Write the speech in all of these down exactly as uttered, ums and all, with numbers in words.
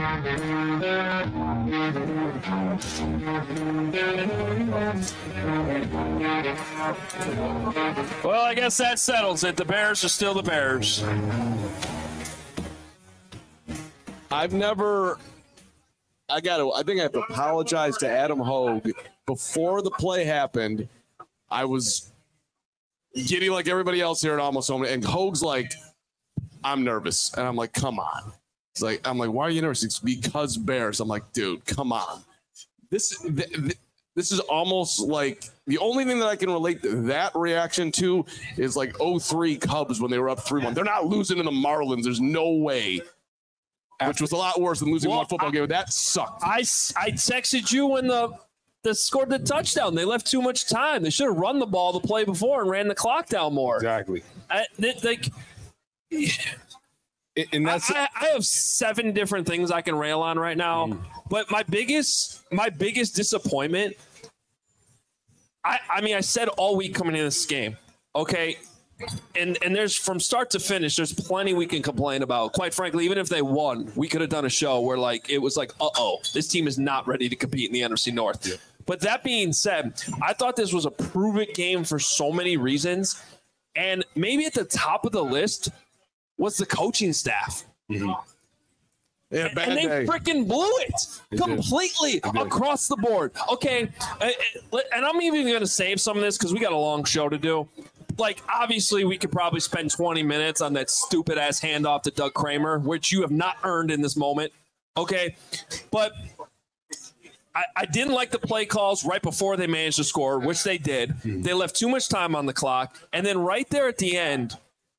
Well, I guess that settles it. The Bears are still the Bears. I've never I got to I think I have to apologize to Adam Hogue. Before the play happened, I was giddy like everybody else here at Almost Home, and Hogue's like, I'm nervous. And I'm like, come on. It's like, I'm like, why are you nervous? It's because Bears. I'm like, dude, come on. This, th- th- this is almost like the only thing that I can relate that reaction to is like oh three Cubs when they were up three one. They're not losing to the Marlins. There's no way. Which was a lot worse than losing well, one football I, game. That sucked. I, I texted you when the, the scored the touchdown. They left too much time. They should have run the ball the play before and ran the clock down more. Exactly. I, they, like, and that's I, I have seven different things I can rail on right now, mm. but my biggest my biggest disappointment. I I mean I said all week coming into this game, okay, and and there's from start to finish, there's plenty we can complain about. Quite frankly, even if they won, we could have done a show where like it was like, uh oh, this team is not ready to compete in the N F C North. Yeah. But that being said, I thought this was a prove it game for so many reasons, and maybe at the top of the list was the coaching staff. Mm-hmm. Yeah, and, and they freaking blew it they completely across the board. Okay, and I'm even going to save some of this because we got a long show to do. Like, obviously, we could probably spend twenty minutes on that stupid-ass handoff to Doug Kramer, which you have not earned in this moment. Okay, but I, I didn't like the play calls right before they managed to score, which they did. Mm-hmm. They left too much time on the clock. And then right there at the end,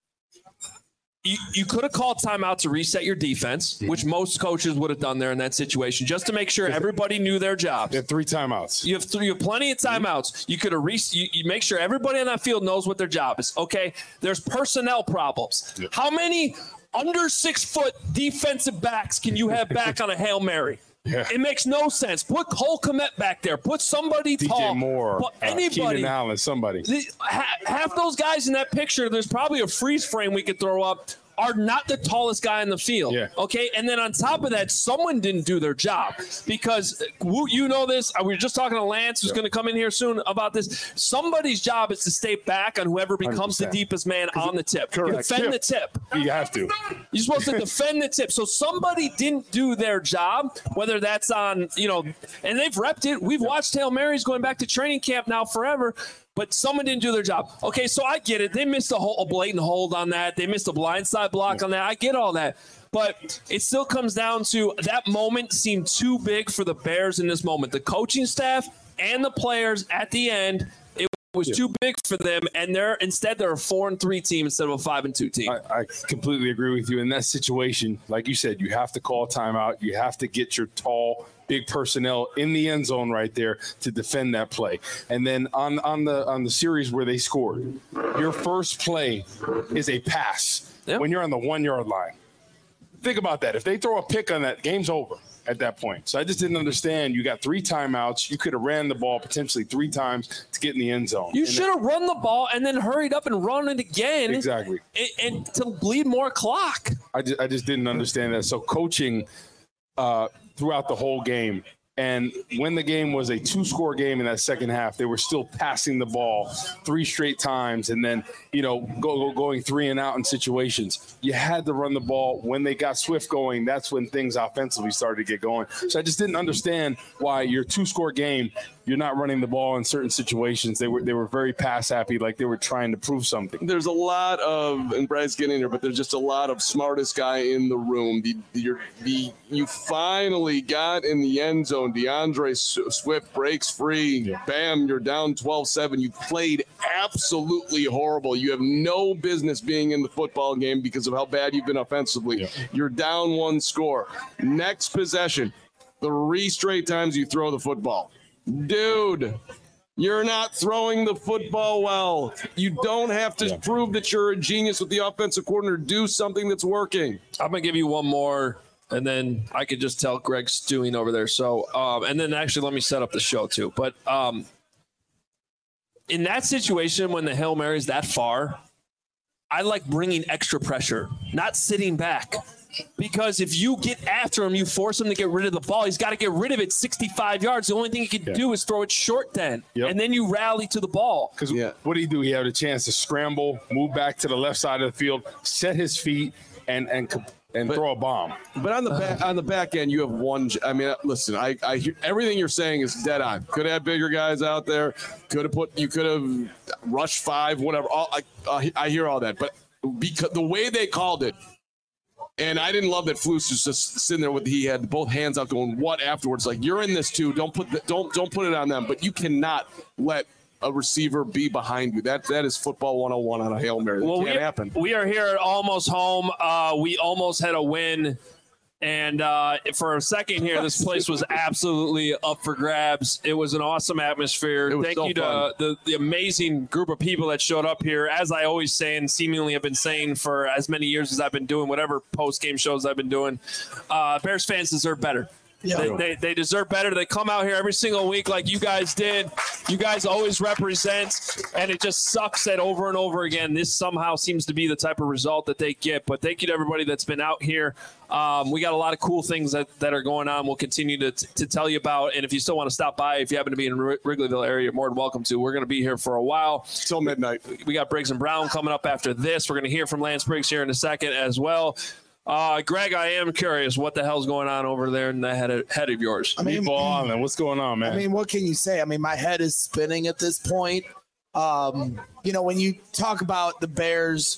You, you could have called timeout to reset your defense, mm-hmm. which most coaches would have done there in that situation, just to make sure everybody knew their jobs. They have three timeouts. You have three, you have plenty of timeouts. You could have re- you, you make sure everybody on that field knows what their job is. Okay, there's personnel problems. Yep. How many under six foot defensive backs can you have back on a Hail Mary? Yeah. It makes no sense. Put Cole Kmet back there. Put somebody D J tall. Moore, Put anybody. Uh, Keenan Allen, somebody. The, ha, half those guys in that picture, there's probably a freeze frame we could throw up, are not the tallest guy in the field. Yeah. Okay. And then on top of that, someone didn't do their job because you know this. We were just talking to Lance, who's yeah. going to come in here soon about this. Somebody's job is to stay back on whoever becomes one hundred percent the deepest man on the tip. Correct. Defend tip. the tip. You have to. You're supposed to defend the tip. So somebody didn't do their job, whether that's on, you know, and they've repped it. We've yeah. watched Hail Marys going back to training camp now forever. But someone didn't do their job. Okay, so I get it. They missed a, whole, a blatant hold on that. They missed a blindside block on that. I get all that. But it still comes down to that moment seemed too big for the Bears in this moment. The coaching staff and the players at the end, it was yeah. too big for them. And they're instead they're a four and three team instead of a five and two team. I, I completely agree with you. In that situation, like you said, you have to call timeout. You have to get your tall big personnel in the end zone right there to defend that play. And then on, on the on the series where they scored, your first play is a pass yep. when you're on the one-yard line. Think about that. If they throw a pick on that, game's over at that point. So I just didn't understand. You got three timeouts. You could have ran the ball potentially three times to get in the end zone. You should have run the ball and then hurried up and run it again. Exactly. And, and to bleed more clock. I just, I just didn't understand that. So coaching uh, – throughout the whole game. And when the game was a two-score game in that second half, they were still passing the ball three straight times and then, you know, go, go going three and out in situations. You had to run the ball. When they got Swift going, that's when things offensively started to get going. So I just didn't understand why your two-score game, you're not running the ball in certain situations. They were they were very pass-happy, like they were trying to prove something. There's a lot of, and Brad's getting there, but there's just a lot of smartest guy in the room. The, the, the You finally got in the end zone. DeAndre Swift breaks free. Yeah. Bam, you're down twelve seven. You played absolutely horrible. You have no business being in the football game because of how bad you've been offensively. Yeah. You're down one score. Next possession, three straight times you throw the football. Dude, you're not throwing the football well. You don't have to yeah. prove that you're a genius with the offensive coordinator. Do something that's working. I'm going to give you one more, and then I could just tell Greg's stewing over there. So, um, and then actually let me set up the show too. But um, in that situation, when the Hail Mary's that far, I like bringing extra pressure, not sitting back. Because if you get after him, you force him to get rid of the ball. He's got to get rid of it sixty-five yards. The only thing he can yeah. do is throw it short then. Yep. And then you rally to the ball. Because yeah. what did he do? He had a chance to scramble, move back to the left side of the field, set his feet, and and and but, throw a bomb. But on the back, on the back end, you have one. I mean, listen, I, I hear everything you're saying is dead on. Could have had bigger guys out there. Could have put. You could have rushed five, whatever. All, I, uh, I hear all that, but because the way they called it. And I didn't love that Flus was just sitting there with he had both hands out going what afterwards like you're in this too don't put the, don't don't put it on them but you cannot let a receiver be behind you that that is football one oh one on a Hail Mary that well, can't we, happen. We are here at Almost Home. Uh, we almost had a win. And uh, for a second here, this place was absolutely up for grabs. It was an awesome atmosphere. Thank so you to uh, the, the amazing group of people that showed up here. As I always say and seemingly have been saying for as many years as I've been doing whatever post-game shows I've been doing, uh, Bears fans deserve better. Yeah. They, they, they deserve better. They come out here every single week like you guys did. You guys always represent, and it just sucks that over and over again this somehow seems to be the type of result that they get. But thank you to everybody that's been out here. Um, we got a lot of cool things that, that are going on. We'll continue to, to tell you about. And if you still want to stop by, if you happen to be in the Wrigleyville area, you're more than welcome to. We're going to be here for a while. Till midnight. We got Briggs and Brown coming up after this. We're going to hear from Lance Briggs here in a second as well. Uh, Greg, I am curious what the hell's going on over there in the head of, head of yours. I mean, Island, what's going on, man? I mean, what can you say? I mean, my head is spinning at this point. Um, you know, when you talk about the Bears,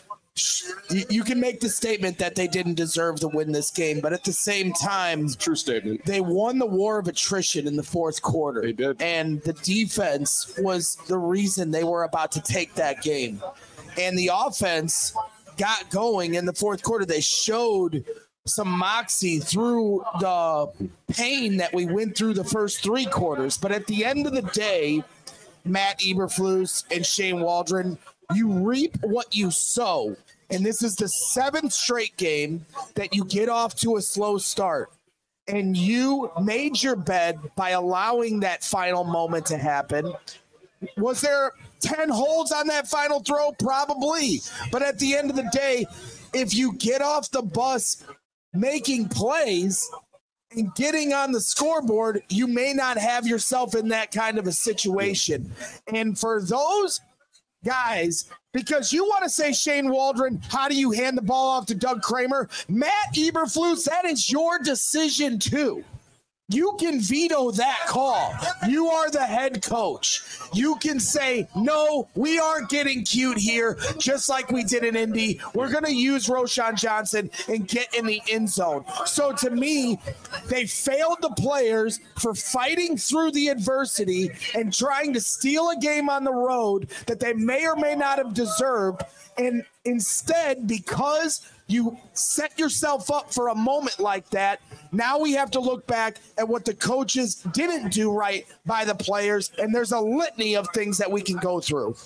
you, you can make the statement that they didn't deserve to win this game, but at the same time, it's a true statement. They won the war of attrition in the fourth quarter. They did. And the defense was the reason they were about to take that game. And the offense got going in the fourth quarter. They showed some moxie through the pain that we went through the first three quarters. But at the end of the day, Matt Eberflus and Shane Waldron, you reap what you sow. And this is the seventh straight game that you get off to a slow start. And you made your bed by allowing that final moment to happen. Was there ten holds on that final throw? Probably. But at the end of the day, if you get off the bus making plays and getting on the scoreboard, you may not have yourself in that kind of a situation. And for those guys, because you want to say, Shane Waldron, how do you hand the ball off to Doug Kramer? Matt Eberflus, that is your decision too. You can veto that call. You are the head coach. You can say, no, we aren't getting cute here, just like we did in Indy. We're going to use Roschon Johnson and get in the end zone. So to me, they failed the players for fighting through the adversity and trying to steal a game on the road that they may or may not have deserved. And instead, because you set yourself up for a moment like that, now we have to look back at what the coaches didn't do right by the players, and there's a litany of things that we can go through.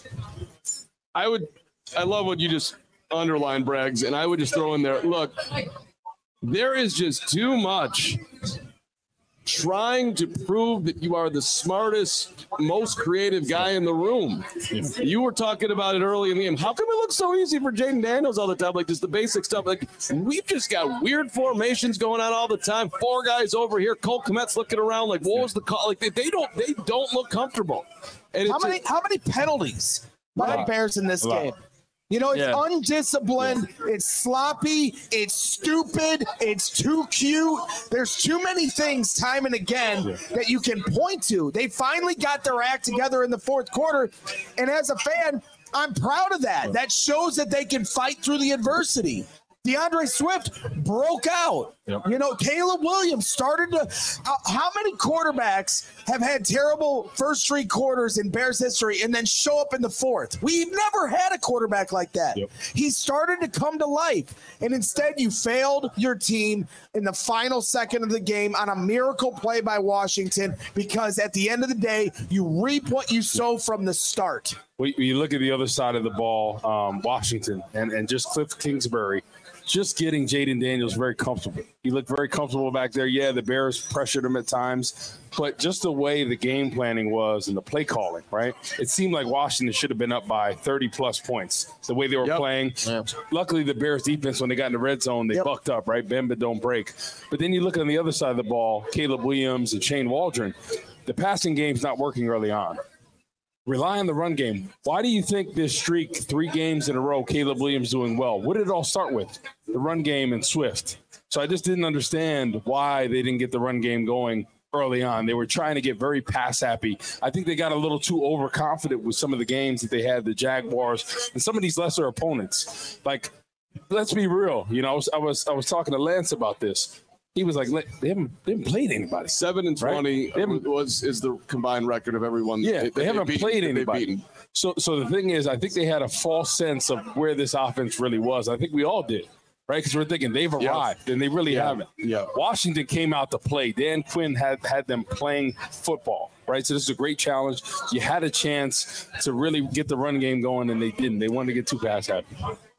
I would, I love what you just underlined, Braggs, and I would just throw in there, look, there is just too much trying to prove that you are the smartest, most creative guy in the room. You were talking about it early in the game. How come it looks so easy for Jaden Daniels all the time? Like just the basic stuff. Like we've just got weird formations going on all the time. Four guys over here. Cole Kmet's looking around like, what was the call? Like they, they don't, they don't look comfortable. And how many, just, how many penalties by the Bears in this game? You know, it's yeah. undisciplined, yeah. it's sloppy, it's stupid, it's too cute. There's too many things time and again yeah. that you can point to. They finally got their act together in the fourth quarter. And as a fan, I'm proud of that. That shows that they can fight through the adversity. DeAndre Swift broke out. Yep. You know, Caleb Williams started to uh, – how many quarterbacks have had terrible first three quarters in Bears history and then show up in the fourth? We've never had a quarterback like that. Yep. He started to come to life, and instead you failed your team in the final second of the game on a miracle play by Washington because at the end of the day, you reap what you sow from the start. When you look at the other side of the ball, um, Washington, and, and just Cliff Kingsbury – just getting Jaden Daniels very comfortable. He looked very comfortable back there. Yeah, the Bears pressured him at times, but just the way the game planning was and the play calling, right? It seemed like Washington should have been up by thirty plus points. The way they were Yep. playing. Yeah. Luckily, the Bears defense, when they got in the red zone, they Yep. bucked up, right? Bend but don't break. But then you look on the other side of the ball, Caleb Williams and Shane Waldron. The passing game's not working early on. Rely on the run game. Why do you think this streak, three games in a row, Caleb Williams doing well? What did it all start with? The run game and Swift. So I just didn't understand why they didn't get the run game going early on. They were trying to get very pass happy. I think they got a little too overconfident with some of the games that they had, the Jaguars and some of these lesser opponents. Like, let's be real. You know, I was I was, I was talking to Lance about this. He was like, they haven't, they haven't played anybody. Seven and Right? twenty They haven't- was is the combined record of everyone. Yeah, that they haven't beat- played that they've anybody. beaten. So, so the thing is, I think they had a false sense of where this offense really was. I think we all did, right? Because we're thinking they've Yeah. arrived, and they really Yeah. haven't. Yeah. Washington came out to play. Dan Quinn had had them playing football, right? So this is a great challenge. You had a chance to really get the run game going, and they didn't. They wanted to get too pass happy.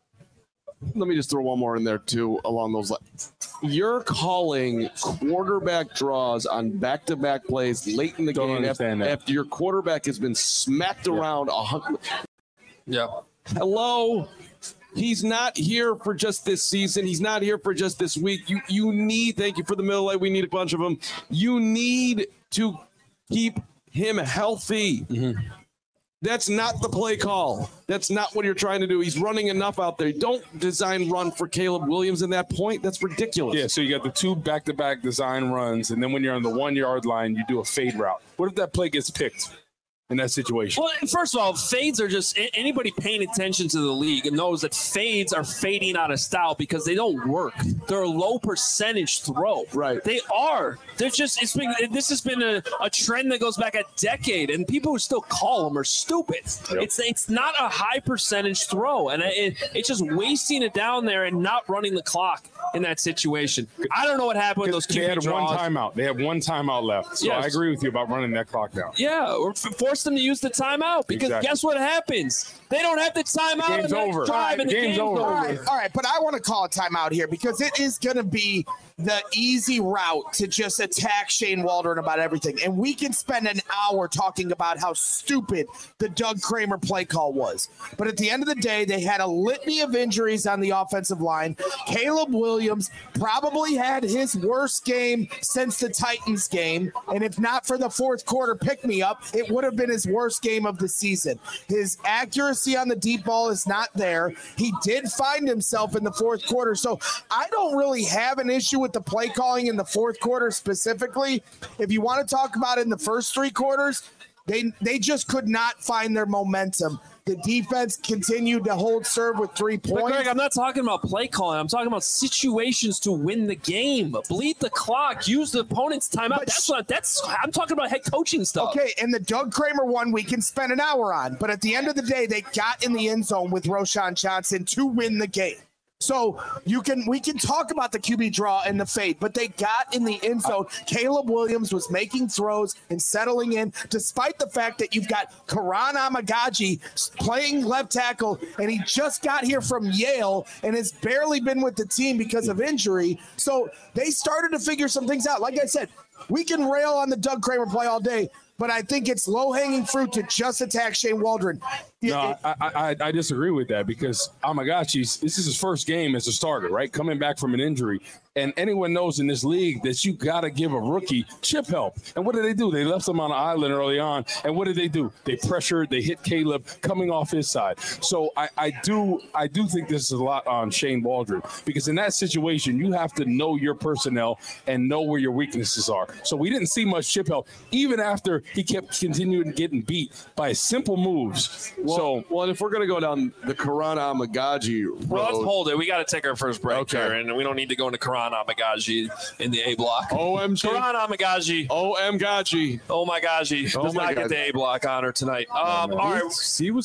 Let me just throw one more in there too along those lines. You're calling quarterback draws on back-to-back plays late in the Don't game after, understand that. after your quarterback has been smacked around a hundred. Yeah. Hello. He's not here for just this season. He's not here for just this week. You you need, thank you for the middle light. We need a bunch of them. You need to keep him healthy. Mm-hmm. That's not the play call. That's not what you're trying to do. He's running enough out there. Don't design run for Caleb Williams in that point. That's ridiculous. Yeah, so you got the two back-to-back design runs, and then when you're on the one-yard line, you do a fade route. What if that play gets picked in that situation? Well, first of all, fades are just a- anybody paying attention to the league knows that fades are fading out of style because they don't work. They're a low percentage throw. Right. They are. They're just. It's been. This has been a, a trend that goes back a decade, and people who still call them are stupid. Yep. It's it's not a high percentage throw, and it, it's just wasting it down there and not running the clock in that situation. I don't know what happened with those Q They B had draws. one timeout. They have one timeout left. So Yes. I agree with you about running that clock down. Yeah, or f- force them to use the timeout because Exactly. guess what happens? They don't have the timeout. The game's on the next over. Drive The and the game's game's over. over. All right, all right, but I want to call a timeout here because it is going to be the easy route to just attack Shane Waldron about everything. And we can spend an hour talking about how stupid the Doug Kramer play call was. But at the end of the day, they had a litany of injuries on the offensive line. Caleb Williams probably had his worst game since the Titans game. And if not for the fourth quarter pick-me-up, it would have been his worst game of the season. His accuracy on the deep ball is not there. He did find himself in the fourth quarter. So I don't really have an issue with the play calling in the fourth quarter specifically. If you want to talk about it in the first three quarters, they they just could not find their momentum. The defense continued to hold serve with three But points. Greg, I'm not talking about play calling. I'm talking about situations to win the game. Bleed the clock. Use the opponent's timeout. But That's sh- what. That's. I'm talking about head coaching stuff. Okay, and the Doug Kramer one we can spend an hour on, but at the end of the day, they got in the end zone with Roschon Johnson to win the game. So you can we can talk about the Q B draw and the fade, but they got in the end zone. Caleb Williams was making throws and settling in, despite the fact that you've got Karan Amagaji playing left tackle, and he just got here from Yale and has barely been with the team because of injury. So they started to figure some things out. Like I said, we can rail on the Doug Kramer play all day, but I think it's low-hanging fruit to just attack Shane Waldron. No, I, I I disagree with that because Amagachi's this is his first game as a starter, right? Coming back from an injury. And anyone knows in this league that you got to give a rookie chip help. And what did they do? They left him on an island early on. And what did they do? They pressured, they hit Caleb coming off his side. So I, I do I do think this is a lot on Shane Waldron because in that situation, you have to know your personnel and know where your weaknesses are. So we didn't see much chip help, even after he kept continuing getting beat by simple moves. Well, so well, and if we're going to go down the Karan Amagaji road, Well, let's hold it. We got to take our first break Okay. here, and we don't need to go into Karan Amagaji in the A block. O M G, Karan Amagaji. O M Gaji. Oh my gosh, he Oh does my not get God. the A block honor tonight. Um, all right. He was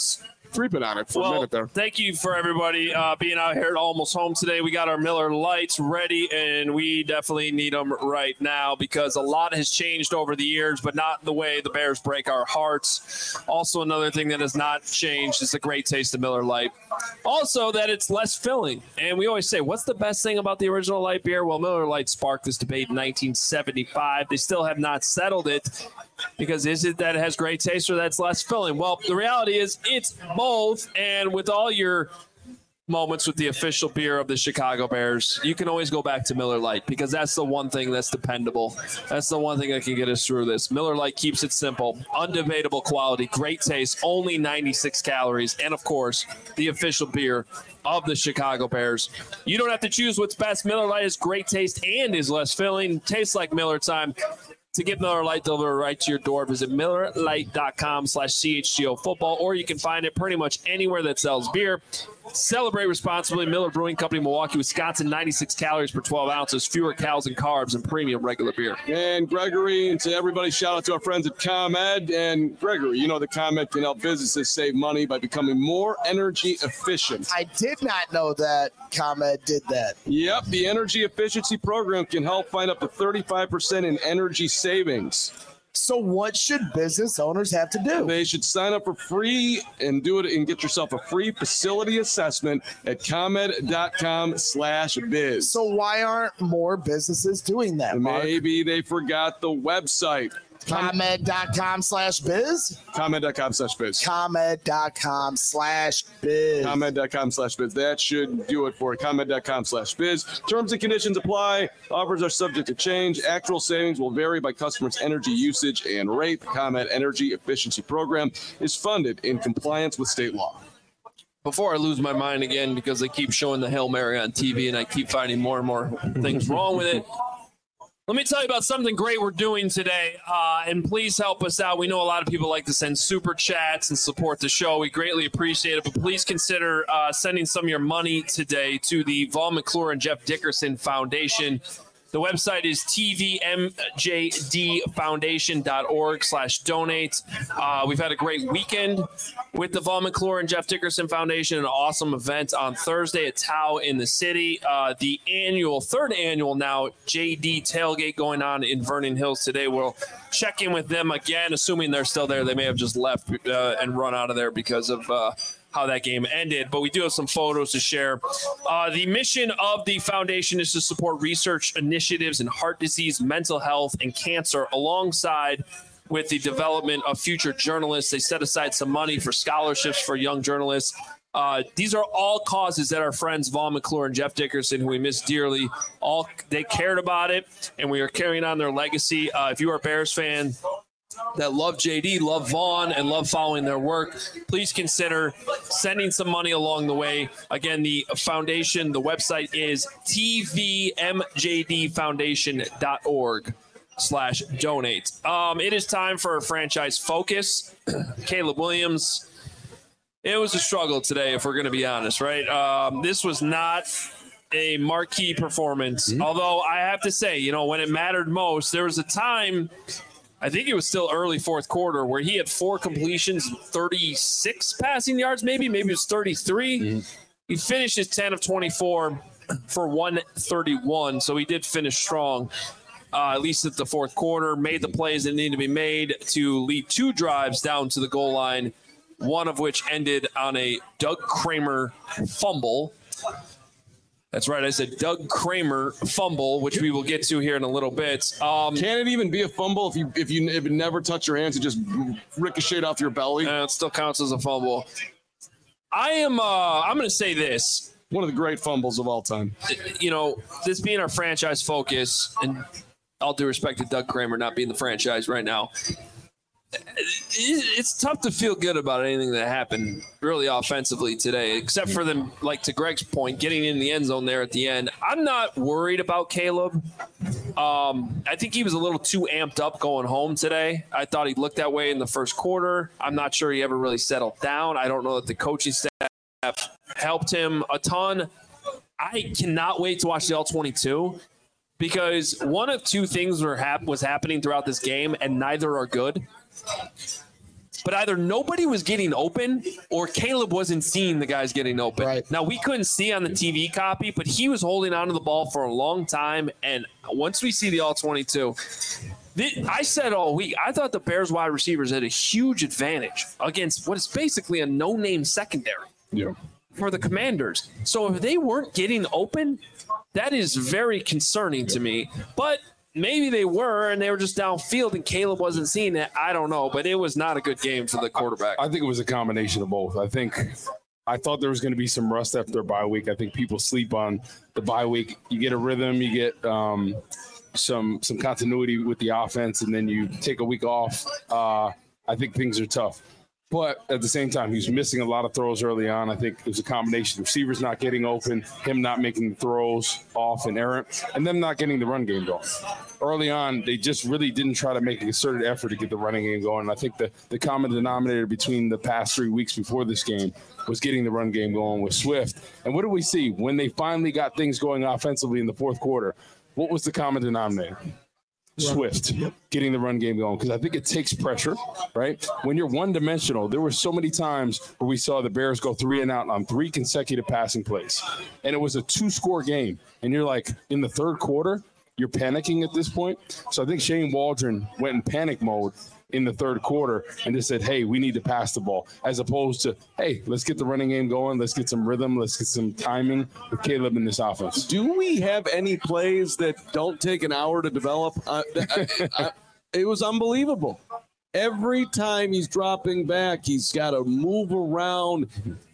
three-pin on it for well, a minute there. Thank you for everybody uh, being out here at Almost Home today. We got our Miller Lights ready, and we definitely need them right now because a lot has changed over the years, but not the way the Bears break our hearts. Also, another thing that has not changed is the great taste of Miller Lite. Also, that it's less filling. And we always say, what's the best thing about the original light beer? Well, Miller Lite sparked this debate in nineteen seventy-five. They still have not settled it because is it that it has great taste or that's less filling? Well, the reality is it's both. And with all your moments with the official beer of the Chicago Bears, you can always go back to Miller Lite because that's the one thing that's dependable. That's the one thing that can get us through this. Miller Lite keeps it simple, undebatable quality, great taste, only ninety-six calories, and of course, the official beer of the Chicago Bears. You don't have to choose what's best. Miller Lite is great taste and is less filling. Tastes like Miller time. To get Miller Lite delivered right to your door, visit Miller Lite dot com slash C H G O football, or you can find it pretty much anywhere that sells beer. Celebrate responsibly. Miller Brewing Company, Milwaukee, Wisconsin, ninety-six calories per twelve ounces, fewer calories and carbs, and premium regular beer. And Gregory, and to everybody, shout out to our friends at ComEd. And Gregory, you know that ComEd can help businesses save money by becoming more energy efficient. I did not know that ComEd did that. Yep, the Energy Efficiency Program can help find up to thirty-five percent in energy savings. So what should business owners have to do? They should sign up for free and do it and get yourself a free facility assessment at ComEd dot com slash biz. So why aren't more businesses doing that, Mark? Maybe they forgot the website. ComEd dot com slash biz? ComEd dot com slash biz. ComEd dot com slash biz. ComEd dot com slash biz. That should do it for it. ComEd dot com slash biz. Terms and conditions apply. Offers are subject to change. Actual savings will vary by customer's energy usage and rate. The ComEd Energy Efficiency Program is funded in compliance with state law. Before I lose my mind again because they keep showing the Hail Mary on T V and I keep finding more and more things wrong with it, let me tell you about something great we're doing today, uh, and please help us out. We know a lot of people like to send super chats and support the show. We greatly appreciate it, but please consider uh, sending some of your money today to the Vaughn McClure and Jeff Dickerson Foundation. The website is T V M J D foundation dot org slash donate. Uh, we've had a great weekend with the Vaughn McClure and Jeff Dickerson Foundation, an awesome event on Thursday at Tao in the city. Uh, the annual, third annual now, J D tailgate going on in Vernon Hills today. We'll check in with them again, assuming they're still there. They may have just left uh, and run out of there because of uh, how that game ended, but we do have some photos to share. Uh, the mission of the foundation is to support research initiatives in heart disease, mental health, and cancer, alongside with the development of future journalists. They set aside some money for scholarships for young journalists. Uh, these are all causes that our friends Vaughn McClure and Jeff Dickerson, who we miss dearly, all they cared about it, and we are carrying on their legacy. Uh, if you are a Bears fan that love J D, love Vaughn, and love following their work, please consider sending some money along the way. Again, the foundation, the website is T V M J D foundation dot org slash donate. Um, it is time for a franchise focus. Caleb Williams, it was a struggle today, if we're going to be honest, right? Um, this was not a marquee performance, mm-hmm. although I have to say, you know, when it mattered most, there was a time, I think it was still early fourth quarter, where he had four completions, thirty-six passing yards, maybe, maybe it was thirty-three. Mm-hmm. He finished his ten of twenty-four for one thirty-one, so he did finish strong, uh, at least at the fourth quarter, made the plays that needed to be made to lead two drives down to the goal line, one of which ended on a Doug Kramer fumble. That's right. I said Doug Kramer fumble, which we will get to here in a little bit. Um, Can it even be a fumble if you if you if it never touch your hands, it just ricocheted off your belly? Uh, it still counts as a fumble. I am. Uh, I'm going to say this. One of the great fumbles of all time. You know, this being our franchise focus, and all due respect to Doug Kramer not being the franchise right now, it's tough to feel good about anything that happened really offensively today, except for them, like to Greg's point, getting in the end zone there at the end. I'm not worried about Caleb. Um, I think he was a little too amped up going home today. I thought he looked that way in the first quarter. I'm not sure he ever really settled down. I don't know that the coaching staff helped him a ton. I cannot wait to watch the all twenty-two, because one of two things were hap- was happening throughout this game, and neither are good. but either nobody was getting open or Caleb wasn't seeing the guys getting open. Right. Now, we couldn't see on the T V copy, but he was holding onto the ball for a long time. And once we see the all twenty-two, I said all week, I thought the Bears wide receivers had a huge advantage against what is basically a no-name secondary Yeah. for the Commanders. So if they weren't getting open, that is very concerning to me. But maybe they were, and they were just downfield, and Caleb wasn't seeing it. I don't know, but it was not a good game for the quarterback. I think it was a combination of both. I think I thought there was going to be some rust after a bye week. I think people sleep on the bye week. You get a rhythm, you get um, some some continuity with the offense, and then you take a week off. Uh, I think things are tough. But at the same time, he's missing a lot of throws early on. I think it was a combination of receivers not getting open, him not making the throws off and errant, and them not getting the run game going. Early on, they just really didn't try to make a concerted effort to get the running game going. And I think the, the common denominator between the past three weeks before this game was getting the run game going with Swift. And what did we see? When they finally got things going offensively in the fourth quarter, what was the common denominator? Swift getting the run game going, because I think it takes pressure, right? When you're one-dimensional, there were so many times where we saw the Bears go three and out on three consecutive passing plays, and it was a two-score game. And you're like, in the third quarter, you're panicking at this point. So I think Shane Waldron went in panic mode in the third quarter and just said, hey, we need to pass the ball, as opposed to, hey, let's get the running game going. Let's get some rhythm. Let's get some timing with Caleb in this offense. Do we have any plays that don't take an hour to develop? Uh, I, I, it was unbelievable. Every time he's dropping back, he's got to move around,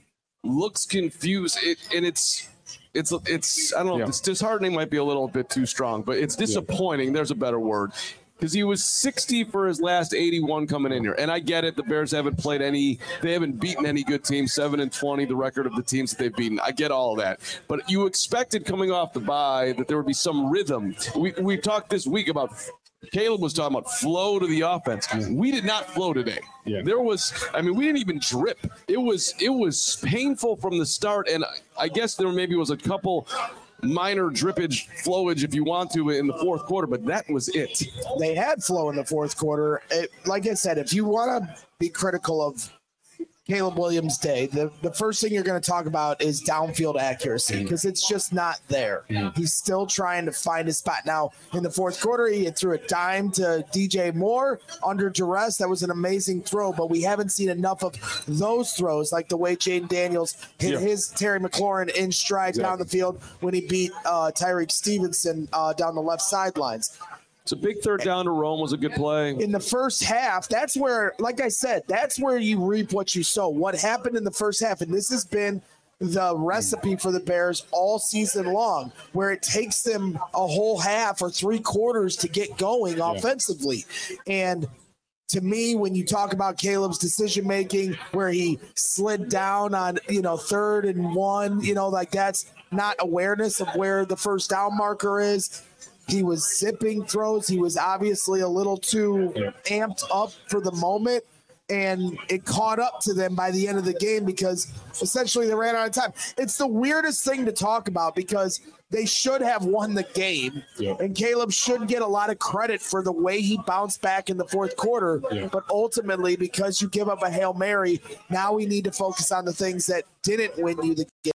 looks confused, it, and it's it's it's I don't know. Yeah. It's disheartening might be a little bit too strong, but it's disappointing. Yeah. There's a better word. Because he was sixty for his last eighty-one coming in here. And I get it. The Bears haven't played any – they haven't beaten any good teams. seven and twenty, the record of the teams that they've beaten. I get all of that. But you expected coming off the bye that there would be some rhythm. We we talked this week about – Caleb was talking about flow to the offense. We did not flow today. Yeah. There was – I mean, we didn't even drip. It was It was painful from the start. And I guess there maybe was a couple – minor drippage, flowage, if you want to, in the fourth quarter, but that was it. They had flow in the fourth quarter. It, like I said, if you want to be critical of Caleb Williams' day, the, the first thing you're going to talk about is downfield accuracy, because it's just not there. Mm-hmm. He's still trying to find his spot. Now, in the fourth quarter, he threw a dime to D J Moore under duress. That was an amazing throw, but we haven't seen enough of those throws, like the way Jaden Daniels hit yeah. his Terry McLaurin in stride exactly. down the field when he beat uh, Tyreek Stevenson uh, down the left sidelines. It's a big third down to Rome was a good play. In the first half, that's where, like I said, that's where you reap what you sow. What happened in the first half, and this has been the recipe for the Bears all season long, where it takes them a whole half or three quarters to get going yeah. offensively. And to me, when you talk about Caleb's decision-making, where he slid down on, you know, third and one, you know, like that's not awareness of where the first down marker is. He was zipping throws. He was obviously a little too yeah. amped up for the moment, and it caught up to them by the end of the game because essentially they ran out of time. It's the weirdest thing to talk about because they should have won the game, yeah. and Caleb should get a lot of credit for the way he bounced back in the fourth quarter. Yeah. But ultimately, because you give up a Hail Mary, now we need to focus on the things that didn't win you the game.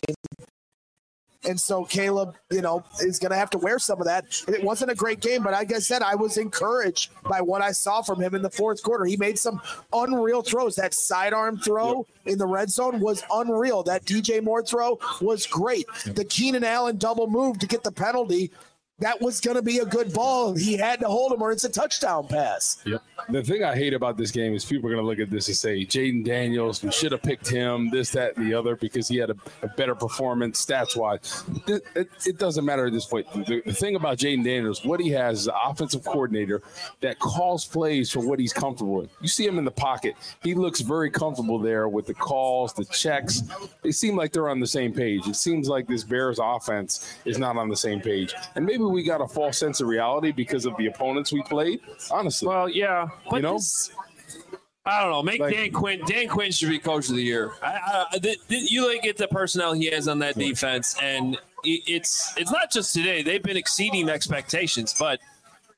And so Caleb, you know, is going to have to wear some of that. It wasn't a great game, but like I said, I was encouraged by what I saw from him in the fourth quarter. He made some unreal throws. That sidearm throw yep. in the red zone was unreal. That D J Moore throw was great. Yep. The Keenan Allen double move to get the penalty, that was going to be a good ball. He had to hold him or it's a touchdown pass. Yep. The thing I hate about this game is people are going to look at this and say, Jaden Daniels, we should have picked him, this, that, and the other, because he had a, a better performance stats-wise. It, it, it doesn't matter at this point. The, the thing about Jaden Daniels, what he has is an offensive coordinator that calls plays for what he's comfortable with. You see him in the pocket. He looks very comfortable there with the calls, the checks. They seem like they're on the same page. It seems like this Bears offense is not on the same page. And maybe we got a false sense of reality because of the opponents we played, honestly. Well, yeah. But you know? This, I don't know. Make like, Dan Quinn. Dan Quinn should be coach of the year. I, I, the, the, you look at the personnel he has on that defense, and it, it's it's not just today. They've been exceeding expectations, but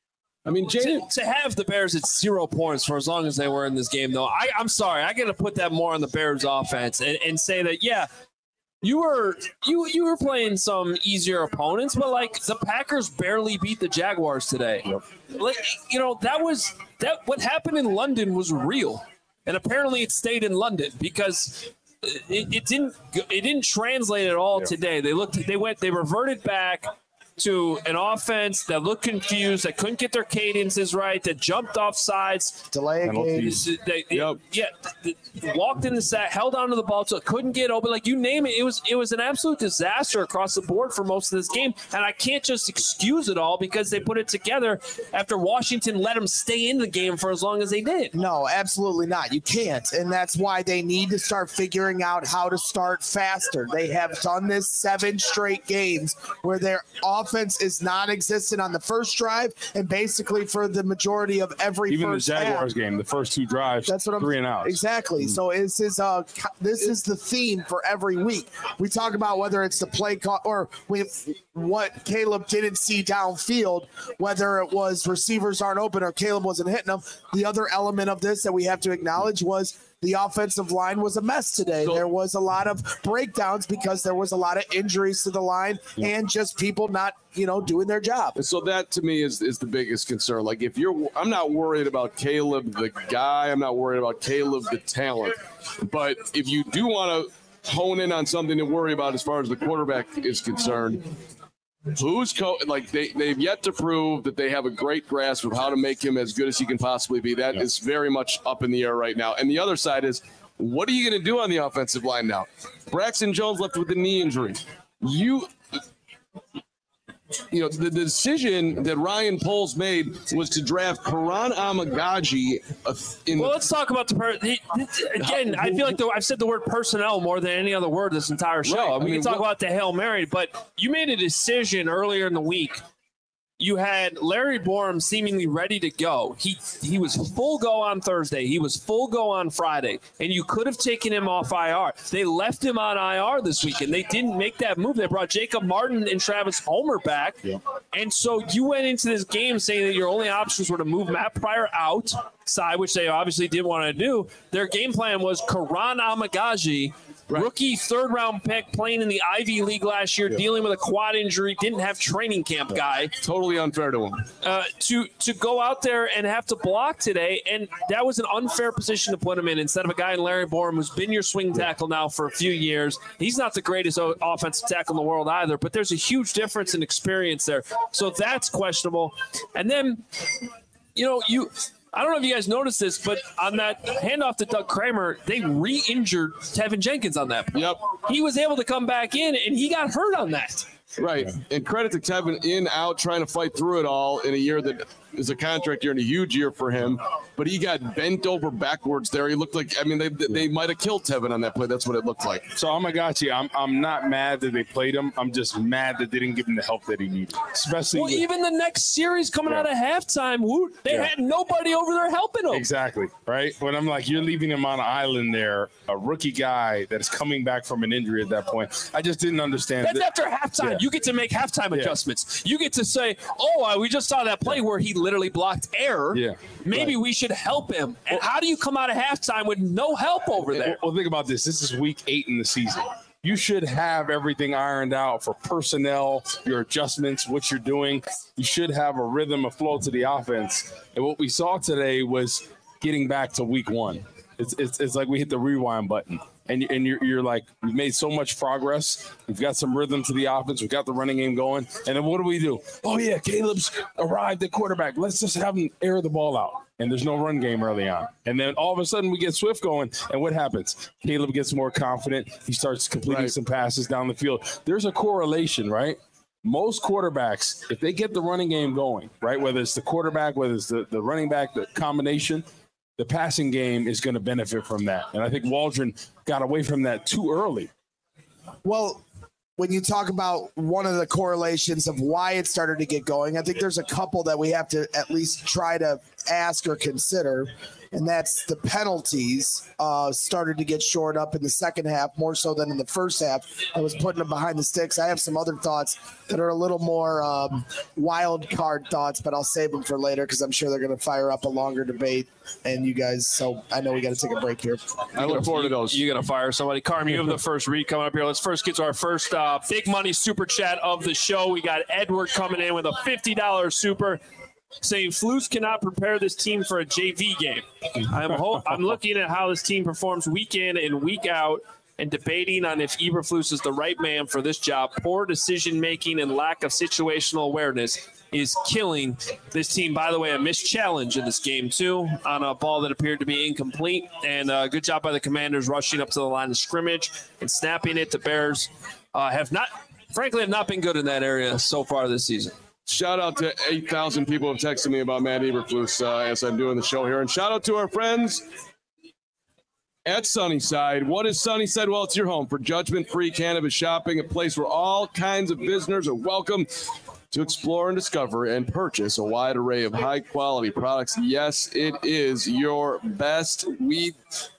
I mean, Jaden, to, to have the Bears at zero points for as long as they were in this game, though, I, I'm sorry. I got to put that more on the Bears offense and, and say that, yeah, you were you you were playing some easier opponents, but like the Packers barely beat the Jaguars today. Yep. Like, you know, that was that what happened in London was real, and apparently it stayed in London because it, it didn't it didn't translate at all yep. today. They looked they went they reverted back to an offense that looked confused, that couldn't get their cadences right, that jumped off sides. Delay a game. They, yep. Yeah, they walked in the sack, held onto the ball, so couldn't get open. Like, you name it, it was it was an absolute disaster across the board for most of this game. And I can't just excuse it all because they put it together after Washington let them stay in the game for as long as they did. No, absolutely not. You can't. And that's why they need to start figuring out how to start faster. They have done this seven straight games where they're off. Offense is non-existent on the first drive, and basically for the majority of every even first the Jaguars half. game, the first two drives, that's what I'm three and out. Exactly. Mm-hmm. So this is uh this is the theme for every week. We talk about whether it's the play call or we what Caleb didn't see downfield, whether it was receivers aren't open or Caleb wasn't hitting them. The other element of this that we have to acknowledge was the offensive line was a mess today. So, there was a lot of breakdowns because there was a lot of injuries to the line yeah. and just people not, you know, doing their job. So that to me is, is the biggest concern. Like if you're, I'm not worried about Caleb, the guy, I'm not worried about Caleb, the talent, but if you do want to hone in on something to worry about as far as the quarterback is concerned, who's co- like they, they've yet to prove that they have a great grasp of how to make him as good as he can possibly be. That yeah. is very much up in the air right now. And the other side is, what are you going to do on the offensive line now? Braxton Jones left with a knee injury. You, you know, the, the decision that Ryan Poles made was to draft Karan Amagaji. In well, the- let's talk about the per- he, again. I feel like the, I've said the word personnel more than any other word this entire show. Right, I we mean, can talk what- about the Hail Mary, but you made a decision earlier in the week. You had Larry Borum seemingly ready to go. He he was full go on Thursday. He was full go on Friday. And you could have taken him off I R. They left him on I R this week, and they didn't make that move. They brought Jacob Martin and Travis Homer back. Yeah. And so you went into this game saying that your only options were to move Matt Pryor outside, which they obviously didn't want to do. Their game plan was Karan Amagaji, right. Rookie third-round pick, playing in the Ivy League last year, yeah. dealing with a quad injury, didn't have training camp guy. Totally unfair to him. Uh, to to go out there and have to block today, and that was an unfair position to put him in instead of a guy in Larry Borum who's been your swing tackle now for a few years. He's not the greatest offensive tackle in the world either, but there's a huge difference in experience there. So that's questionable. And then, you know, you – I don't know if you guys noticed this, but on that handoff to Doug Kramer, they re-injured Tevin Jenkins on that. Yep. He was able to come back in, and he got hurt on that. Right. And credit to Tevin, in, out, trying to fight through it all in a year that is a contract year and a huge year for him. But he got bent over backwards there. He looked like, I mean, they they might have killed Tevin on that play. That's what it looked like. So, Amagachi, I'm I'm not mad that they played him. I'm just mad that they didn't give him the help that he needed. Especially well, with, even the next series coming yeah. out of halftime, woo, they yeah. had nobody over there helping him. Exactly, right? But I'm like, you're leaving him on an island there, a rookie guy that is coming back from an injury at that point. I just didn't understand. That's that. after halftime. Yeah. You get to make halftime yeah. adjustments. You get to say, oh, we just saw that play yeah. where he literally blocked error. Yeah. Maybe right. we should help him. And how do you come out of halftime with no help over there? Well, think about this. This is week eight in the season. You should have everything ironed out for personnel, your adjustments, what you're doing. You should have a rhythm, a flow to the offense. And what we saw today was getting back to week one. It's it's, it's like we hit the rewind button. And, and you're, you're like, we've made so much progress. We've got some rhythm to the offense. We've got the running game going. And then what do we do? Oh, yeah, Caleb's arrived at quarterback. Let's just have him air the ball out. And there's no run game early on. And then all of a sudden we get Swift going. And what happens? Caleb gets more confident. He starts completing right. some passes down the field. There's a correlation, right? Most quarterbacks, if they get the running game going, right, whether it's the quarterback, whether it's the, the running back, the combination, the passing game is going to benefit from that. And I think Waldron got away from that too early. Well, when you talk about one of the correlations of why it started to get going, I think there's a couple that we have to at least try to ask or consider, and that's the penalties uh, started to get shored up in the second half more so than in the first half. I was putting them behind the sticks. I have some other thoughts that are a little more um, wild card thoughts, but I'll save them for later because I'm sure they're going to fire up a longer debate. And you guys, so I know we got to take a break here. I look forward to those. You're going to fire somebody. Carm, you have the first read coming up here. Let's first get to our first uh, big money super chat of the show. We got Edward coming in with a fifty dollars super saying Flus cannot prepare this team for a J V game. I'm, ho- I'm looking at how this team performs week in and week out and debating on if Eberflus is the right man for this job. Poor decision-making and lack of situational awareness is killing this team. By the way, a missed challenge in this game, too, on a ball that appeared to be incomplete. And uh, good job by the Commanders rushing up to the line of scrimmage and snapping it. The Bears uh, have not, frankly, have not been good in that area so far this season. Shout out to eight thousand people who have texted me about Matt Eberflus uh, as I'm doing the show here. And shout out to our friends at Sunnyside. What is Sunnyside? Well, it's your home for judgment-free cannabis shopping, a place where all kinds of visitors are welcome to explore and discover and purchase a wide array of high-quality products. Yes, it is your best weed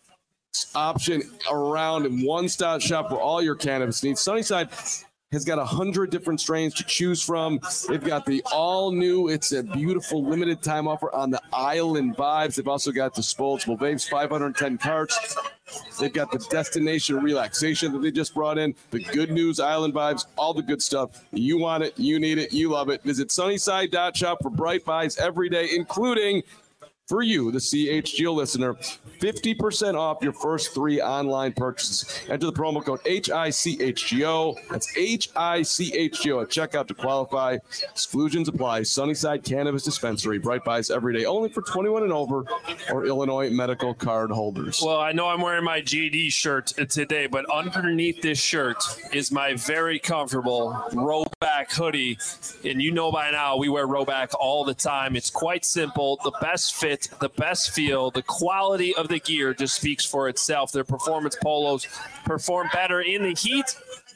option around and one-stop shop for all your cannabis needs. Sunnyside has got a hundred different strains to choose from. They've got the all new, it's a beautiful limited time offer on the Island Vibes. They've also got disposable vapes, five hundred ten carts. They've got the Destination Relaxation that they just brought in, the Good News Island Vibes, all the good stuff. You want it, you need it, you love it. Visit sunnyside dot shop for bright buys every day, including for you, the C H G O listener, fifty percent off your first three online purchases. Enter the promo code H I C H G O. That's H I C H G O at checkout to qualify. Exclusions apply. Sunnyside Cannabis Dispensary. Bright buys every day. Only for twenty-one and over or Illinois medical card holders. Well, I know I'm wearing my G D shirt today, but underneath this shirt is my very comfortable Rowback hoodie. And you know by now we wear Rowback all the time. It's quite simple. The best fit, the best feel, the quality of the gear just speaks for itself. Their performance polos perform better in the heat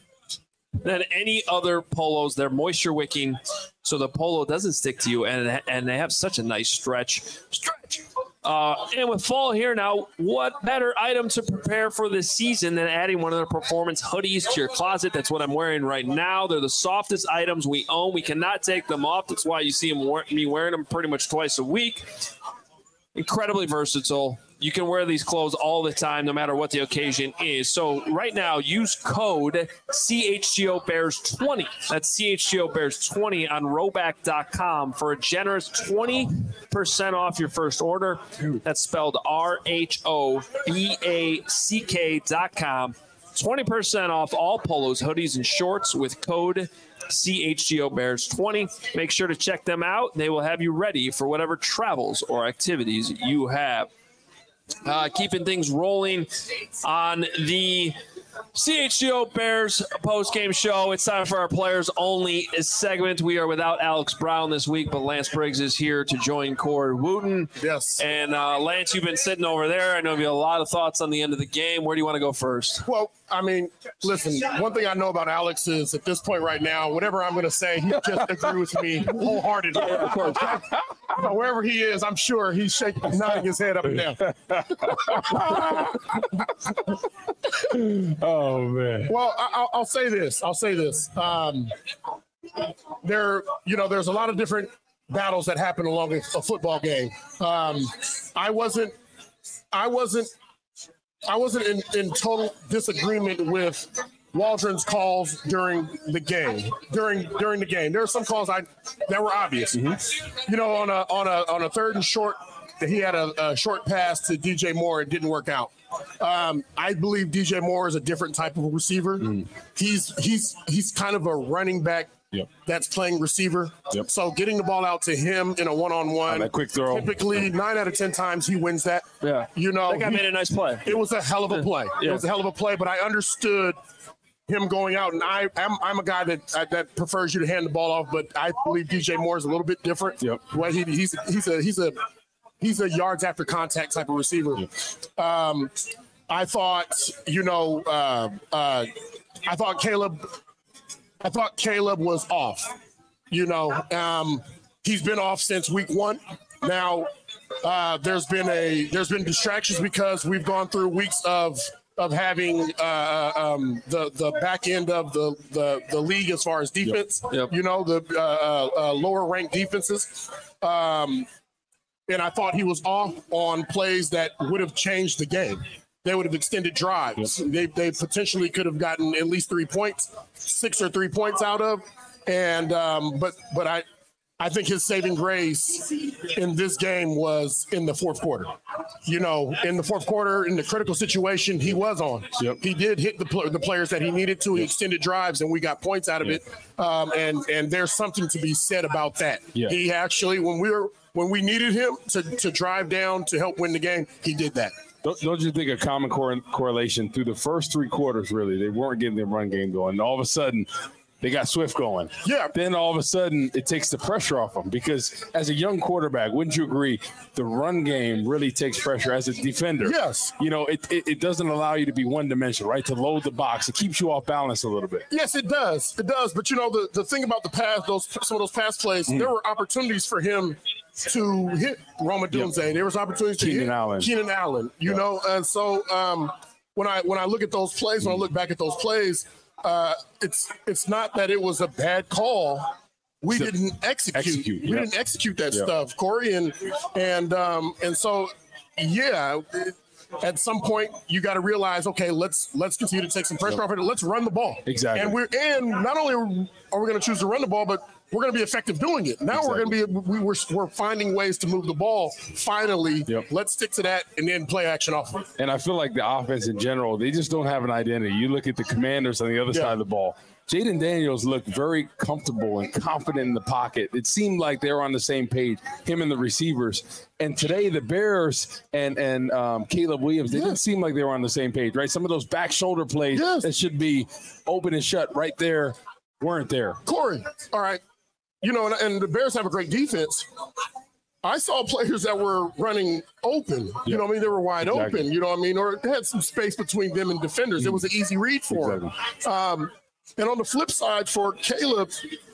than any other polos. They're moisture wicking, so the polo doesn't stick to you, and and they have such a nice stretch. Stretch. Uh, and with fall here now, what better item to prepare for this season than adding one of their performance hoodies to your closet? That's what I'm wearing right now. They're the softest items we own. We cannot take them off. That's why you see them, me wearing them pretty much twice a week. Incredibly versatile. You can wear these clothes all the time, no matter what the occasion is. So right now, use code C H G O Bears twenty. That's C H G O Bears twenty on rowback dot com for a generous twenty percent off your first order. That's spelled R H O B A C K dot com. twenty percent off all polos, hoodies, and shorts with code C H G O Bears twenty. Make sure to check them out. They will have you ready for whatever travels or activities you have. Uh, keeping things rolling on the C H G O Bears post-game show. It's time for our players only segment. We are without Alex Brown this week, but Lance Briggs is here to join Corey Wooten. Yes. And uh, Lance, you've been sitting over there. I know you have a lot of thoughts on the end of the game. Where do you want to go first? Well, I mean, listen, one thing I know about Alex is at this point right now, whatever I'm going to say, he just agree with me wholeheartedly. Yeah, of course. So wherever he is, I'm sure he's shaking, nodding his head up and down. Oh, man. Well, I, I'll say this. I'll say this. Um, there, you know, there's a lot of different battles that happen along a, a football game. Um, I wasn't, I wasn't, I wasn't in, in total disagreement with Waldron's calls during the game. During during the game, there were some calls I that were obvious. Mm-hmm. You know, on a on a on a third and short, he had a, a short pass to D J Moore. It didn't work out. Um, I believe D J Moore is a different type of receiver. Mm. He's he's he's kind of a running back. Yep. That's playing receiver. Yep. So getting the ball out to him in a one-on-one, that quick throw. Typically, nine out of ten times he wins that. Yeah. You know, that guy he, made a nice play. It was a hell of a play. Yeah. It was a hell of a play, but I understood him going out, and I, I'm, I'm a guy that uh, that prefers you to hand the ball off, but I believe D J Moore is a little bit different. Yep. Well, he, he's he's a he's a he's a yards after contact type of receiver. Yep. Um, I thought, you know, uh, uh, I thought Caleb I thought Caleb was off. You know, um, he's been off since week one. Now, uh, there's been a there's been distractions because we've gone through weeks of of having uh, um, the the back end of the the, the league as far as defense. Yep. Yep. You know, the uh, uh, lower ranked defenses. Um, and I thought he was off on plays that would have changed the game. They would have extended drives. Yep. They they potentially could have gotten at least three points, six or three points out of. And um, but but I. I think his saving grace in this game was in the fourth quarter. You know, in the fourth quarter, in the critical situation, he was on. Yep. He did hit the pl- the players that he needed to. He extended drives, and we got points out of Yep. it. Um, and and there's something to be said about that. Yeah. He actually, when we were when we needed him to to drive down to help win the game, he did that. Don't, don't you think a common cor- correlation through the first three quarters, really, they weren't getting their run game going. All of a sudden, they got Swift going. Yeah. Then all of a sudden, it takes the pressure off them because as a young quarterback, wouldn't you agree, the run game really takes pressure as a defender? Yes. You know, it, it, it doesn't allow you to be one-dimensional, right, to load the box. It keeps you off balance a little bit. Yes, it does. It does. But, you know, the, the thing about the pass, those some of those pass plays, Mm. there were opportunities for him to hit Roma Dunze. Yep. There was opportunities to Keenan hit Allen. Keenan Allen, you Yep. know. And so um, when I when I look at those plays, when I look back at those plays, uh, it's it's not that it was a bad call. We So- didn't execute. execute, We yep. didn't execute that Yep. stuff, Corey. And and um, and so, yeah. It, at some point, you got to realize, okay, let's let's continue to take some pressure off it. Let's run the ball. Exactly. And we're and not only are we going to choose to run the ball, but we're going to be effective doing it. Now we're going to be we we're, we're finding ways to move the ball. Finally, Yep. let's stick to that and then play action off of it. And I feel like the offense in general, they just don't have an identity. You look at the Commanders on the other Yeah. side of the ball. Jaden Daniels looked very comfortable and confident in the pocket. It seemed like they were on the same page, him and the receivers. And today, the Bears and and um, Caleb Williams, they Yeah. didn't seem like they were on the same page, right? Some of those back shoulder plays Yes. that should be open and shut right there weren't there. Corey, all right, you know, and, and the Bears have a great defense. I saw players that were running open. You Yeah. know what I mean? They were wide Exactly. open. You know what I mean? Or they had some space between them and defenders. It was an easy read for them. Um, and on the flip side, for Caleb,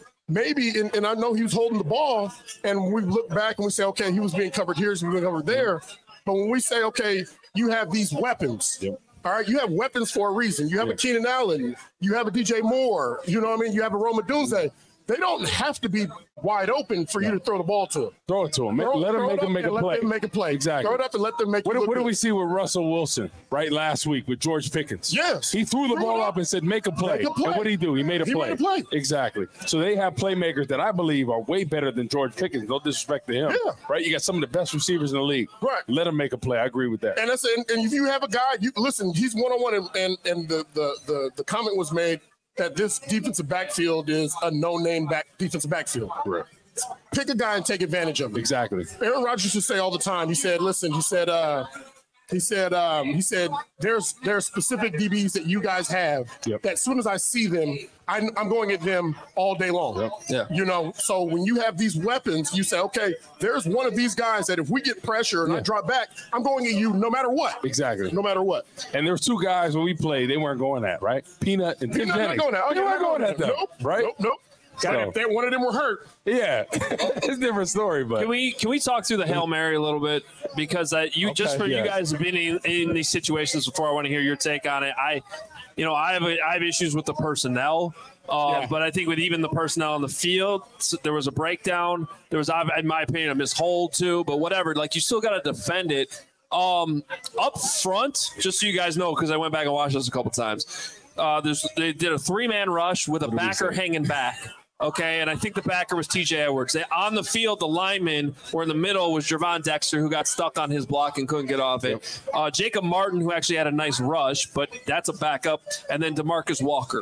maybe, and, and I know he was holding the ball, and we look back and we say, okay, he was being covered here, he was being covered there. But when we say, okay, you have these weapons. Yep. All right, you have weapons for a reason. You have Yeah. a Keenan Allen. You have a D J Moore. You know what I mean? You have a Roma Dunze. They don't have to be wide open for you to throw the ball to them. Throw it to him. Throw- let him throw it make up him make a and play. Let them make a play. Exactly. Throw it up and let them make What, it look what did good. we see with Russell Wilson, right, last week with George Pickens? Yes. He threw the Threw ball it up up. and said, make a play. Make a play. And what did he do? He made a He play. made a play. Exactly. So they have playmakers that I believe are way better than George Pickens. No disrespect to him. Yeah. Right? You got some of the best receivers in the league. Right. Let him make a play. I agree with that. And that's and, and if you have a guy, you listen, he's one on one, and and and the, the the the comment was made that this defensive backfield is a no-name back defensive backfield. Correct. Pick a guy and take advantage of it. Exactly. Aaron Rodgers used to say all the time. He said, "Listen," he said, uh, he said, um, he said, "There's there's specific D Bs that you guys have Yep. that as soon as I see them, I'm, I'm going at them all day long." Yep. Yeah. You know, so when you have these weapons, you say, "Okay, there's one of these guys that if we get pressure and I Yeah. drop back, I'm going at you no matter what." Exactly. No matter what. And there was two guys when we played, they weren't going at, right? Peanut and Tim They're not Jennings. going at. They weren't going at them, Nope. right? Nope. Nope. Got So- it. If they- one of them were hurt. Yeah. It's a different story, but. Can we can we talk through the Hail Mary a little bit because uh, you just Okay, for yeah. you guys have been in, in these situations before. I want to hear your take on it. I, you know, I have a, I have issues with the personnel, uh, Yeah. but I think with even the personnel on the field, s- there was a breakdown. There was, in my opinion, a mishold too. But whatever, like you still got to defend it. Um, up front, just so you guys know, because I went back and watched this a couple times. Uh, there's they did a three man rush with a did we backer say? hanging back. Okay, and I think the backer was T J Edwards. They, on the field, the linemen were in the middle was Jervon Dexter, who got stuck on his block and couldn't get off it. Uh, Jacob Martin, who actually had a nice rush, but that's a backup. And then DeMarcus Walker.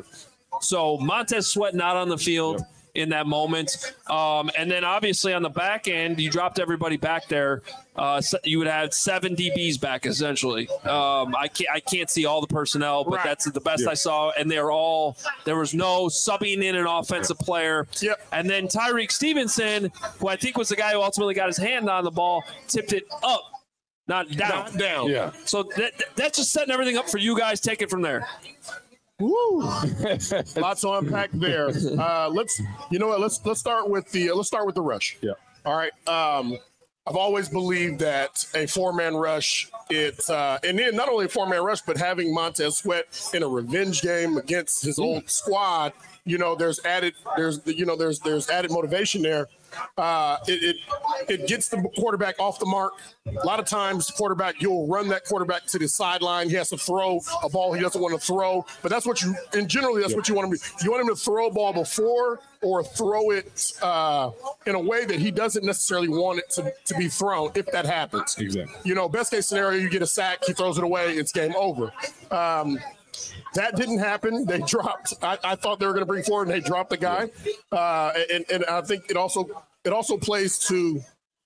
So Montez Sweat not on the field in that moment. Um, and then obviously on the back end, you dropped everybody back there. Uh, so you would have seven D Bs back essentially. Um, I can't I can't see all the personnel, but Right. that's the best Yeah. I saw. And they're all there was no subbing in an offensive player. Yep. And then Tyreek Stevenson, who I think was the guy who ultimately got his hand on the ball, tipped it up, not down. Not down. Yeah. So that that's just setting everything up for you guys. Take it from there. Woo! Lots to unpack there. Uh, let's, you know what? Let's let's start with the uh, let's start with the rush. Yeah. All right. Um, I've always believed that a four-man rush, it uh, and then not only a four-man rush, but having Montez Sweat in a revenge game against his old squad, you know, there's added there's you know there's there's added motivation there. Uh, it, it it gets the quarterback off the mark. A lot of times, the quarterback, you'll run that quarterback to the sideline. He has to throw a ball he doesn't want to throw. But that's what you, and generally, that's what you want him to do. You want him to throw a ball before or throw it uh, in a way that he doesn't necessarily want it to, to be thrown if that happens. Exactly. You know, best case scenario, you get a sack, he throws it away, it's game over. Um, That didn't happen. They dropped. I, I thought they were going to bring forward, and they dropped the guy. Uh, and, and I think it also it also plays to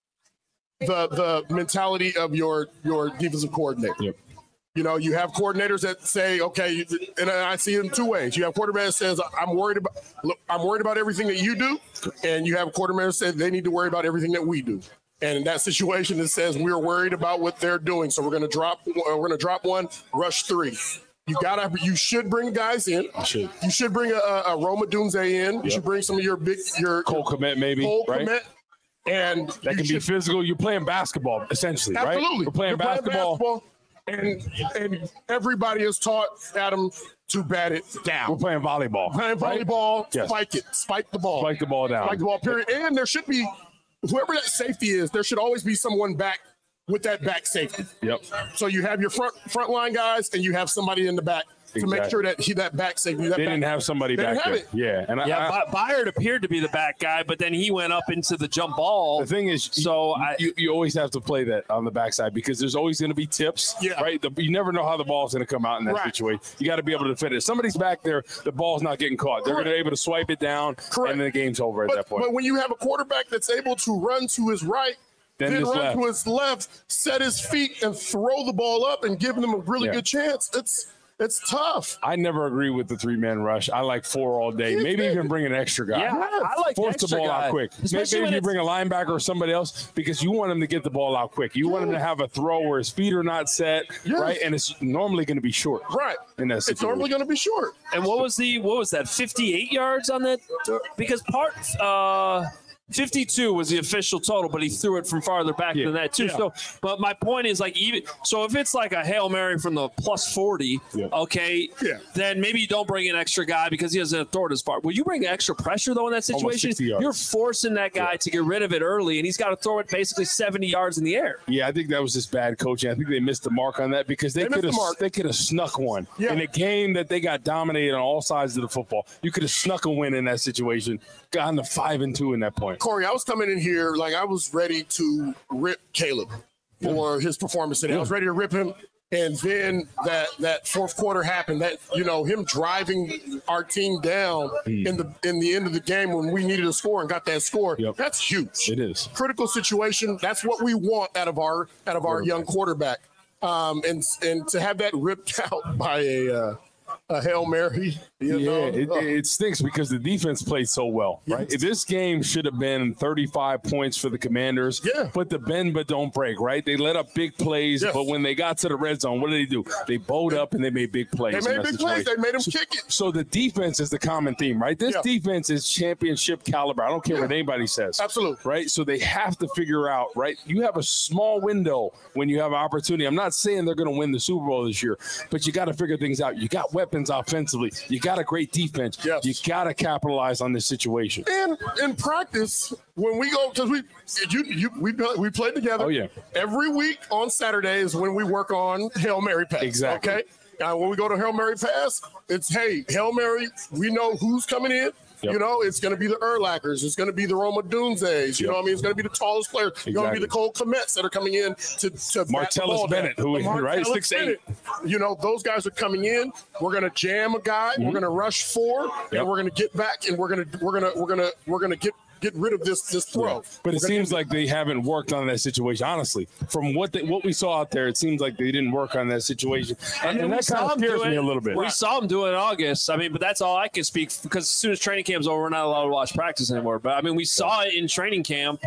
the the mentality of your your defensive coordinator. Yep. You know, you have coordinators that say, okay, and I see it in two ways. You have quarterback that says, I'm worried about look, I'm worried about everything that you do, and you have a quarterback that says they need to worry about everything that we do. And in that situation, it says we're worried about what they're doing, so we're going to drop we're going to drop one, rush three. You gotta. You should bring guys in. You should. You should bring a, a Roma Dunze in. You Yep. should bring some of your big your Cole Kmet, maybe, Cole right? Kmet, and That can you be should- physical. You're playing basketball, essentially, absolutely. right? We're playing You're basketball. and and everybody has taught Adam to bat it down. We're playing volleyball. Playing right? volleyball, Yes. spike it, spike the ball, Spike the ball down. spike the ball. Period. And there should be whoever that safety is. There should always be someone back with that back safety. Yep. So you have your front front line guys, and you have somebody in the back to make Exactly. sure that he that back safety. That They back, didn't have somebody They back didn't have there. it. Yeah, and Yeah, I, I, By- Byard appeared to be the back guy, but then he went up into the jump ball. the thing is, So you, I- you, you always have to play that on the backside because there's always going to be tips, Yeah. right? The, you never know how the ball's going to come out in that Right. situation. You got to be able to defend it. If somebody's back there, the ball's not getting caught. They're going to be able to swipe it down, Correct. and then the game's over at But, that point. but when you have a quarterback that's able to run to his right, Then then his run left. to his left, set his feet, and throw the ball up and give them a really Yeah. good chance, it's it's tough. I never agree with the three-man rush. I like four all day. Yeah. Maybe even bring an extra guy. Yeah, I, I like Force the extra ball guy. out quick. Maybe, Especially maybe when you it's- bring a linebacker or somebody else because you want him to get the ball out quick. You want him to have a throw where his feet are not set, Yes. right? And it's normally going to be short. Right. In that It's situation. normally going to be short. And what was the what was that? fifty-eight yards on that? Because part uh, fifty-two was the official total, but he threw it from farther back Yeah. than that too. Yeah. So, but my point is like even so, if it's like a Hail Mary from the plus forty, Yeah. okay, Yeah. then maybe you don't bring an extra guy because he doesn't throw it as far. Will you bring extra pressure though in that Almost situation? sixty yards. You're forcing that guy to get rid of it early, and he's got to throw it basically seventy yards in the air. Yeah, I think that was just bad coaching. I think they missed the mark on that because they, They missed could have the mark. they could have snuck one Yeah. in a game that they got dominated on all sides of the football. You could have snuck a win in that situation, gotten to five and two in that point. Corey, I was coming in here like I was ready to rip Caleb for his performance today. I was ready to rip him. And then that that fourth quarter happened. That you know him driving our team down in the in the end of the game when we needed a score and got that score. Yep. That's huge. It is. Critical situation. That's what we want out of our out of our young quarterback. Um, and and to have that ripped out by a uh, a Hail Mary. You Yeah, know, it, uh, it stinks because the defense played so well, right? Yes. This game should have been thirty-five points for the Commanders. Yeah. But the bend but don't break, right? They let up big plays, Yes. but when they got to the red zone, what did they do? They bowed up and they made big plays. they in made that big plays. situation. They made him kick it. So the defense is the common theme, right? This Yeah. defense is championship caliber. I don't care what anybody says. Absolutely. Right? So they have to figure out, right? You have a small window when you have an opportunity. I'm not saying they're going to win the Super Bowl this year, but you got to figure things out. You got weapons offensively. You got a great defense. Yes. You got to capitalize on this situation. And in practice, when we go, because we you you we we played together. Oh, yeah. Every week on Saturday is when we work on Hail Mary pass. Exactly. Okay. Now when we go to Hail Mary pass, it's hey Hail Mary. We know who's coming in. Yep. You know, it's going to be the Urlachers. It's going to be the Roma Dunzes. You Yep. know what I mean? It's going to be the tallest players. It's going to be Exactly. the Cole Kmets that are coming in to, to bat the Martellus ball down. Bennett, who is- The right? Martellus six eight. Bennett. You know, those guys are coming in. We're going to jam a guy. We're going to rush four, Yep. and we're going to get back, and we're going to we're going to we're going to we're going to get get rid of this this throw. But it We're gonna seems end like they haven't worked on that situation. Honestly, from what they, what we saw out there, it seems like they didn't work on that situation, and, and we that saw kind of him scares do me it. a little bit. We saw him do it in August. I mean, but that's all I can speak because as soon as training camp's over, we're not allowed to watch practice anymore. But I mean, we saw it in training camp.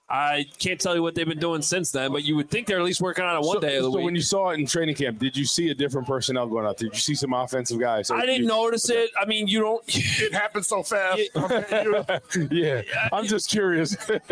I can't tell you what they've been doing since then, but you would think they're at least working on it one so, day of the so week. when you saw it in training camp, did you see a different personnel going out there? Did you see some offensive guys? I didn't you, notice okay. it. I mean, you don't. It happened so fast. Yeah. yeah, I'm just curious.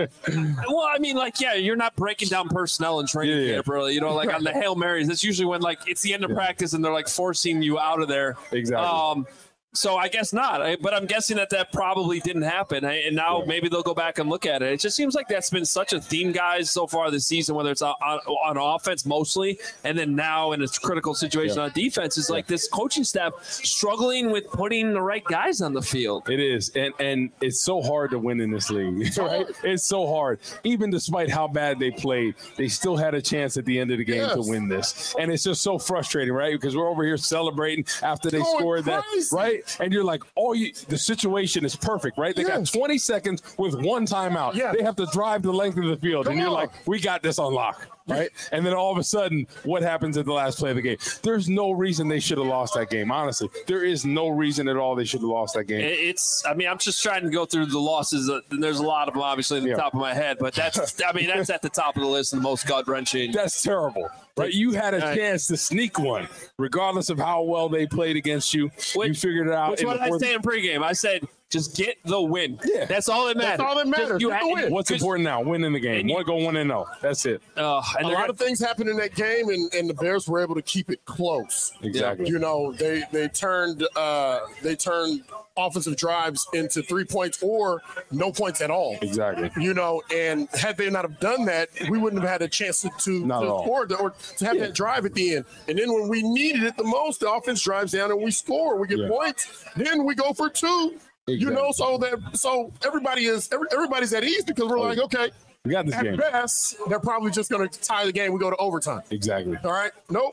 Well, I mean, like, yeah, you're not breaking down personnel in training Yeah, camp, yeah. really. You know, like on the Hail Marys, that's usually when, like, it's the end of Yeah. practice and they're, like, forcing you out of there. Exactly. Um, so I guess not. I, but I'm guessing that that probably didn't happen. I, and now Yeah. maybe they'll go back and look at it. It just seems like that's been such a theme, guys, so far this season, whether it's on, on, on offense mostly, and then now in a critical situation Yeah. on defense, is like this coaching staff struggling with putting the right guys on the field. It is, and and it's so hard to win in this league, right? It's so hard. Even despite how bad they played, they still had a chance at the end of the game Yes. to win this, and it's just so frustrating, right? Because we're over here celebrating after they Going scored that, crazy. right? And you're like, oh, you, the situation is perfect, right? They Yes. got twenty seconds with one timeout. Yeah. They have to drive the length of the field, Come and you're on. like, we got this on lock. Right. And then all of a sudden, what happens at the last play of the game? There's no reason they should have lost that game. Honestly, there is no reason at all they should have lost that game. It's, I mean, I'm just trying to go through the losses. Uh, There's a lot of them, obviously, at the Yeah. top of my head, but that's, I mean, that's at the top of the list and the most gut wrenching. That's terrible, right? You had a Right. chance to sneak one, regardless of how well they played against you. you Which- figured it out. Which in what the did I fourth- say in pregame? I said, just get the win. Yeah. That's all that matters. That's all that matters. Just- you Get the had- win. What's just- important now? Winning the game. And you- One go one and zero. That's it. Uh, and A they're lot gonna- of things happened in that game, and, and the Bears were able to keep it close. Exactly. You know, they they turned uh, they turned offensive drives into three points or no points at all. Exactly. You know, and had they not have done that, we wouldn't have had a chance to, to, Not to at all. score the, or to have Yeah. that drive at the end. And then when we needed it the most, the offense drives down and we score. We get Yeah. points. Then we go for two. You know, so that so everybody is every, everybody's at ease because we're like, okay, We got this at game. best, they're probably just going to tie the game. We go to overtime. Exactly. All right. Nope.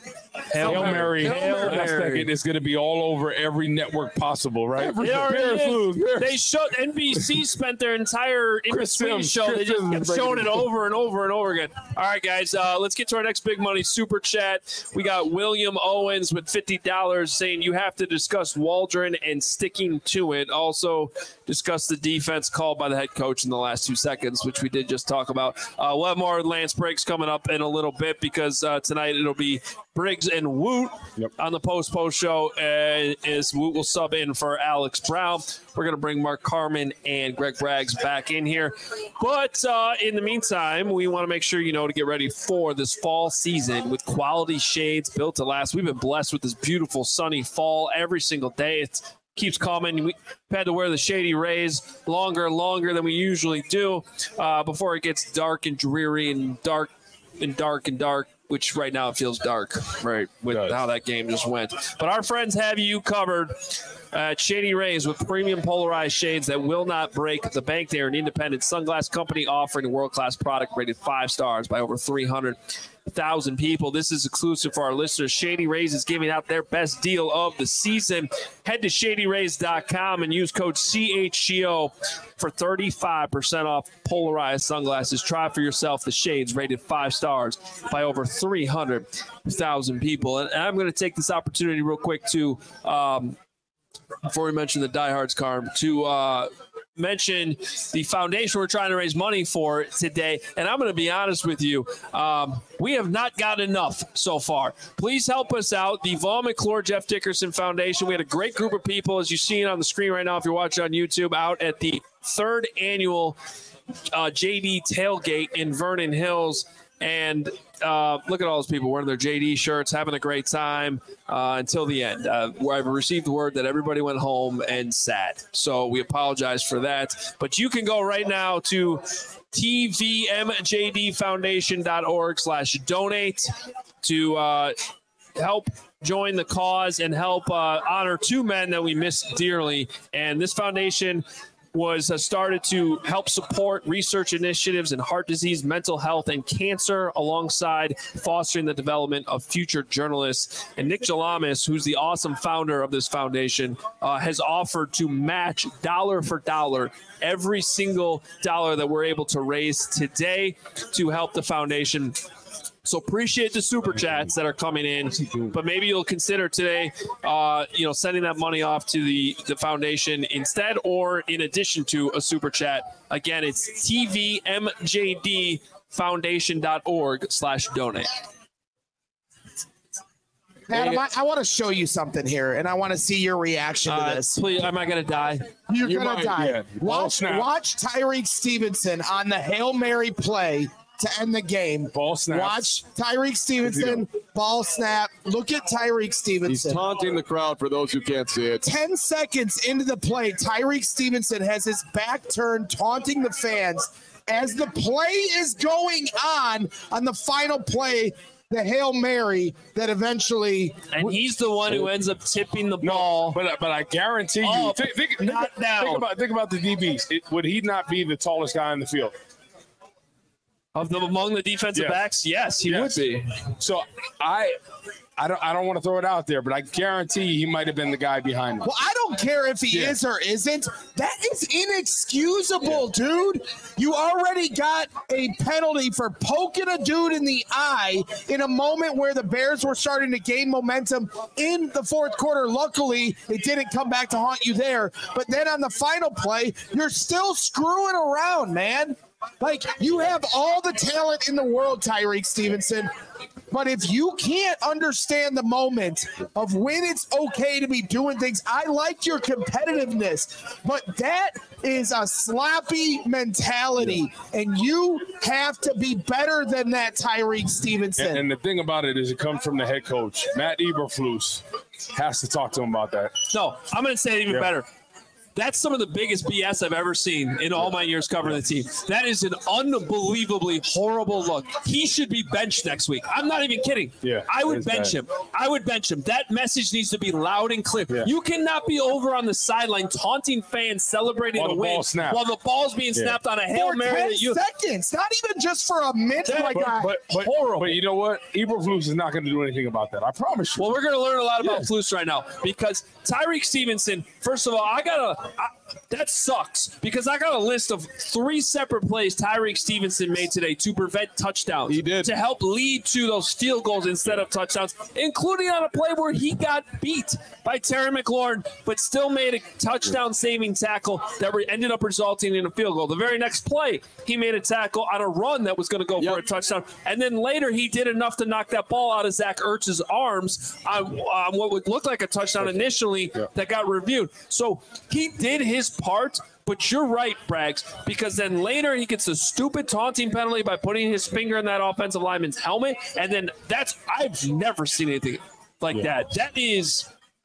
Hail Hail Mary. Hail Last Mary. second, it's going to be all over every network possible, right? It already Bears is. lose. Bears. They showed N B C spent their entire in Chris between Sims, show. Chris They just Sims kept is showing it breaking it. over and over and over again. All right, guys, uh, let's get to our next big money super chat. We got William Owens with fifty dollars saying you have to discuss Waldron and sticking to it. Also, discuss the defense called by the head coach in the last two seconds, which we did just talk about. Uh, we'll have more Lance Briggs coming up in a little bit because uh, tonight it'll be Briggs and Woot Yep. on the post-post show. Uh, is Woot will sub in for Alex Brown. We're going to bring Mark Carman and Greg Braggs back in here. But uh, in the meantime, we want to make sure you know to get ready for this fall season with quality shades built to last. We've been blessed with this beautiful sunny fall every single day. It's keeps coming. We've had to wear the Shady Rays longer and longer than we usually do uh, before it gets dark and dreary and dark and dark and dark, which right now it feels dark, right, with It does. how that game just went. But our friends have you covered at Shady Rays with premium polarized shades that will not break the bank. They are an independent sunglass company offering a world-class product rated five stars by over three hundred thousand people. This is exclusive for our listeners. Shady Rays is giving out their best deal of the season. Head to shady rays dot com and use code C H G O for thirty-five percent off polarized sunglasses. Try for yourself the shades rated five stars by over three hundred thousand people. And I'm going to take this opportunity real quick to, um, before we mention the diehards, Carm, to uh, mention the foundation we're trying to raise money for today. And I'm going to be honest with you, um, we have not got enough so far. Please help us out. The Vaughn McClure Jeff Dickerson Foundation. We had a great group of people, as you see it on the screen right now, if you're watching on YouTube, out at the third annual uh, J D tailgate in Vernon Hills. And uh, look at all those people wearing their J D shirts, having a great time uh, until the end, uh, where I've received word that everybody went home and sat. So we apologize for that. But you can go right now to T V M J D foundation dot org slash donate to uh, help join the cause and help uh, honor two men that we miss dearly. And this foundation was uh, started to help support research initiatives in heart disease, mental health, and cancer, alongside fostering the development of future journalists. And Nick Jalamis, who's the awesome founder of this foundation, uh, has offered to match dollar for dollar every single dollar that we're able to raise today to help the foundation So appreciate the super chats that are coming in, but maybe you'll consider today, uh, you know, sending that money off to the, the foundation instead or in addition to a super chat. Again, it's T V M J D foundation dot org slash donate. Adam, I, I want to show you something here, and I want to see your reaction to Uh, this. please, am I going to die? You're You gonna might, die. yeah. Ball Watch, snap. watch Tyreek Stevenson on the Hail Mary play to end the game. Ball snap. Watch Tyreek Stevenson, ball snap. Look at Tyreek He's Stevenson. taunting the crowd for those who can't see it. ten seconds into the play, Tyreek Stevenson has his back turned, taunting the fans. As the play is going on, on the final play, the Hail Mary that eventually. And he's the one who ends up tipping the ball. But but I guarantee you, Oh, think, think, not think, down. think about think about the D Bs. It, would he not be the tallest guy in the field? Of the among the defensive Yes. backs, yes, he Yes. would be. So I I don't I don't want to throw it out there, but I guarantee he might have been the guy behind him. Well, I don't care if he Yeah. is or isn't. That is inexcusable, dude. You already got a penalty for poking a dude in the eye in a moment where the Bears were starting to gain momentum in the fourth quarter. Luckily, it didn't come back to haunt you there. But then on the final play, you're still screwing around, man. Like, you have all the talent in the world, Tyreek Stevenson. But if you can't understand the moment of when it's okay to be doing things, I like your competitiveness, but that is a sloppy mentality, and you have to be better than that, Tyreek Stevenson. And, and the thing about it is, it comes from the head coach, Matt Eberflus. Has to talk to him about that. No, I'm going to say it even Yeah. better. That's some of the biggest B S I've ever seen in all my years covering the team. That is an unbelievably horrible look. He should be benched next week. I'm not even kidding. Yeah, I would that is bench bad. him. I would bench him. That message needs to be loud and clear. Yeah. You cannot be over on the sideline taunting fans celebrating While a the win ball snapped. while the ball's being Yeah. snapped on a Hail For Mary. ten That you, seconds, not even just for a minute. That- like But, I- but, but, Horrible. but you know what? Eberflus is not going to do anything about that. I promise you. Well, we're going to learn a lot about Yeah. Flus right now because Tyreek Stevenson, first of all, I got to – that sucks because I got a list of three separate plays Tyreek Stevenson made today to prevent touchdowns. He did. To help lead to those field goals instead of touchdowns, including on a play where he got beat by Terry McLaurin but still made a touchdown-saving tackle that re- ended up resulting in a field goal. The very next play, he made a tackle on a run that was going to go Yep. for a touchdown. And then later he did enough to knock that ball out of Zach Ertz's arms on, on what would look like a touchdown initially that got reviewed. So he did his part, but you're right, Braggs, because then later he gets a stupid taunting penalty by putting his finger in that offensive lineman's helmet. And then that's, I've never seen anything like that. That is...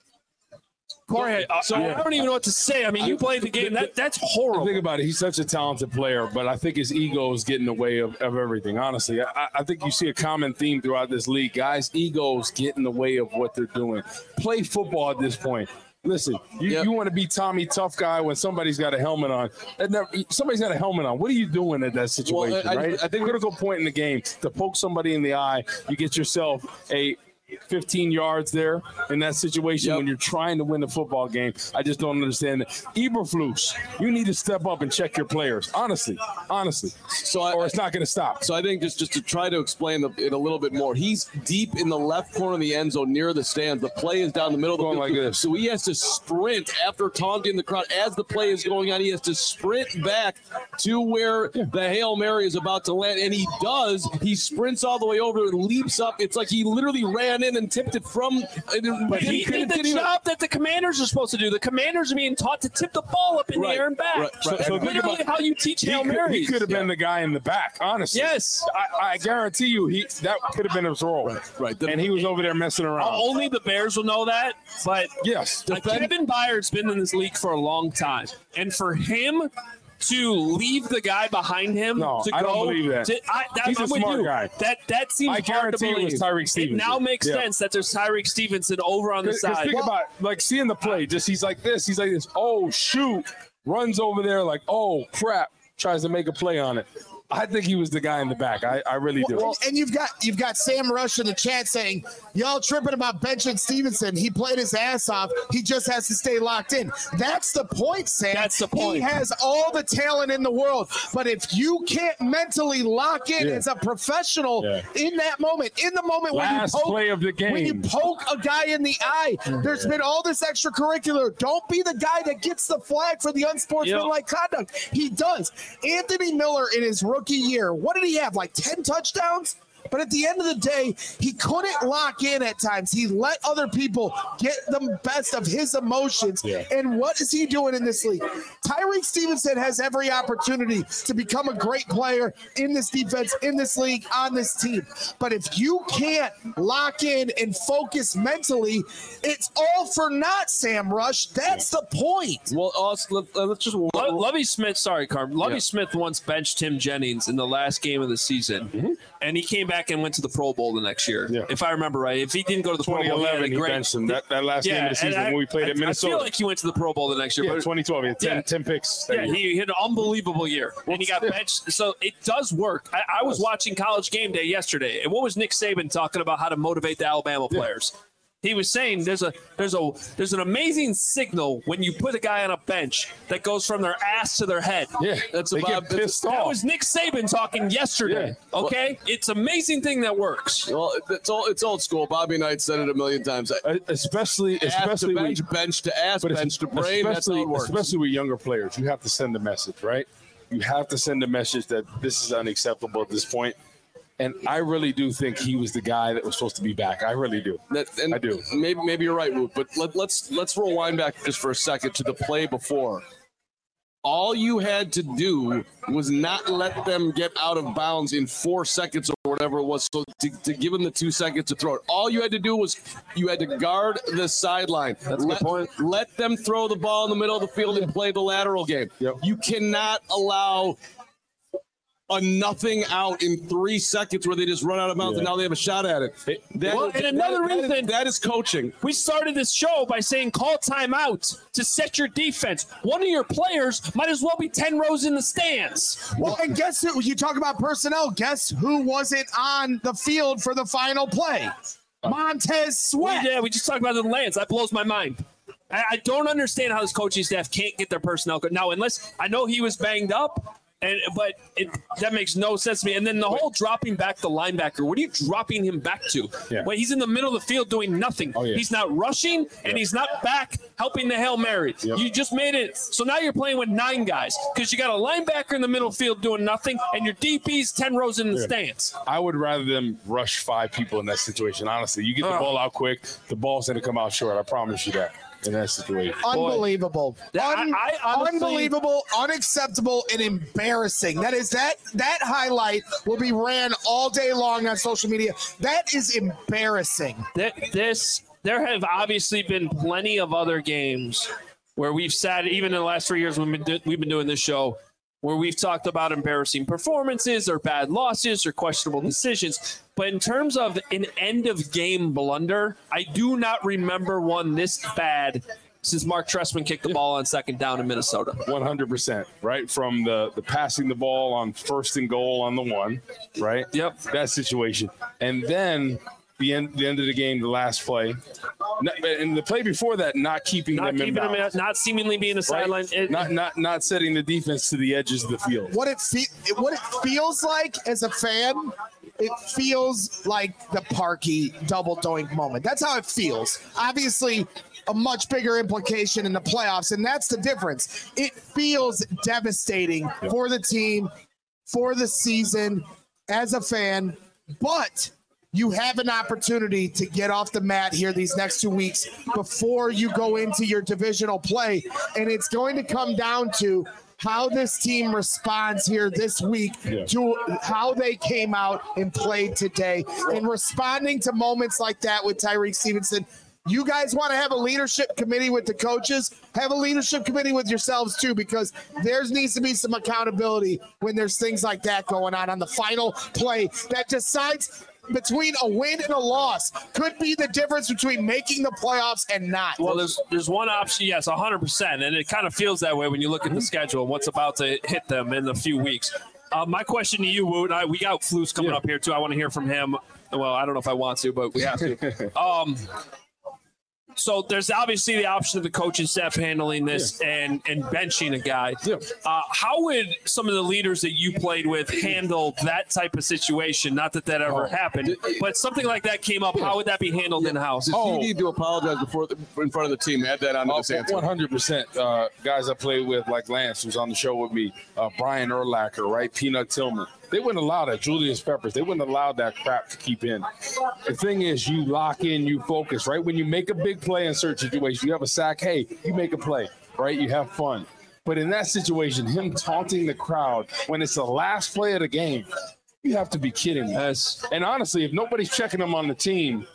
Jorge, uh, so I don't even know what to say. I mean, you played the game. That That's horrible. Think about it. He's such a talented player, but I think his ego is getting in the way of, of everything. Honestly, I, I think you see a common theme throughout this league. Guys' egos get in the way of what they're doing. Play football at this point. Listen, you, Yep. you want to be Tommy Tough Guy when somebody's got a helmet on. That never, somebody's got a helmet on. What are you doing at that situation, Well, I- right? I think- critical point in the game to poke somebody in the eye. You get yourself a fifteen yards there in that situation Yep. when you're trying to win the football game. I just don't understand it. Eberflus, you need to step up and check your players. Honestly, honestly. So I, Or it's not going to stop. So I think just, just to try to explain the, it a little bit more, he's deep in the left corner of the end zone near the stands. The play is down the middle of the Going field. like this. So he has to sprint after taunting the crowd. As the play is going on, he has to sprint back to where the Hail Mary is about to land. And he does. He sprints all the way over, leaps up. It's like he literally ran in and tipped it from. But he did the job that the Commanders are supposed to do. The Commanders are being taught to tip the ball up in Right, the air and back. right, right. So, So think literally about- how you teach He Hail could, he Marys. could have been the guy in the back, honestly. Yes. I, I guarantee you he that could have been his role. Right, right. The- and he was over there messing around. Only the Bears will know that. But yes. uh, Kevin Byard's been in this league for a long time. And for him to leave the guy behind him No, to I go. don't believe that. To, I, that He's a I'm with smart you. guy. That that seems I hard to guarantee it believe. was Tyreek It Stevenson. now makes Yeah. sense that there's Tyreek Stevenson over on the Because side. think about like seeing the play. Just he's like this. He's like this. Oh shoot! Runs over there like oh crap. Tries to make a play on it. I think he was the guy in the back. I, I really do. Well, and you've got you've got Sam Rush in the chat saying, y'all tripping about benching Stevenson. He played his ass off. He just has to stay locked in. That's the point, Sam. That's the point. He has all the talent in the world. But if you can't mentally lock in Yeah. as a professional Yeah. in that moment, in the moment Last when you poke, play of the game. when you poke a guy in the eye, there's been all this extracurricular. Don't be the guy that gets the flag for the unsportsmanlike conduct. He does. Anthony Miller in his rookie year, what did he have, like ten touchdowns? But at the end of the day, he couldn't lock in at times. He let other people get the best of his emotions. Yeah. And what is he doing in this league? Tyreek Stevenson has every opportunity to become a great player in this defense, in this league, on this team. But if you can't lock in and focus mentally, it's all for naught, Sam Rush. That's the point. Well, also, let, uh, let's just. Lo- Lovie Smith, sorry, Carm. Lovie Yeah. Smith once benched Tim Jennings in the last game of the season, Mm-hmm. and he came back and went to the Pro Bowl the next year, Yeah. if I remember right. If he didn't go to the Pro twenty Bowl, he had eleven, a he great. benched him. That, that last game of the and season I- when we played I, at Minnesota. I feel like he went to the Pro Bowl the next year. yeah, but twenty twelve. He had ten, Yeah. ten picks. that Yeah, year. he had an unbelievable year, and he got benched. So it does work. I, I was watching College Game Day yesterday, and what was Nick Saban talking about how to motivate the Alabama players? He was saying there's a there's a there's an amazing signal when you put a guy on a bench that goes from their ass to their head. Yeah, That's they about- get pissed That off. was Nick Saban talking yesterday. Yeah. Okay, it's amazing thing that works. Well, it's all it's old school. Bobby Knight said it a million times. Uh, especially, Ass to especially bench, with, bench to ass, but bench to brain. That's how especially, it works. especially with younger players, you have to send a message, right? You have to send a message that this is unacceptable at this point. And I really do think he was the guy that was supposed to be back. I really do. That, and I do. Maybe maybe you're right, Woot, but let, let's let's rewind back just for a second to the play before. All you had to do was not let them get out of bounds in four seconds or whatever it was, so to, to give them the two seconds to throw it. All you had to do was you had to guard the sideline. That's a let, good point. Let them throw the ball in the middle of the field and play the lateral game. Yep. You cannot allow a nothing out in three seconds where they just run out of bounds and Yeah. now they have a shot at it. That- Well, and another that- that is- reason- that is coaching. We started this show by saying call timeout to set your defense. One of your players might as well be ten rows in the stands. Well, and guess who? You talk about personnel. Guess who wasn't on the field for the final play? Montez Sweat. Yeah, we just talked about the Lance. That blows my mind. I, I don't understand how this coaching staff can't get their personnel good. Now, unless I know he was banged up, and but it, that makes no sense to me. And then the whole dropping back the linebacker. What are you dropping him back to? Yeah. Wait, he's in the middle of the field doing nothing. Oh, yeah. He's not rushing, and he's not back helping the Hail Mary. Yep. You just made it. So now you're playing with nine guys because you got a linebacker in the middle field doing nothing, and your D P's ten rows in the Yeah. stands. I would rather them rush five people in that situation. Honestly, you get the Ugh. ball out quick, the ball's going to come out short. I promise you that in that situation. Unbelievable. Yeah, I- Un- I honestly- unbelievable, unacceptable, and embarrassing. That is that that highlight will be ran all day long on social media. That is embarrassing. Th- This there have obviously been plenty of other games where we've sat, even in the last three years we've been do- we've been doing this show, where we've talked about embarrassing performances or bad losses or questionable decisions. But in terms of an end of game blunder, I do not remember one this bad since Mark Trestman kicked the ball on second down in Minnesota. one hundred percent, right? From the, the passing the ball on first and goal on the one, right? Yep. That situation. And then the end the end of the game, the last play. Not- And the play before that, not keeping Not them keeping in him, bounds. not seemingly being a Right? sideline. It- not not not setting the defense to the edges of the field. What it fe- what it feels like as a fan, it feels like the Parkey double doink moment. That's how it feels. Obviously, a much bigger implication in the playoffs, and that's the difference. It feels devastating for the team, for the season, as a fan, but you have an opportunity to get off the mat here these next two weeks before you go into your divisional play, and it's going to come down to how this team responds here this week Yeah. to how they came out and played today, and responding to moments like that with Tyreek Stevenson. You guys want to have a leadership committee with the coaches? Have a leadership committee with yourselves too, because there needs to be some accountability when there's things like that going on on the final play that decides between a win and a loss. Could be the difference between making the playoffs and not. Well, there's there's one option, yes, one hundred percent, and it kind of feels that way when you look at the schedule and what's about to hit them in a few weeks. Uh, my question to you, Woot, I, we got Flus coming Yeah. up here too. I want to hear from him. Well, I don't know if I want to, but we have to. um, so there's obviously the option of the coaching staff handling this yeah. and and benching a guy. Yeah. Uh, how would some of the leaders that you played with handle that type of situation? Not that that ever oh. happened, but something like that came up. Yeah. How would that be handled yeah. in house? Does oh. he need to apologize before the, in front of the team? Add that on to oh, this answer. one hundred percent. Uh, guys I played with, like Lance, who's on the show with me, uh, Brian Urlacher, right? Peanut Tillman. They wouldn't allow that. Julius Peppers. They wouldn't allow that crap to keep in. The thing is, you lock in, you focus, right? When you make a big play in certain situations, you have a sack, hey, you make a play, right? You have fun. But in that situation, him taunting the crowd when it's the last play of the game, you have to be kidding me. Yes. And honestly, if nobody's checking him on the team,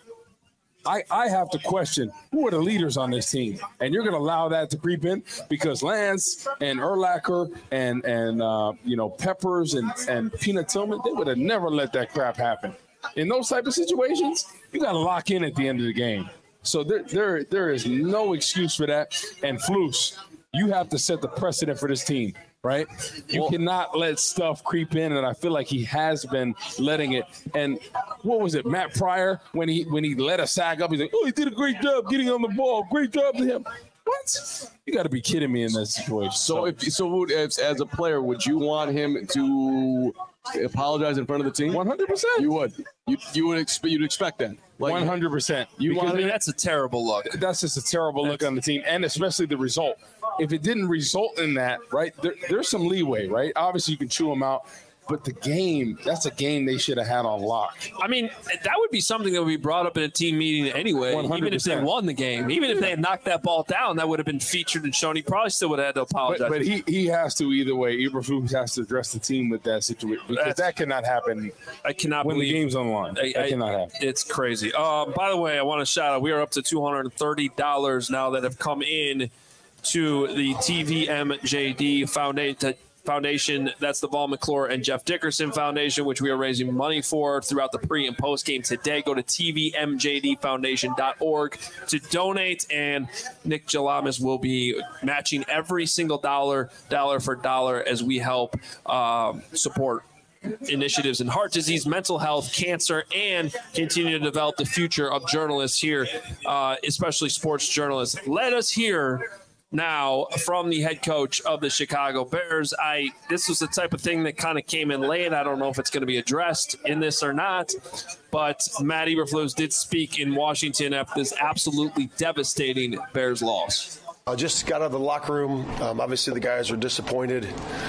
I, I have to question who are the leaders on this team, and you're going to allow that to creep in because Lance and Urlacher and and uh, you know Peppers and and Peanut Tillman, they would have never let that crap happen. In those type of situations, you got to lock in at the end of the game. So there there there is no excuse for that. And Flus, you have to set the precedent for this team. Right? You well, cannot let stuff creep in, and I feel like he has been letting it. And what was it, Matt Pryor, when he when he let a sack up, he's like, oh, he did a great job getting on the ball. Great job to him. What? You got to be kidding me in that situation. So, if so, if, as a player, would you want him to apologize in front of the team? one hundred percent. You would. You you would expect you'd expect that. Like, one hundred percent. You want? I mean, that's a terrible look. That's just a terrible that's, look on the team, and especially the result. If it didn't result in that, right, there, there's some leeway, right? Obviously, you can chew them out. But the game, that's a game they should have had on lock. I mean, that would be something that would be brought up in a team meeting anyway, one hundred percent. Even if they won the game. Even if they had knocked that ball down, that would have been featured and shown. He probably still would have had to apologize. But, but he, he has to either way. Eberflus has to address the team with that situation. Because that's, that cannot happen I cannot when believe, the game's on line. I, that I, cannot happen. It's crazy. Uh, by the way, I want to shout out, we are up to two hundred thirty dollars now that have come in to the T V M J D Foundation. Foundation. That's the Vol McClure and Jeff Dickerson Foundation, which we are raising money for throughout the pre and post game today. Go to T V M J D foundation dot org to donate, and Nick Jalamas will be matching every single dollar, dollar for dollar, as we help um, support initiatives in heart disease, mental health, cancer, and continue to develop the future of journalists here, uh, especially sports journalists. Let us hear now from the head coach of the Chicago Bears. I this was the type of thing that kind of came in late. I don't know if it's going to be addressed in this or not, but Matt Eberflus did speak in Washington after this absolutely devastating Bears loss. I just got out of the locker room. Um, obviously, the guys are disappointed.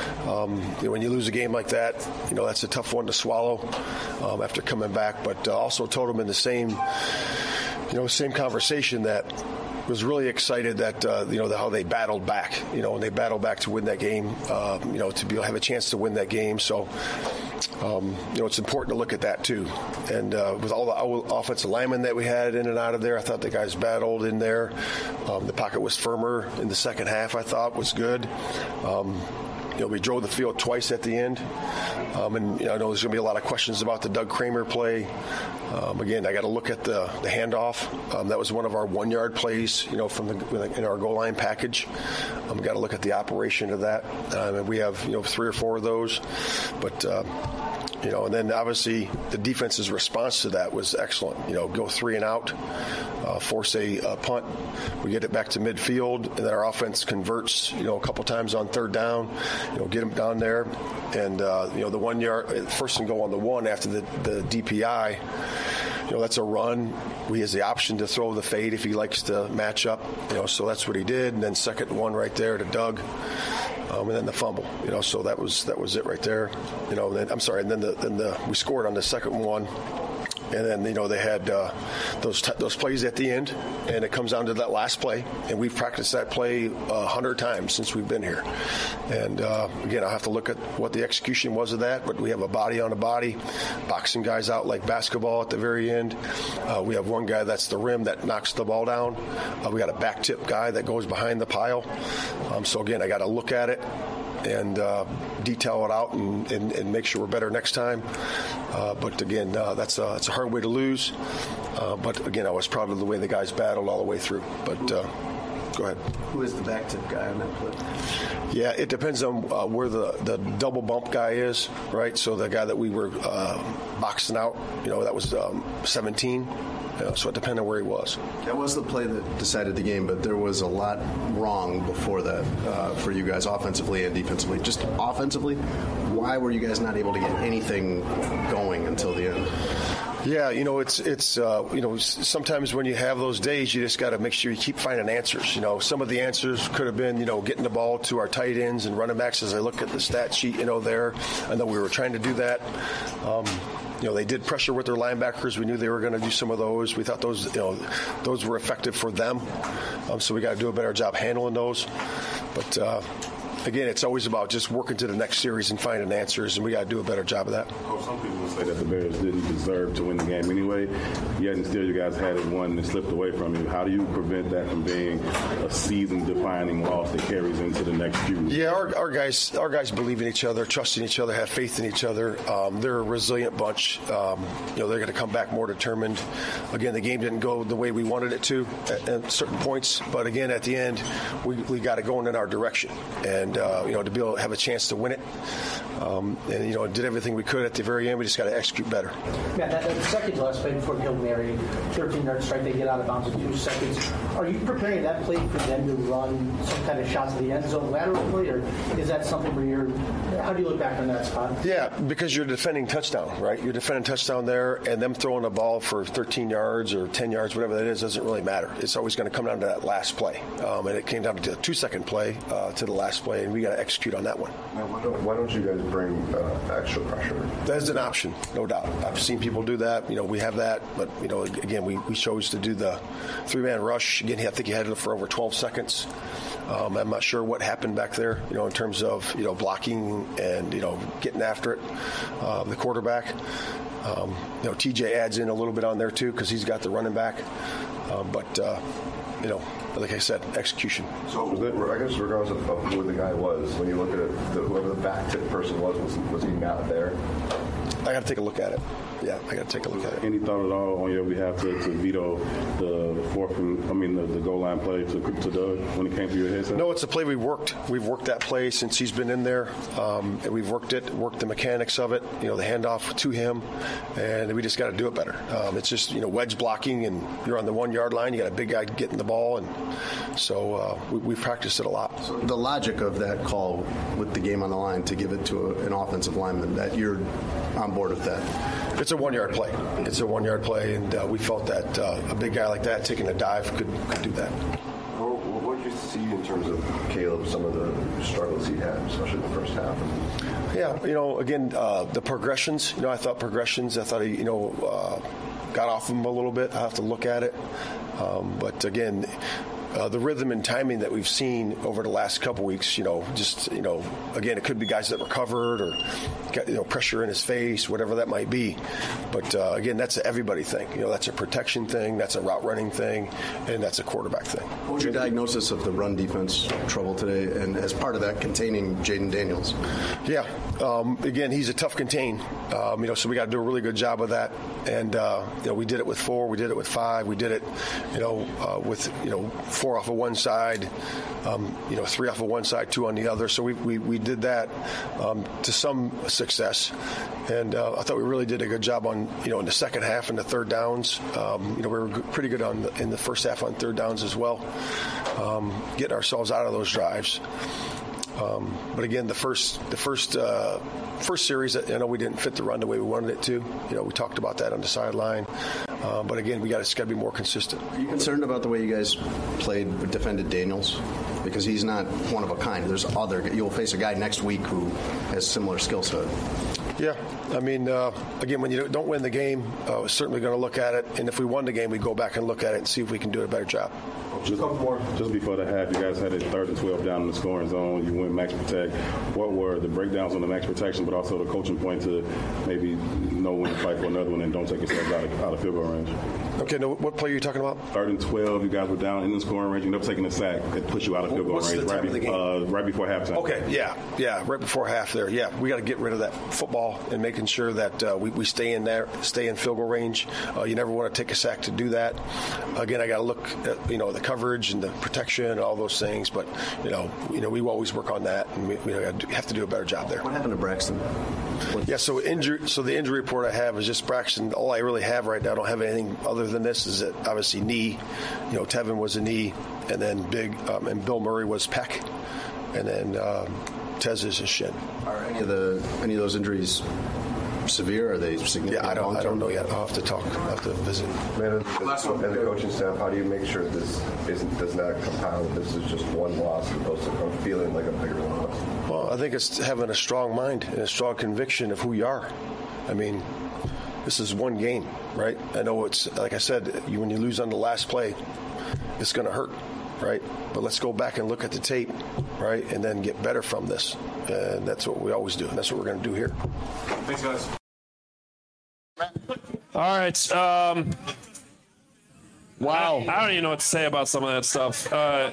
Um, you know, when you lose a game like that, you know, that's a tough one to swallow um, after coming back. But uh, also told them in the same, you know, same conversation that was really excited that, uh, you know, the, how they battled back, you know, and they battled back to win that game, uh, you know, to be able to have a chance to win that game. So, um, you know, it's important to look at that, too. And uh, with all the offensive linemen that we had in and out of there, I thought the guys battled in there. Um, the pocket was firmer in the second half, I thought, was good. Um, You know, we drove the field twice at the end. Um, and, you know, I know there's going to be a lot of questions about the Doug Kramer play. Um, again, I got to look at the, the handoff. Um, that was one of our one-yard plays, you know, from the in our goal line package. Um, we got to look at the operation of that. Um, and we have, you know, three or four of those. But, uh, you know, and then obviously the defense's response to that was excellent. You know, go three and out, uh, force a, a punt. We get it back to midfield, and then our offense converts, you know, a couple times on third down. You know, get them down there. And, uh, you know, the one yard, first and goal on the one after the, the D P I, you know, that's a run. He has the option to throw the fade if he likes to match up, you know, so that's what he did. And then second one right there to Doug. Um, and then the fumble, you know, so that was that was it right there, you know. Then, I'm sorry, and then the then the we scored on the second one, and then you know they had uh, those t- those plays at the end, and it comes down to that last play, and we've practiced that play a hundred times since we've been here, and uh, again I have to look at what the execution was of that, but we have a body on a body, boxing guys out like basketball at the very end. Uh, we have one guy that's the rim that knocks the ball down. Uh, we got a back tip guy that goes behind the pile. Um, so again, I got to look at it and uh, detail it out and, and, and make sure we're better next time. Uh, but again, uh, that's, a, that's a hard way to lose. Uh, but again, I was proud of the way the guys battled all the way through. But uh, Go ahead. Who is the back tip guy on that play? Yeah, it depends on uh, where the, the double bump guy is, right? So the guy that we were uh, boxing out, you know, that was um, seventeen. You know, so it depended on where he was. That was the play that decided the game, but there was a lot wrong before that uh, for you guys offensively and defensively. Just offensively, why were you guys not able to get anything going until the end? Yeah, you know, it's, it's uh, you know, sometimes when you have those days, you just got to make sure you keep finding answers. You know, some of the answers could have been, you know, getting the ball to our tight ends and running backs. As I look at the stat sheet, you know, there, I know we were trying to do that. Um, You know, they did pressure with their linebackers. We knew they were going to do some of those. We thought those, you know, those were effective for them. Um, so we got to do a better job handling those. But uh, again, it's always about just working to the next series and finding answers, and we got to do a better job of that. Coach, some people would say that the Bears didn't deserve to win the game anyway, yet and still you guys had it won and slipped away from you. How do you prevent that from being a season-defining loss that carries into the next few? Yeah, our, our guys, our guys believe in each other, trust in each other, have faith in each other. Um, they're a resilient bunch. Um, you know, they're going to come back more determined. Again, the game didn't go the way we wanted it to at, at certain points, but again, at the end, we, we got it going in our direction, and uh, you know, to be able to have a chance to win it, um, and you know, did everything we could at the very end. We just got to execute better. Yeah, that, that second to last play before Hail Mary, thirteen-yard strike, they get out of bounds in two seconds. Are you preparing that play for them to run some kind of shots to the end zone laterally, or is that something where you're? How do you look back on that spot? Yeah, because you're defending touchdown, right? You're defending touchdown there, and them throwing a ball for thirteen yards or ten yards, whatever that is, doesn't really matter. It's always going to come down to that last play, um, and it came down to the two-second play uh, to the last play, and we got to execute on that one. Now, why don't, why don't you guys bring uh, extra pressure? That is an option, no doubt. I've seen people do that. You know, we have that, but you know, again, we, we chose to do the three-man rush. Again, I think he had it for over twelve seconds. Um, I'm not sure what happened back there, you know, in terms of, you know, blocking and, you know, getting after it, uh, the quarterback. Um, you know, T J adds in a little bit on there, too, because he's got the running back. Uh, but, uh, you know, like I said, execution. So, I guess regardless of, of who the guy was, when you look at it, the, whoever the back tip person was, was, was he not there? I got to take a look at it. Yeah, I got to take a look at it. Any thought at all on your behalf to, to veto the fourth, and, I mean, the, the goal line play to, to Doug when it came to your headset? No, it's a play we've worked. We've worked that play since he's been in there. Um, and we've worked it, worked the mechanics of it, you know, the handoff to him, and we just got to do it better. Um, it's just, you know, wedge blocking, and you're on the one-yard line. You got a big guy getting the ball, and so uh, we, we've practiced it a lot. So the logic of that call with the game on the line to give it to a, an offensive lineman, that you're on board with that? It's a one-yard play. It's a one-yard play, and uh, we felt that uh, a big guy like that taking a dive could, could do that. Well, what did you see in terms of Caleb, some of the struggles he had, especially in the first half? Yeah, you know, again, uh, the progressions, you know, I thought progressions, I thought he, you know, uh, got off him a little bit. I have to look at it. Um, but, again, Uh, the rhythm and timing that we've seen over the last couple weeks, you know, just, you know, again, it could be guys that recovered or got, you know, pressure in his face, whatever that might be. But, uh, again, that's an everybody thing. You know, that's a protection thing, that's a route running thing, and that's a quarterback thing. What was your diagnosis of the run defense trouble today, and as part of that, containing Jaden Daniels? Yeah. Um, again, he's a tough contain, um, you know, so we got to do a really good job of that. And, uh, you know, we did it with four, we did it with five, we did it, you know, uh, with, you know, four off of one side, um, you know, three off of one side, two on the other. So we we, we did that um, to some success, and uh, I thought we really did a good job on, you know, in the second half and the third downs. Um, you know, we were pretty good on the, in the first half on third downs as well, um, getting ourselves out of those drives. Um, but again, the first the first uh, first series, I know we didn't fit the run the way we wanted it to. You know, we talked about that on the sideline. Uh, but again, we got to be more consistent. Are you concerned about the way you guys played, defended Daniels? Because he's not one of a kind. There's other. You'll face a guy next week who has similar skill set. Yeah, I mean, uh, again, when you don't win the game, uh, we're certainly going to look at it. And if we won the game, we go back and look at it and see if we can do a better job. Just, just before the half, you guys had it third and twelve down in the scoring zone. You went max protect. What were the breakdowns on the max protection, but also the coaching point to maybe know when to fight for another one and don't take yourself out of, out of field goal range? Okay, now what play are you talking about? Third and twelve, you guys were down in the scoring range. You ended up taking a sack that pushed you out of field goal What's range the time right, of the game? Uh, right before halftime. Okay, yeah, yeah, right before half there. Yeah, we got to get rid of that football. ball and making sure that uh, we, we stay in there, stay in field goal range. Uh, you never want to take a sack to do that. Again, I got to look at, you know, the coverage and the protection and all those things. But, you know, you know, we always work on that, and we, we have to do a better job there. What happened to Braxton? What? Yeah, so injury. So the injury report I have is just Braxton. All I really have right now, I don't have anything other than this, is that obviously knee. You know, Tevin was a knee, and then big, um, and Bill Murray was pec, and then um, Tez is a shin. Are any of the any of those injuries severe? Are they significant? Yeah, I don't. I don't know yet. I'll have to talk. I'll have to visit. Man, and the coaching staff, how do you make sure this isn't does not compound? This is just one loss as opposed to come feeling like a bigger loss. Well, I think it's having a strong mind and a strong conviction of who you are. I mean, this is one game, right? I know it's like I said. You, when you lose on the last play, it's going to hurt, right? But let's go back and look at the tape, right, and then get better from this. And that's what we always do, and that's what we're going to do here. Thanks, guys. All right. Um, Wow. I, I don't even know what to say about some of that stuff. Uh,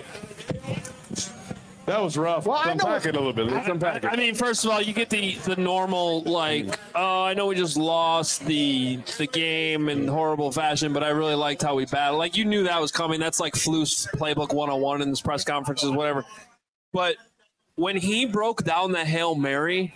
That was rough. Well, Let's I know unpack it a little bit. Let's unpack it. I mean, first of all, you get the, the normal, like, oh, I know we just lost the the game in horrible fashion, but I really liked how we battled. Like, you knew that was coming. That's like Flu's playbook one oh one in his press conferences, whatever. But when he broke down the Hail Mary,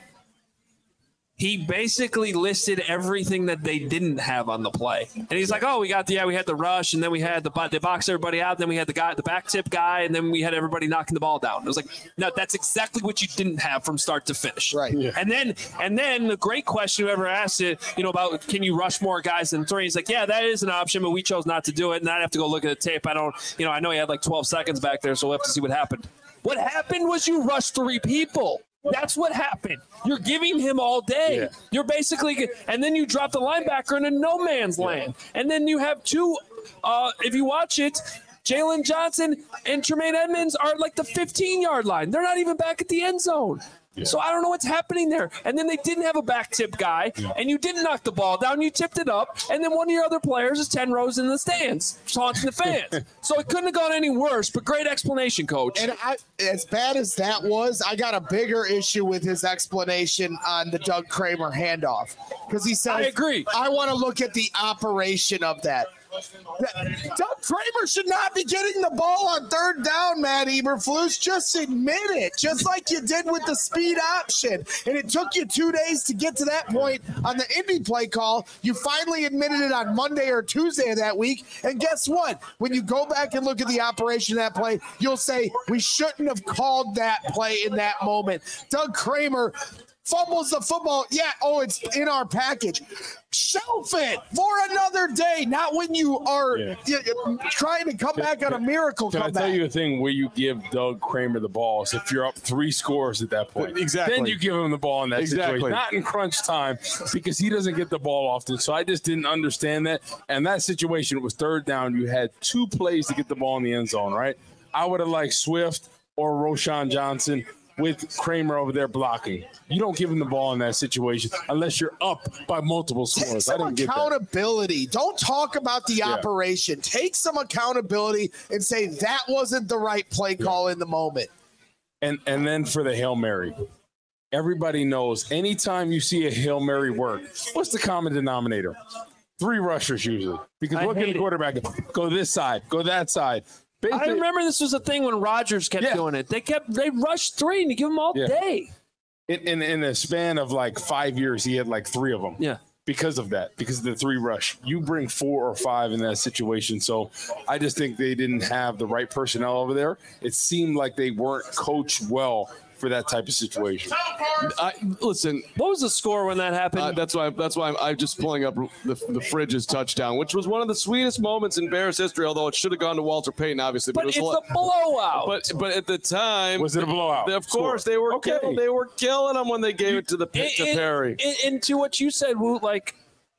he basically listed everything that they didn't have on the play. And he's like, oh, we got the, yeah, we had the rush, and then we had the, they boxed everybody out, and then we had the guy, the back tip guy, and then we had everybody knocking the ball down. It was like, no, that's exactly what you didn't have from start to finish. Right. Yeah. And then, and then the great question whoever asked it, you know, about can you rush more guys than three? He's like, yeah, that is an option, but we chose not to do it. And I'd have to go look at the tape. I don't, you know, I know he had like twelve seconds back there, so we'll have to see what happened. What happened was you rushed three people. That's what happened. You're giving him all day. Yeah. You're basically, and then you drop the linebacker in a no man's land. And then you have two, uh, if you watch it, Jalen Johnson and Tremaine Edmonds are like the fifteen-yard line. They're not even back at the end zone. Yeah. So I don't know what's happening there. And then they didn't have a back tip guy, yeah. and you didn't knock the ball down. You tipped it up, and then one of your other players is ten rows in the stands, taunting the fans. So it couldn't have gone any worse, but great explanation, Coach. And I, as bad as that was, I got a bigger issue with his explanation on the Doug Kramer handoff. Because he said, I agree. I want to look at the operation of that. Doug Kramer should not be getting the ball on third down, Matt Eberflus. Just admit it, just like you did with the speed option. And it took you two days to get to that point on the Indy play call. You finally admitted it on Monday or Tuesday of that week. And guess what? When you go back and look at the operation of that play, you'll say, we shouldn't have called that play in that moment. Doug Kramer fumbles the football. Yeah, oh, it's in our package. Shelf it for another day, not when you are yeah. trying to come back on a miracle Can comeback. I tell you a thing where you give Doug Kramer the ball is if you're up three scores at that point. Exactly. Then you give him the ball in that exactly. situation. Not in crunch time because he doesn't get the ball often. So I just didn't understand that. And that situation, it was third down. You had two plays to get the ball in the end zone, right? I would have liked Swift or Roschon Johnson with Kramer over there blocking. You don't give him the ball in that situation unless you're up by multiple scores. Take some I didn't get accountability. That. Don't talk about the yeah. operation. Take some accountability and say that wasn't the right play call yeah. in the moment. And and then for the Hail Mary, everybody knows anytime you see a Hail Mary work, what's the common denominator? Three rushers usually. Because I what can the quarterback go? Go this side, go that side. Basically, I remember this was a thing when Rodgers kept yeah. doing it. They kept they rushed three and you give them all yeah. day. In, in in a span of like five years, he had like three of them. Yeah. Because of that, because of the three rush. You bring four or five in that situation. So I just think they didn't have the right personnel over there. It seemed like they weren't coached well for that type of situation. I, listen, what was the score when that happened? Uh, that's why. That's why I'm, I'm just pulling up the, the Fridges touchdown, which was one of the sweetest moments in Bears history. Although it should have gone to Walter Payton, obviously. But, but it was it's a blowout. But but at the time, was it a blowout? Of course, score. they were okay. kill, they were killing them when they gave it to the it, to it, Perry. It, and to what you said, Woo, like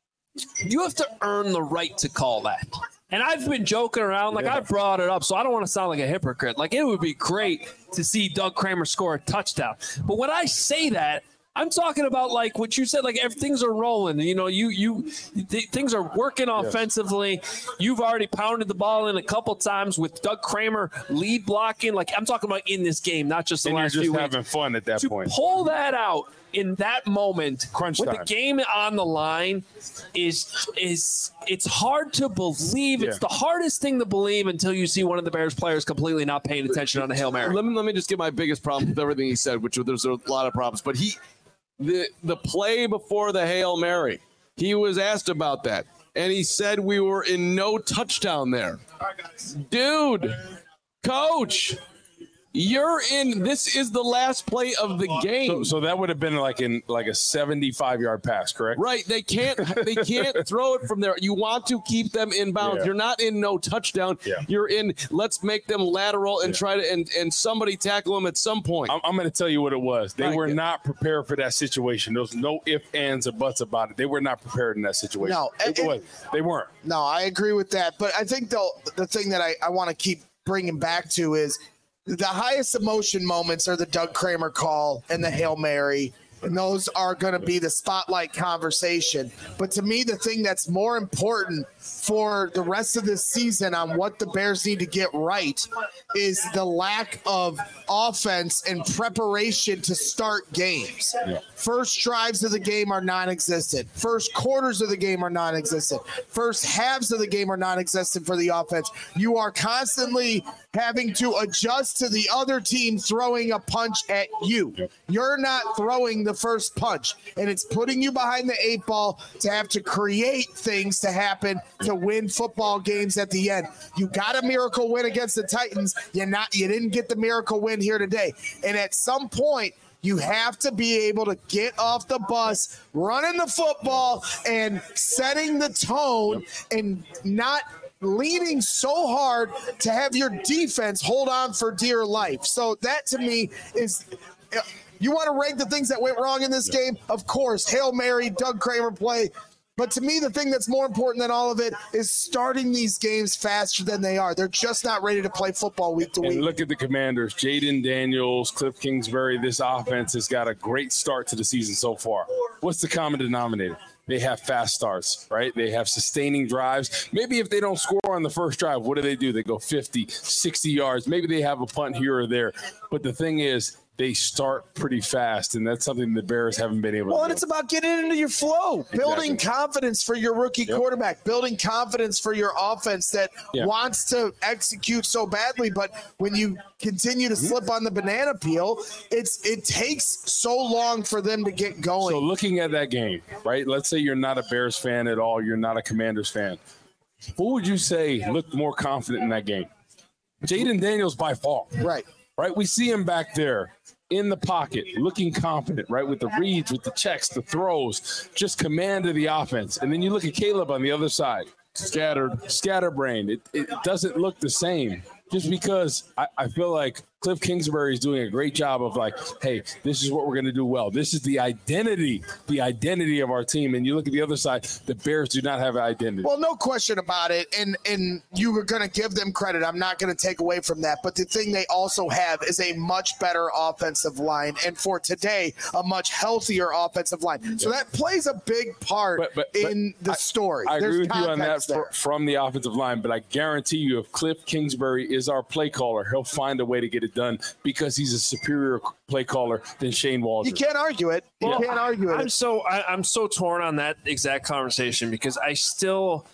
you have to earn the right to call that. And I've been joking around, like yeah. I brought it up, so I don't want to sound like a hypocrite. Like it would be great to see Doug Kramer score a touchdown. But when I say that, I'm talking about like what you said, like things are rolling. You know, you you th- things are working offensively. Yes. You've already pounded the ball in a couple times with Doug Kramer lead blocking. Like I'm talking about in this game, not just the and last you're just few having weeks. fun at that to point. Pull that out in that moment, Crunch with time. the game on the line, is is it's hard to believe. It's Yeah. the hardest thing to believe until you see one of the Bears players completely not paying attention on a Hail Mary. Let me let me just get my biggest problem with everything he said, which there's a lot of problems. But he, the the play before the Hail Mary, he was asked about that, and he said we were in no touchdown there. Dude, coach, you're in. This is the last play of the game. So, so that would have been like in like a seventy-five yard pass, correct? Right. They can't they can't throw it from there. You want to keep them in bounds. Yeah. You're not in no touchdown. Yeah. You're in let's make them lateral and Yeah. try to and, and somebody tackle them at some point. I'm, I'm going to tell you what it was. They Right. were not prepared for that situation. There was no ifs, ands, or buts about it. They were not prepared in that situation. No, It and- was. They weren't. No, I agree with that. But I think the the thing that I, I want to keep bringing back to is the highest emotion moments are the Doug Kramer call and the Hail Mary. And those are going to be the spotlight conversation. But to me, the thing that's more important for the rest of this season on what the Bears need to get right is the lack of offense and preparation to start games. Yeah. First drives of the game are non-existent. First quarters of the game are non-existent. First halves of the game are non-existent for the offense. You are constantly having to adjust to the other team throwing a punch at you. You're not throwing the first punch, and it's putting you behind the eight ball to have to create things to happen to win football games at the end. You got a miracle win against the Titans. You're not, you didn't get the miracle win here today. And at some point, you have to be able to get off the bus, running the football, and setting the tone, and not leaning so hard to have your defense hold on for dear life. So that to me is, you want to rank the things that went wrong in this game? Of course, Hail Mary, Doug Kramer play. But to me, the thing that's more important than all of it is starting these games faster than they are. They're just not ready to play football week to week. And look at the Commanders. Jaden Daniels, Cliff Kingsbury. This offense has got a great start to the season so far. What's the common denominator? They have fast starts, right? They have sustaining drives. Maybe if they don't score on the first drive, what do they do? They go fifty, sixty yards. Maybe they have a punt here or there. But the thing is, they start pretty fast, and that's something the Bears haven't been able Well, to and do. it's about getting into your flow, building confidence for your rookie Yep. quarterback, building confidence for your offense that Yeah. wants to execute so badly. But when you continue to slip on the banana peel, it's it takes so long for them to get going. So looking at that game, right? Let's say you're not a Bears fan at all. You're not a Commanders fan. Who would you say looked more confident in that game? Jaden Daniels by far. Right. Right? We see him back there in the pocket, looking confident, right? With the reads, with the checks, the throws, just command of the offense. And then you look at Caleb on the other side, scattered, scatterbrained. It, it doesn't look the same. Just because I, I feel like Cliff Kingsbury is doing a great job of like, hey, this is what we're going to do well. This is the identity, the identity of our team. And you look at the other side, the Bears do not have an identity. Well, no question about it. And and you were going to give them credit. I'm not going to take away from that. But the thing they also have is a much better offensive line. And for today, a much healthier offensive line. So that plays a big part But- but- but in the I- story. I There's agree with you on that context fr- there. from the offensive line, but I guarantee you if Cliff Kingsbury is our play caller, he'll find a way to get it done because he's a superior play caller than Shane Waldron. You can't argue it. You Well, can't argue it. I'm so I, I'm so torn on that exact conversation because I still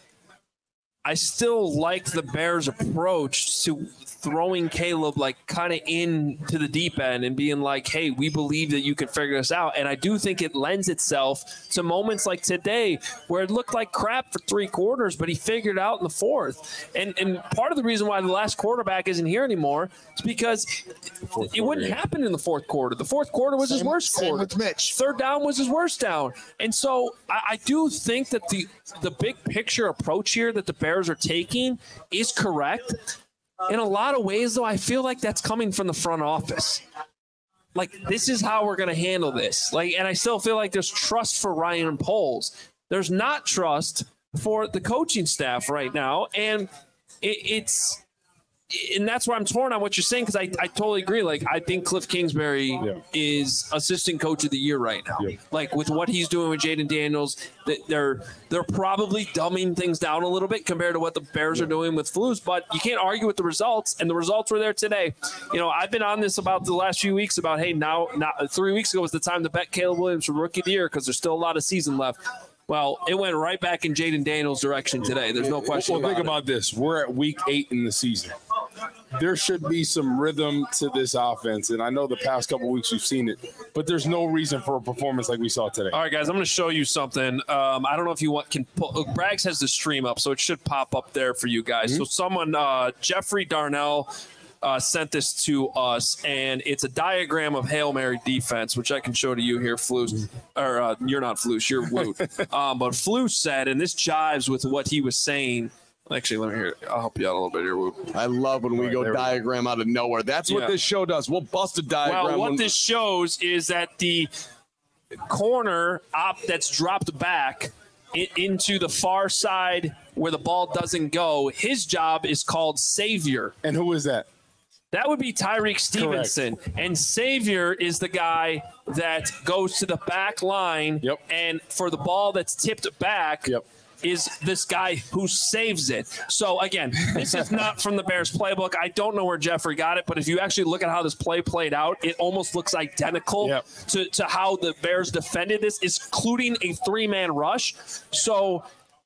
I still like the Bears' approach to throwing Caleb like kind of into the deep end and being like, hey, we believe that you can figure this out. And I do think it lends itself to moments like today where it looked like crap for three quarters, but he figured it out in the fourth. And and part of the reason why the last quarterback isn't here anymore is because it, it wouldn't happen in the fourth quarter. The fourth quarter was his Same- worst same quarter. with Mitch. Third down was his worst down. And so I, I do think that the the big picture approach here that the Bears are taking is correct. In a lot of ways, though, I feel like that's coming from the front office. Like, this is how we're going to handle this. Like, and I still feel like there's trust for Ryan Poles. There's not trust for the coaching staff right now. And it, it's and that's where I'm torn on what you're saying, because I, I totally agree. Like, I think Cliff Kingsbury yeah. is assistant coach of the year right now. Yeah. Like, with what he's doing with Jaden Daniels, that they're they're probably dumbing things down a little bit compared to what the Bears yeah. are doing with Flus, but you can't argue with the results, and the results were there today. You know, I've been on this about the last few weeks about, hey, now, now three weeks ago was the time to bet Caleb Williams for Rookie of the Year because there's still a lot of season left. Well, it went right back in Jaden Daniels' direction today. There's no question well, about think it. about this. We're at week eight in the season. There should be some rhythm to this offense, and I know the past couple weeks we've seen it, but there's no reason for a performance like we saw today. All right, guys, I'm going to show you something. Um, I don't know if you want can pull. Braggs has the stream up, so it should pop up there for you guys. Mm-hmm. So someone, uh, Jeffrey Darnell, Uh, sent this to us, and it's a diagram of Hail Mary defense, which I can show to you here, Flus. Or uh, you're not Flus, you're Woot. um, but Flus said, and this jives with what he was saying. Actually, let me hear. I'll help you out a little bit here, Woot. I love when we right, go diagram we go. out of nowhere. That's what yeah. this show does. We'll bust a diagram. Well, what when- this shows is that the corner op that's dropped back into the far side where the ball doesn't go, his job is called savior. And who is that? That would be Tyreek Stevenson. Correct. And Savior is the guy that goes to the back line. Yep. And for the ball that's tipped back yep. is this guy who saves it. So, again, this is not from the Bears playbook. I don't know where Jeffrey got it, but if you actually look at how this play played out, it almost looks identical yep. to, to how the Bears defended this, including a three-man rush. So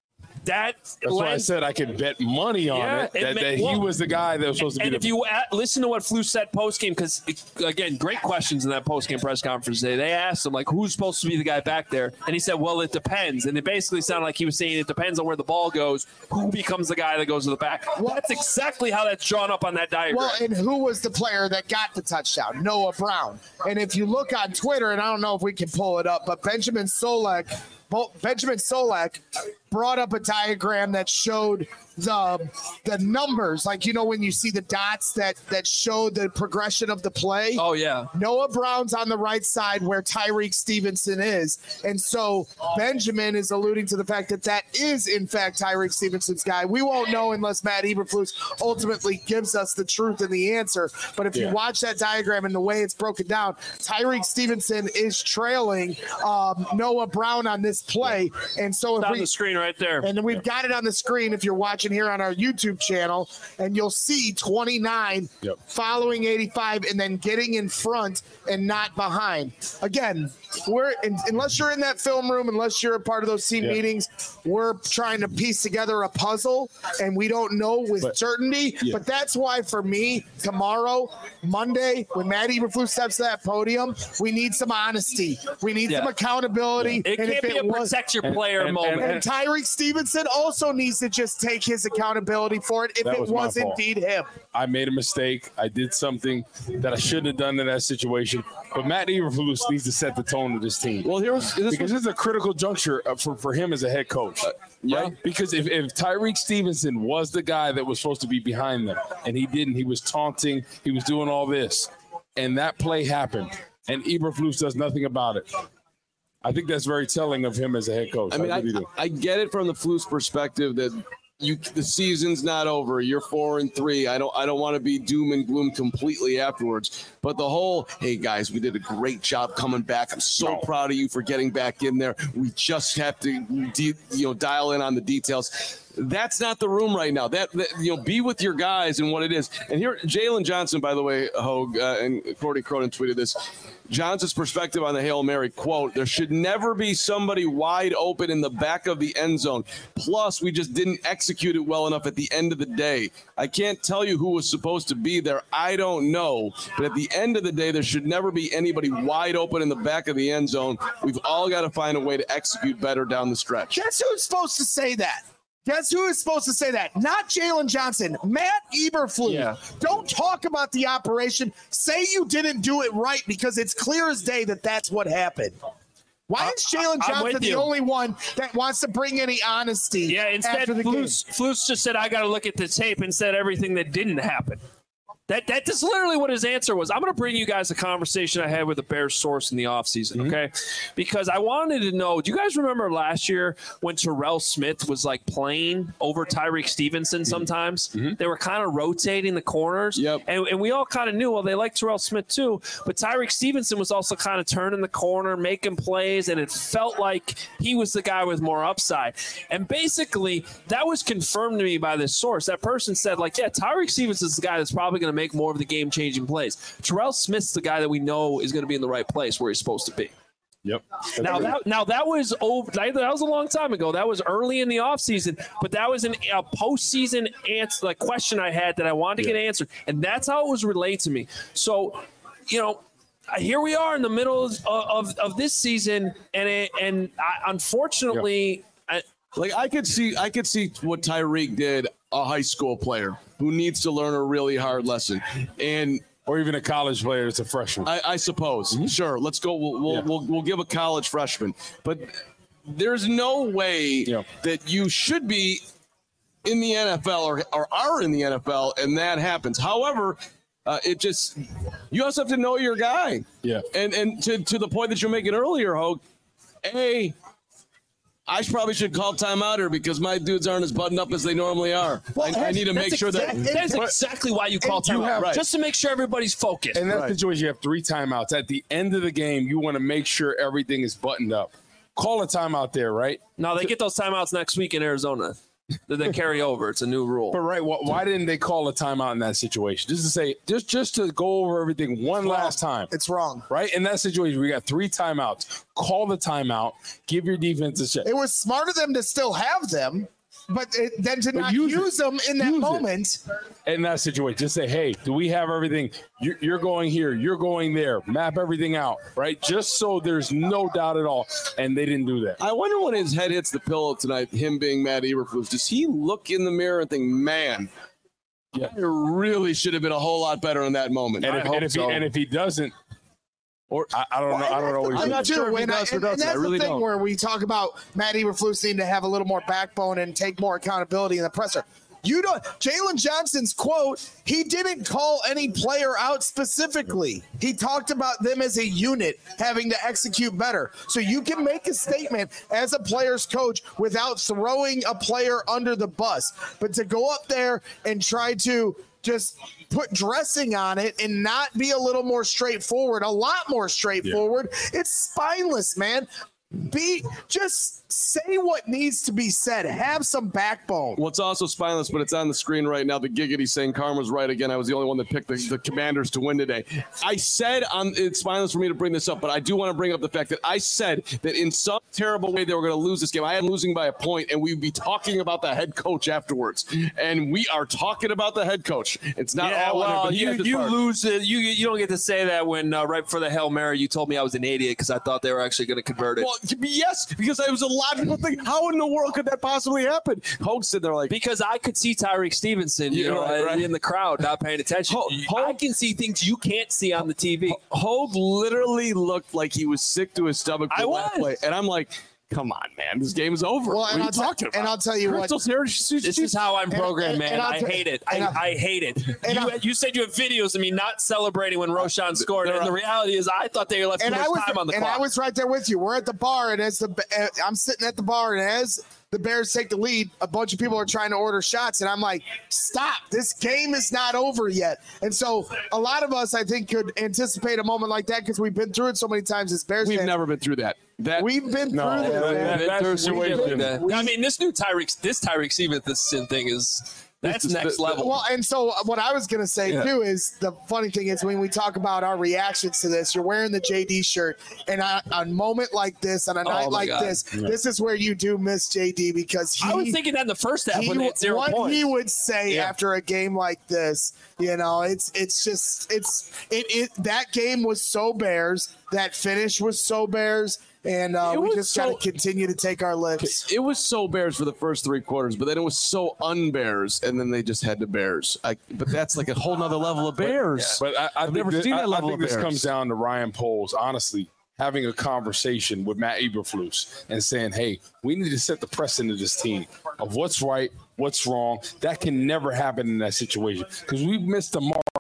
That That's why I said I could bet money on yeah, it, that, it may, that he well, was the guy that was supposed to and be. And the, if you at, listen to what Flus said post-game, because, again, great questions in that post-game press conference today. They asked him, like, who's supposed to be the guy back there? And he said, well, it depends. And it basically sounded like he was saying it depends on where the ball goes, who becomes the guy that goes to the back. Well, that's exactly how that's drawn up on that diagram. Well, and who was the player that got the touchdown? Noah Brown. And if you look on Twitter, and I don't know if we can pull it up, but Benjamin Solak, Benjamin Solak brought up a diagram that showed the the numbers, like, you know, when you see the dots that that show the progression of the play. Oh yeah. Noah Brown's on the right side where Tyreek Stevenson is, and so Benjamin is alluding to the fact that that is in fact Tyreek Stevenson's guy. We won't know unless Matt Eberflus ultimately gives us the truth and the answer. But if yeah. you watch that diagram and the way it's broken down, Tyreek Stevenson is trailing um, Noah Brown on this play, and so it's if on we, the screen right there, and we've got it on the screen if you're watching here on our YouTube channel, and you'll see twenty-nine yep. following eighty-five and then getting in front and not behind. Again, we're in, unless you're in that film room, unless you're a part of those team yeah. meetings, we're trying to piece together a puzzle, and we don't know with but, certainty. Yeah. But that's why, for me, tomorrow, Monday, when Matt Eberflus steps to that podium, we need some honesty. We need yeah. some accountability. Yeah. It and can't if be it a was, protect your player and, and, moment. And, and Tyreek Stevenson also needs to just take his accountability for it if that it was, was indeed him. I made a mistake. I did something that I shouldn't have done in that situation. But Matt Eberflus needs to set the tone of this team. Well, here's this because it's a critical juncture for, for him as a head coach. Uh, yeah. Right? Because if, if Tyreek Stevenson was the guy that was supposed to be behind them, and he didn't, he was taunting, he was doing all this, and that play happened, and Eberflus does nothing about it. I think that's very telling of him as a head coach. I mean, I, I, really I get it from the Flus perspective that you the season's not over. You're four and three. I don't I don't want to be doom and gloom completely afterwards. But the whole, hey guys, we did a great job coming back. I'm so no. proud of you for getting back in there. We just have to de- you know dial in on the details. That's not the room right now. That, that you know, be with your guys and what it is. And here, Jalen Johnson, by the way, Hogue, uh, and Cordy Cronin tweeted this. Johnson's perspective on the Hail Mary, quote, there should never be somebody wide open in the back of the end zone. Plus, we just didn't execute it well enough at the end of the day. I can't tell you who was supposed to be there. I don't know. But at the end of the day, there should never be anybody wide open in the back of the end zone. We've all got to find a way to execute better down the stretch. Guess who's supposed to say that? Guess who is supposed to say that? Not Jalen Johnson. Matt Eberflus. Yeah. Don't talk about the operation. Say you didn't do it right, because it's clear as day that that's what happened. Why is Jalen Johnson the only one that wants to bring any honesty? Yeah, instead, after the Flus, Flus just said, I got to look at the tape and said everything that didn't happen. That that is literally what his answer was. I'm going to bring you guys a conversation I had with a Bears source in the offseason, mm-hmm. okay? Because I wanted to know, do you guys remember last year when Terrell Smith was like playing over Tyreek Stevenson sometimes? Mm-hmm. They were kind of rotating the corners. Yep. And, and we all kind of knew, well, they like Terrell Smith too. But Tyreek Stevenson was also kind of turning the corner, making plays, and it felt like he was the guy with more upside. And basically, that was confirmed to me by this source. That person said, like, yeah, Tyreek Stevenson's the guy that's probably going to make more of the game-changing plays. Terrell Smith's the guy that we know is going to be in the right place where he's supposed to be. Yep. Now that now that was over. That was a long time ago. That was early in the offseason, but that was an, a postseason answer, like question I had that I wanted to yeah. get answered, and that's how it was relayed to me. So, you know, here we are in the middle of of, of this season, and it, and I, unfortunately, yep. I, like I could see I could see what Tyreek did, a high school player who needs to learn a really hard lesson, and. Or even a college player that's a freshman. I, I suppose. Mm-hmm. Sure. Let's go. We'll we'll, yeah. we'll we'll give a college freshman. But there's no way yeah. that you should be in the N F L or, or are in the N F L and that happens. However, uh, it just you also have to know your guy. Yeah. And and to, to the point that you're making earlier, Hogue, A, I probably should call timeout here because my dudes aren't as buttoned up as they normally are. Well, I, I need to make sure exact, that that's exactly why you call timeout, have, right. just to make sure everybody's focused. In that right. situation, you have three timeouts. At the end of the game, you want to make sure everything is buttoned up. Call a timeout there, right? No, they get those timeouts next week in Arizona. That they carry over. It's a new rule. But right, why, why didn't they call a timeout in that situation? Just to say, just just to go over everything one last time. It's wrong, right? In that situation, we got three timeouts. Call the timeout. Give your defense a check. It was smart of them to still have them, but it, then to but not use, use them in that moment. It. In that situation, just say, hey, do we have everything? You're, you're going here. You're going there. Map everything out, right? Just so there's no doubt at all. And they didn't do that. I wonder when his head hits the pillow tonight, him being Matt Eberflus, does he look in the mirror and think, man, yeah. I really should have been a whole lot better in that moment. And, if, and, if, so. he, and if he doesn't, Or I, I don't know. I don't know. What I'm not sure. If he does I, or doesn't. And that's I really the thing don't. where we talk about Matt Eberflus needing to have a little more backbone and take more accountability in the presser. You don't. Jalen Johnson's quote. He didn't call any player out specifically. He talked about them as a unit having to execute better. So you can make a statement as a player's coach without throwing a player under the bus, but to go up there and try to just put dressing on it and not be a little more straightforward, a lot more straightforward. Yeah. It's spineless, man. Be just say what needs to be said. Have some backbone. Well, it's also spineless, but it's on the screen right now. The giggity saying Karma's right again. I was the only one that picked the, the Commanders to win today. I said on it's spineless for me to bring this up, but I do want to bring up the fact that I said that in some terrible way they were going to lose this game. I had losing by a point, and we'd be talking about the head coach afterwards. And we are talking about the head coach. It's not yeah, all well, on him, you, you lose it. You you don't get to say that when uh, right before the Hail Mary you told me I was an idiot because I thought they were actually going to convert it. Well, yes, because it was a logical thing. How in the world could that possibly happen? Hogue said they're like because I could see Tyreek Stevenson, you yeah, know, right, right. in the crowd not paying attention. Hogue, I can see things you can't see on the T V. Hogue literally looked like he was sick to his stomach. I was, play. And I'm like, come on, man, this game is over. Well, and, I'll, talking t- and I'll tell you Crystal what. Sarah, this is how I'm programmed, and, man. and I t- hate it. I, I, I hate it. You, you said you have videos of me not celebrating when Roshan scored, and the reality is I thought they left too much was, time on the and clock. And I was right there with you. We're at the bar, and as the uh, I'm sitting at the bar, and as the Bears take the lead, a bunch of people are trying to order shots, and I'm like, stop. This game is not over yet. And so a lot of us, I think, could anticipate a moment like that because we've been through it so many times as Bears We've fans. never been through that. That We've been no, through that, this. that, that situation. That. I mean, this new Tyreek, this Tyreek Stevenson thing is that's This is next the- level. Well, and so what I was going to say, Yeah. too, is the funny thing is when we talk about our reactions to this, you're wearing the J D shirt, and on a moment like this, on a night Oh, my like God. this, this is where you do miss J D because he, I was thinking that in the first half he, when they had zero what points. he would say Yeah. after a game like this, you know, it's it's just it's it, it that game was so Bears, that finish was so Bears. And uh, It we was just so- got to continue to take our licks. It was so Bears for the first three quarters, but then it was so un-Bears, and then they just had to Bears. I, but that's like a whole nother level of Bears. But I, I I've think never this, seen that I, level I think of this Bears. comes down to Ryan Poles, honestly, having a conversation with Matt Eberflus and saying, hey, we need to set the precedent of this team of what's right, what's wrong. That can never happen in that situation because we've missed the mark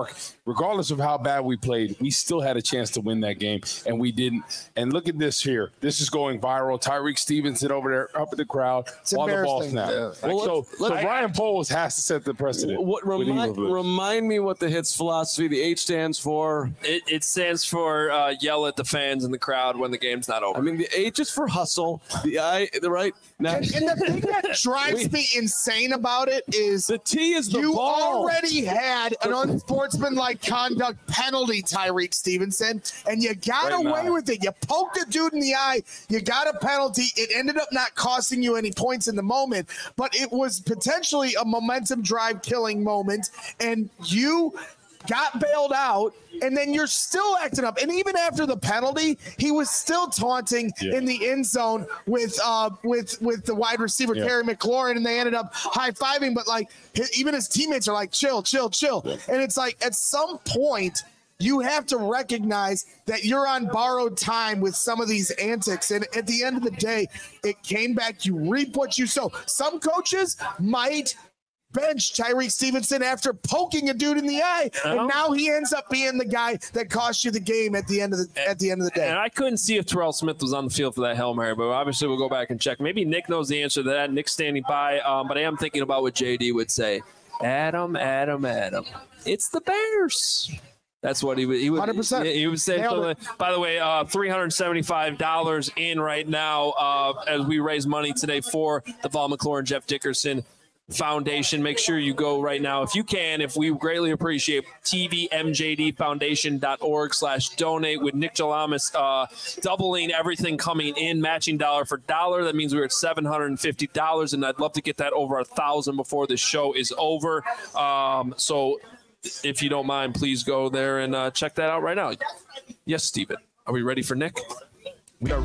Mark, regardless of how bad we played, we still had a chance to win that game, and we didn't. And look at this here. This is going viral. Tyreek Stevenson over there up in the crowd It's while the ball embarrassing. snapped. Yeah. Well, so let's- so let's- Ryan Poles has to set the precedent. What with remind, Eagles. remind me what the Hits philosophy, the H stands for. It, it stands for uh, yell at the fans in the crowd when the game's not over. I mean, the H is for hustle. The I, the right. Now, And, and the thing that drives me insane about it is the T is the you ball. already had an unsportsmanlike conduct penalty, Tyreek Stevenson, and you got Right away now. with it. You poked a dude in the eye. You got a penalty. It ended up not costing you any points in the moment, but it was potentially a momentum drive killing moment, and you got bailed out, and then you're still acting up. And even after the penalty, he was still taunting Yeah. in the end zone with uh with with the wide receiver Yeah. Terry McLaurin, and they ended up high fiving. But like his, even his teammates are like, chill, chill, chill. And it's like at some point you have to recognize that you're on borrowed time with some of these antics. And at the end of the day, it came back. You reap what you sow. Some coaches might bench Tyreek Stevenson after poking a dude in the eye, Uh-huh. and now he ends up being the guy that cost you the game at the end of the at the end of the day. And I couldn't see if Terrell Smith was on the field for that Hail Mary, but obviously we'll go back and check. Maybe Nick knows the answer to that. Nick's standing by, um, but I am thinking about what J D would say. Adam, Adam, Adam. It's the Bears. That's what he would. He would. one hundred percent. He would say. Nailed something. By the way, uh, three hundred seventy-five dollars in right now uh, as we raise money today for the Vol McLaurin Jeff Dickerson Foundation. Make sure you go right now if you can. If we greatly appreciate T V M J D Foundation dot org slash donate with Nick Jalamas uh, doubling everything coming in, matching dollar for dollar. That means we're at seven hundred fifty dollars, and I'd love to get that over a thousand before the show is over. Um, so if you don't mind, please go there and uh, check that out right now. Yes, Steven. Are we ready for Nick? We are.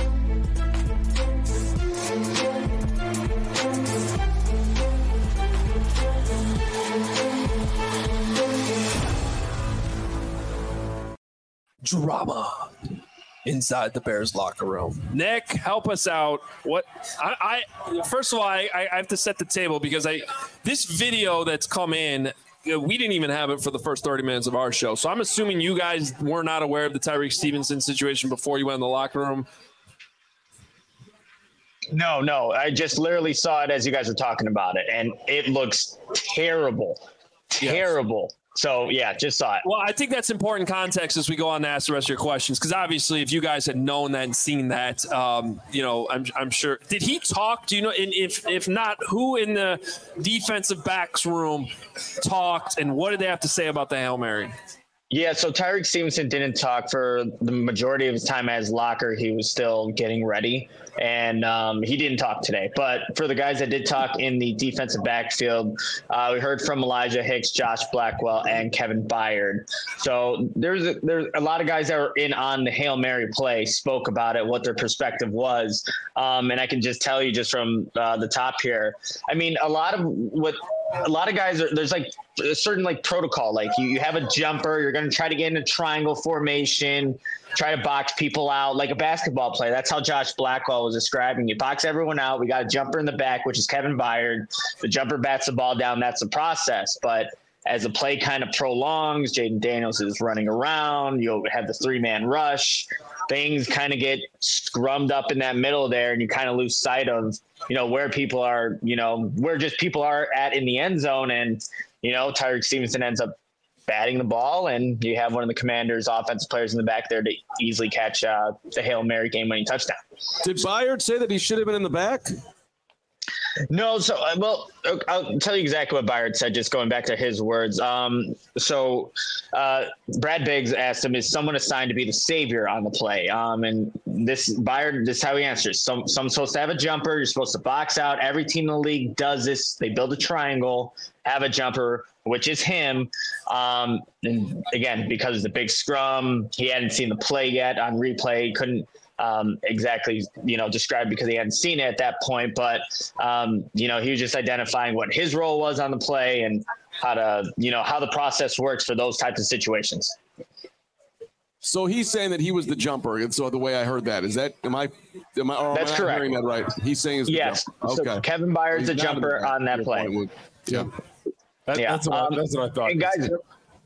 Drama inside the Bears locker room. Nick, help us out. What I, I first of all, I, I have to set the table because I this video that's come in, we didn't even have it for the first thirty minutes of our show. So I'm assuming you guys were not aware of the Tyreek Stevenson situation before you went in the locker room. No, no. I just literally saw it as you guys were talking about it, and it looks terrible. Terrible. Yes. So, yeah, just saw it. Well, I think that's important context as we go on to ask the rest of your questions, because obviously if you guys had known that and seen that, um, you know, I'm, I'm sure. Did he talk? Do you know? And if, if not, who in the defensive backs room talked, and what did they have to say about the Hail Mary? Yeah, so Tyreek Stevenson didn't talk for the majority of his time at his locker. He was still getting ready, and um, he didn't talk today. But for the guys that did talk in the defensive backfield, uh, we heard from Elijah Hicks, Josh Blackwell, and Kevin Byard. So there's a, there's a lot of guys that were in on the Hail Mary play, spoke about it, what their perspective was. Um, and I can just tell you just from uh, the top here, I mean, a lot of what – a lot of guys are, there's like a certain like protocol, like you, you have a jumper, you're going to try to get in a triangle formation, try to box people out like a basketball player. That's how Josh Blackwell was describing. You box everyone out. We got a jumper in the back, which is Kevin Byard. The jumper bats the ball down. That's the process. But as the play kind of prolongs, Jaden Daniels is running around. You'll have the three man rush. Things kind of get scrummed up in that middle there, and you kind of lose sight of, you know, where people are, you know, where just people are at in the end zone. And, you know, Tyreek Stevenson ends up batting the ball, and you have one of the Commanders' offensive players in the back there to easily catch uh, the Hail Mary game-winning touchdown. Did Byard say that he should have been in the back? No, so uh, well, I'll tell you exactly what Byard said. Just going back to his words. Um, so uh, Brad Biggs asked him, "Is someone assigned to be the savior on the play?" Um, and this Byard, this is how he answers. Some, someone's supposed to have a jumper. You're supposed to box out. Every team in the league does this. They build a triangle, have a jumper, which is him. Um, and again, because of the big scrum, he hadn't seen the play yet on replay. Couldn't. Um, exactly, you know, described because he hadn't seen it at that point. But, um, you know, he was just identifying what his role was on the play and how to, you know, how the process works for those types of situations. So he's saying that he was the jumper. And so the way I heard that, is that, am I, am I, or That's am I correct. hearing that right? He's saying he's the yes. jumper. Okay. So Kevin Byard's He's the not in jumper the back, on that your play. point, Wood. Yeah. That, Yeah. that's, what, Um, that's what I thought. And guys,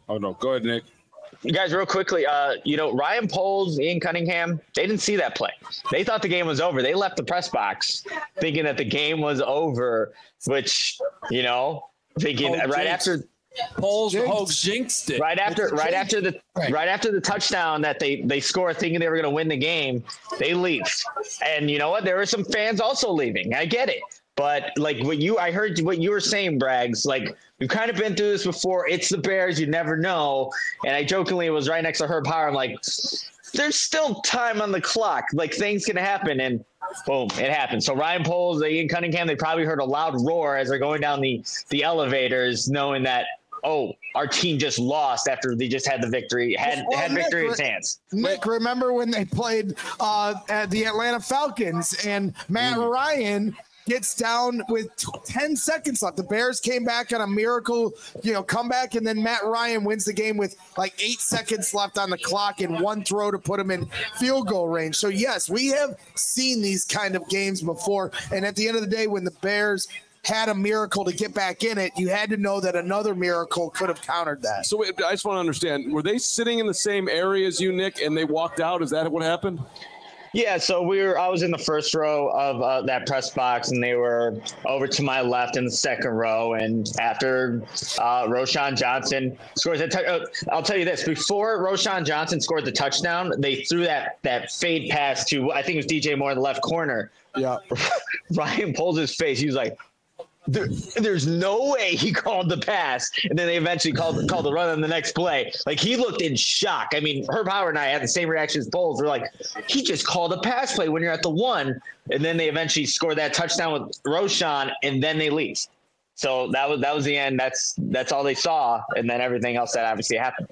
Oh, no. Go ahead, Nick. You guys, real quickly, uh, you know, Ryan Poles, Ian Cunningham, they didn't see that play. They thought the game was over. They left the press box thinking that the game was over, which, you know, thinking Oh, right jinx. after Poles, Hogs jinxed it. right after It's a right jinx. after the Right. right after the touchdown that they they score thinking they were going to win the game, they leave. And you know what? There were some fans also leaving. I get it. But like what you, I heard what you were saying, Braggs. Like we've kind of been through this before. It's the Bears. You never know. And I jokingly was right next to Herb Howard. I'm like, there's still time on the clock. Like things can happen, and boom, it happened. So Ryan Poles, Ian Cunningham, they probably heard a loud roar as they're going down the the elevators, knowing that oh, our team just lost after they just had the victory, had Well, had Nick, victory in re- its hands. Nick, remember when they played uh, at the Atlanta Falcons and Matt Mm. Ryan gets down with t- ten seconds left. The Bears came back on a miracle, you know, comeback, and then Matt Ryan wins the game with like eight seconds left on the clock and one throw to put him in field goal range. So yes, we have seen these kind of games before. And at the end of the day, when the Bears had a miracle to get back in it, you had to know that another miracle could have countered that. So wait, I just want to understand, were they sitting in the same area as you, Nick, and they walked out? Is that what happened? Yeah, so we were. I was in the first row of uh, that press box, and they were over to my left in the second row. And after uh, Roschon Johnson scores a touchdown, uh, I'll tell you this: before Roschon Johnson scored the touchdown, they threw that that fade pass to I think it was D J Moore in the left corner. Yeah, Ryan pulls his face. He was like, There, there's no way he called the pass, and then they eventually called called the run on the next play. Like he looked in shock. I mean, Herb Howard and I had the same reaction as Bowles. We're like, he just called a pass play when you're at the one, and then they eventually scored that touchdown with Roschon, and then they leave. So that was that was the end. That's that's all they saw, and then everything else that obviously happened.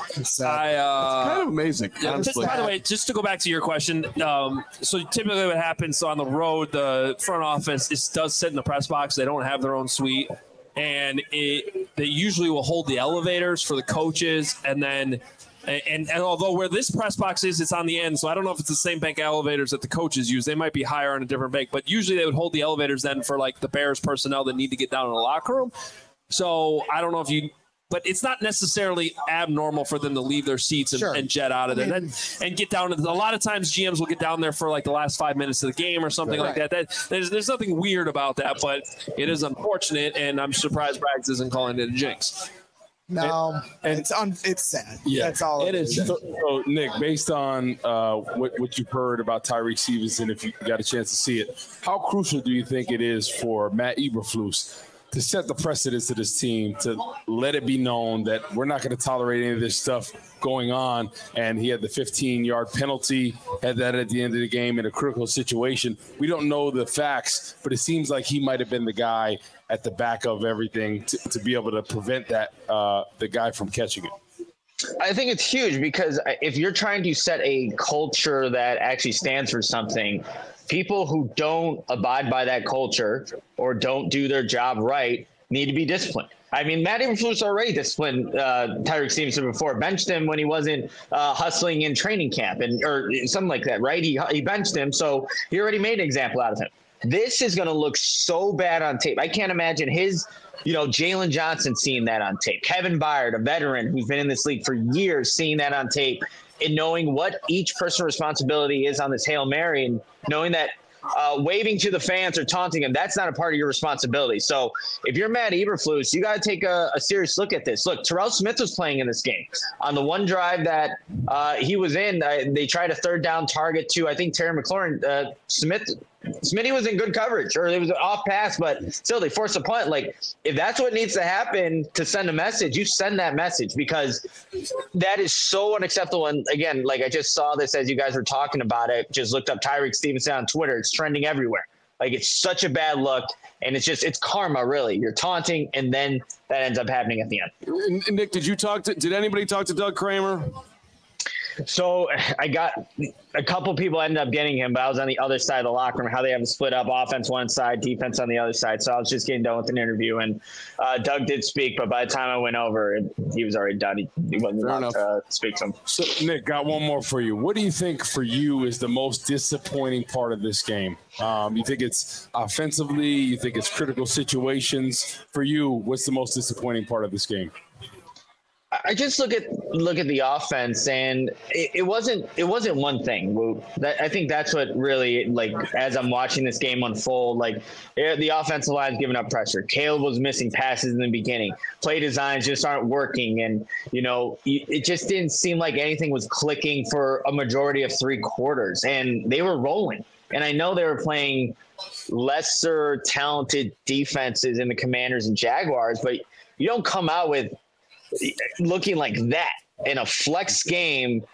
I uh, Kind of amazing, Yeah, just, honestly. by the way, just to go back to your question, um, so typically what happens so on the road, the front office is, does sit in the press box. They don't have their own suite, and it, they usually will hold the elevators for the coaches, and then and, and although where this press box is, it's on the end, so I don't know if it's the same bank elevators that the coaches use. They might be higher on a different bank, but usually they would hold the elevators then for like the Bears personnel that need to get down in the locker room. So I don't know if you. But it's not necessarily abnormal for them to leave their seats and, Sure. and jet out of there and, and get down. To the, a lot of times G Ms will get down there for like the last five minutes of the game or something like that. That there's there's nothing weird about that, but it is unfortunate, and I'm surprised Braggs isn't calling it a jinx. No, And- it's un, it's sad. Yeah, That's all it is. So, so, Nick, based on uh, what, what you've heard about Tyreek Stevenson, if you got a chance to see it, how crucial do you think it is for Matt Eberflus to set the precedence to this team, to let it be known that we're not going to tolerate any of this stuff going on? And he had the fifteen-yard penalty, had that at the end of the game in a critical situation. We don't know the facts, but it seems like he might have been the guy at the back of everything to, to be able to prevent that, uh, the guy from catching it. I think it's huge because if you're trying to set a culture that actually stands for something, people who don't abide by that culture or don't do their job right need to be disciplined. I mean, Matt Eberflus already disciplined uh, Tyreek Stevenson before, benched him when he wasn't uh, hustling in training camp and or something like that, right? He he benched him, so he already made an example out of him. This is going to look so bad on tape. I can't imagine his, you know, Jalen Johnson seeing that on tape. Kevin Byard, a veteran who's been in this league for years, seeing that on tape and knowing what each person's responsibility is on this Hail Mary and knowing that uh, waving to the fans or taunting them, that's not a part of your responsibility. So if you're Matt Eberflus, you got to take a, a serious look at this. Look, Terrell Smith was playing in this game. On the one drive that uh, he was in, uh, they tried a third down target to, I think, Terry McLaurin. Uh, Smith Smitty was in good coverage, or it was an off pass, but still they forced a punt. Like, if that's what needs to happen to send a message, you send that message, because that is so unacceptable. And again, like I just saw this as you guys were talking about it, just looked up Tyreek Stevenson on Twitter. It's trending everywhere. Like, it's such a bad look, and it's just, it's karma, really. You're taunting, and then that ends up happening at the end. Nick, did you talk to, did anybody talk to Doug Kramer? So I got a couple people ended up getting him, but I was on the other side of the locker room, how they have them split up, offense one side, defense on the other side. So I was just getting done with an interview, and uh, Doug did speak, but by the time I went over, he was already done. He, he wasn't allowed to uh, speak to him. So, Nick, got one more for you. What do you think for you is the most disappointing part of this game? Um, you think it's offensively? You think it's critical situations? For you, what's the most disappointing part of this game? I just look at look at the offense, and it, it wasn't it wasn't one thing. That, I think that's what really, like, as I'm watching this game unfold, like the offensive line's giving up pressure. Caleb was missing passes in the beginning. Play designs just aren't working, and you know it just didn't seem like anything was clicking for a majority of three quarters, and they were rolling. And I know they were playing lesser talented defenses in the Commanders and Jaguars, but you don't come out with looking like that in a flex game.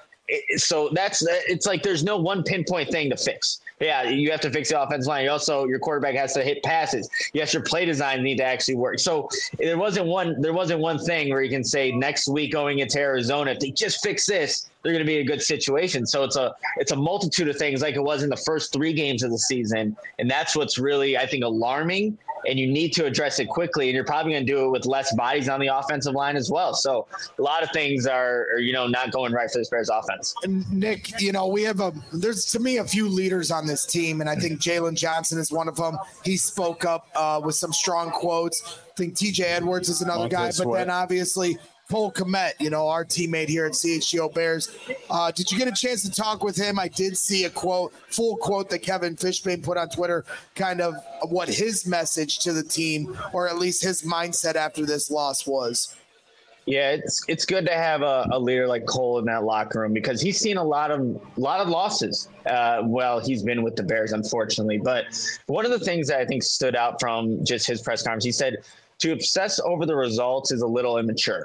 So that's, it's like there's no one pinpoint thing to fix. Yeah, you have to fix the offensive line. You also, your quarterback has to hit passes. Yes, your play design need to actually work. So there wasn't one there wasn't one thing where you can say next week going into Arizona, if they just fix this, they're going to be in a good situation. So it's a it's a multitude of things like it was in the first three games of the season, and that's what's really, I think, alarming. And you need to address it quickly, and you're probably going to do it with less bodies on the offensive line as well. So a lot of things are, are, you know, not going right for this Bears offense. And Nick, you know, we have a there's to me a few leaders on this team, and I think Jalen Johnson is one of them. He spoke up uh, with some strong quotes. I think T J Edwards is another guy, but then obviously Cole Kmet, you know, our teammate here at C H G O Bears. Uh, did you get a chance to talk with him? I did see a quote, full quote that Kevin Fishbane put on Twitter, kind of what his message to the team, or at least his mindset after this loss was. Yeah, it's it's good to have a, a leader like Cole in that locker room because he's seen a lot of a lot of losses. Uh, well, he's been with the Bears, unfortunately. But one of the things that I think stood out from just his press conference, he said, to obsess over the results is a little immature.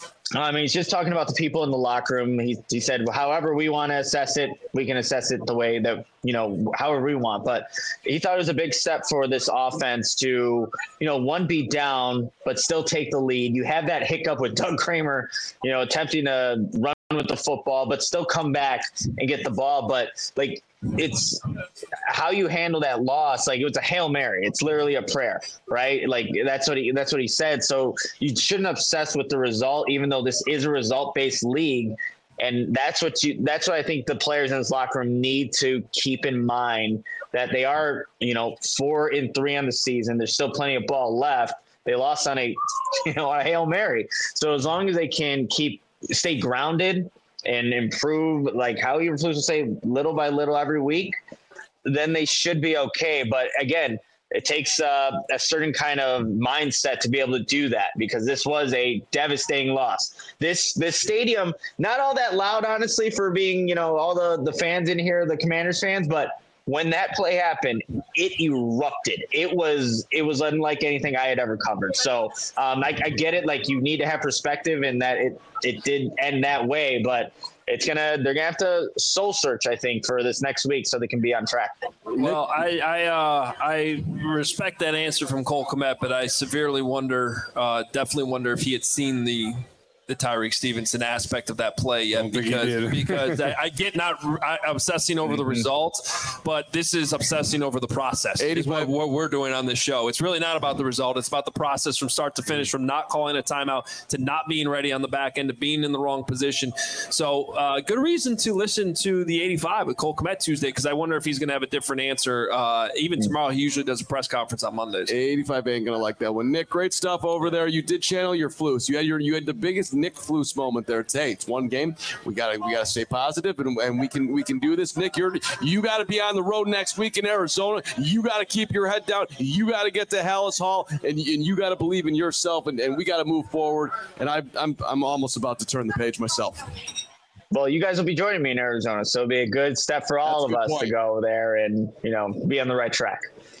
I mean, he's just talking about the people in the locker room. He, he said, well, however we want to assess it, we can assess it the way that, you know, however we want. But he thought it was a big step for this offense to, you know, one, be down, but still take the lead. You have that hiccup with Doug Kramer, you know, attempting to run with the football, but still come back and get the ball. But, like, it's how you handle that loss. Like, it was a Hail Mary. It's literally a prayer, right? Like, that's what he, that's what he said. So you shouldn't obsess with the result, even though this is a result-based league. And that's what you, that's what I think the players in this locker room need to keep in mind, that they are, you know, four and three on the season. There's still plenty of ball left. They lost on a, you know, a Hail Mary. So as long as they can keep, stay grounded and improve, like how he refers to say, little by little every week, then they should be okay. But again, it takes uh, a certain kind of mindset to be able to do that, because this was a devastating loss. This this stadium, not all that loud, honestly, for being, you know, all the, the fans in here, the Commanders fans, but when that play happened, it erupted. It was it was unlike anything I had ever covered. So um, I, I get it. Like, you need to have perspective, and that it it did end that way. But it's gonna they're gonna have to soul search, I think, for this next week so they can be on track. Well, I I, uh, I respect that answer from Cole Kmet, but I severely wonder, uh, definitely wonder if he had seen the. the Tyreek Stevenson aspect of that play yet, because because I, I get not I, obsessing over the results, but this is obsessing over the process. Is what, what we're doing on this show. It's really not about the result. It's about the process from start to finish, from not calling a timeout to not being ready on the back end to being in the wrong position. So uh, good reason to listen to the eighty-five with Cole Kmet Tuesday, because I wonder if he's going to have a different answer. Uh, even tomorrow, he usually does a press conference on Mondays. eighty-five ain't going to like that one. Nick, great stuff over there. You did channel your flus. You had your you had the biggest Nick Flus moment there today. It's one game. We gotta we gotta stay positive, and, and we can we can do this. Nick, you're you got to be on the road next week in Arizona. You got to keep your head down. You got to get to Hallis Hall, and, and you got to believe in yourself. And, and we got to move forward. And I, I'm I'm almost about to turn the page myself. Well, you guys will be joining me in Arizona, so it'll be a good step for all That's of us point. to go there and, you know, be on the right track.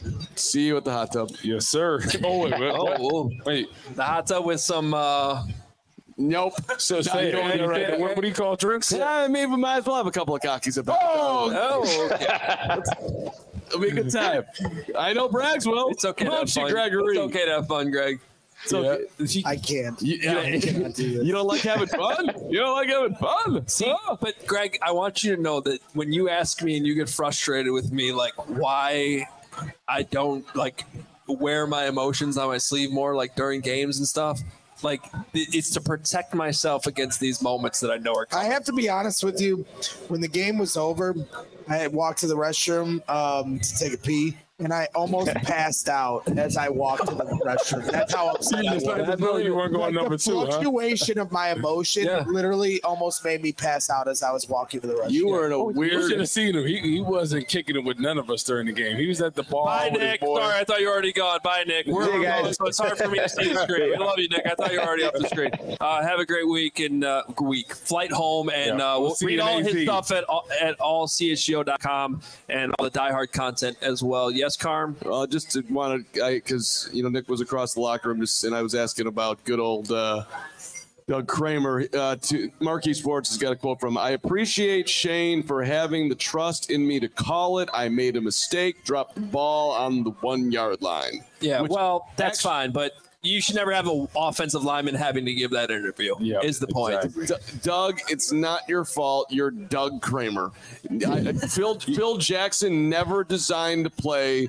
See you at the hot tub. Yes, sir. Oh, wait, wait, oh, whoa. wait. The hot tub with some. Uh, Nope. So say, no, no, right. What, what do you call drinks? Yeah, maybe we might as well have a couple of cockies about. Oh, oh okay. It'll be a good time. I know Braggs will. It's okay. Come to on, have fun. Gregory. It's okay to have fun, Greg. It's okay. Yeah. I can't. You, you, I can't do this. You don't like having fun? You don't like having fun? See, oh. But Greg, I want you to know that when you ask me and you get frustrated with me, like why I don't like wear my emotions on my sleeve more, like during games and stuff. Like, it's to protect myself against these moments that I know are coming. I have to be honest with you. When the game was over, I had walked to the restroom um, to take a pee. and I almost passed out as I walked to the restroom. That's how upset I was. I know you weren't going Like, number the two, huh? fluctuation of my emotion Yeah. literally almost made me pass out as I was walking to the restroom. You were in a You should weird. have seen him. He, he wasn't kicking it with none of us during the game. He was at the bar Bye, with his Nick. boys. Sorry, I thought you were already gone. Bye, Nick. We're, See you we're guys. going, so it's hard for me to see the screen. We love you, Nick. I thought you were already off the screen. Uh, have a great week and uh, week. Flight home, and Yeah. uh, We'll we'll see read you in all A his Z. stuff at all- at all c h g o dot com and all the diehard content as well. Yes, Carm? Uh, just to want to, because you know Nick was across the locker room, just and I was asking about good old uh, Doug Kramer. Uh, to Marquee Sports has got a quote from him. I appreciate Shane for having the trust in me to call it. I made a mistake, dropped the ball on the one yard line. Yeah, Which well, that's actually- fine, but you should never have an offensive lineman having to give that interview, Yep, is the point. exactly. D- Doug, it's not your fault. You're Doug Kramer. I, I- Phil Phil Jackson never designed to play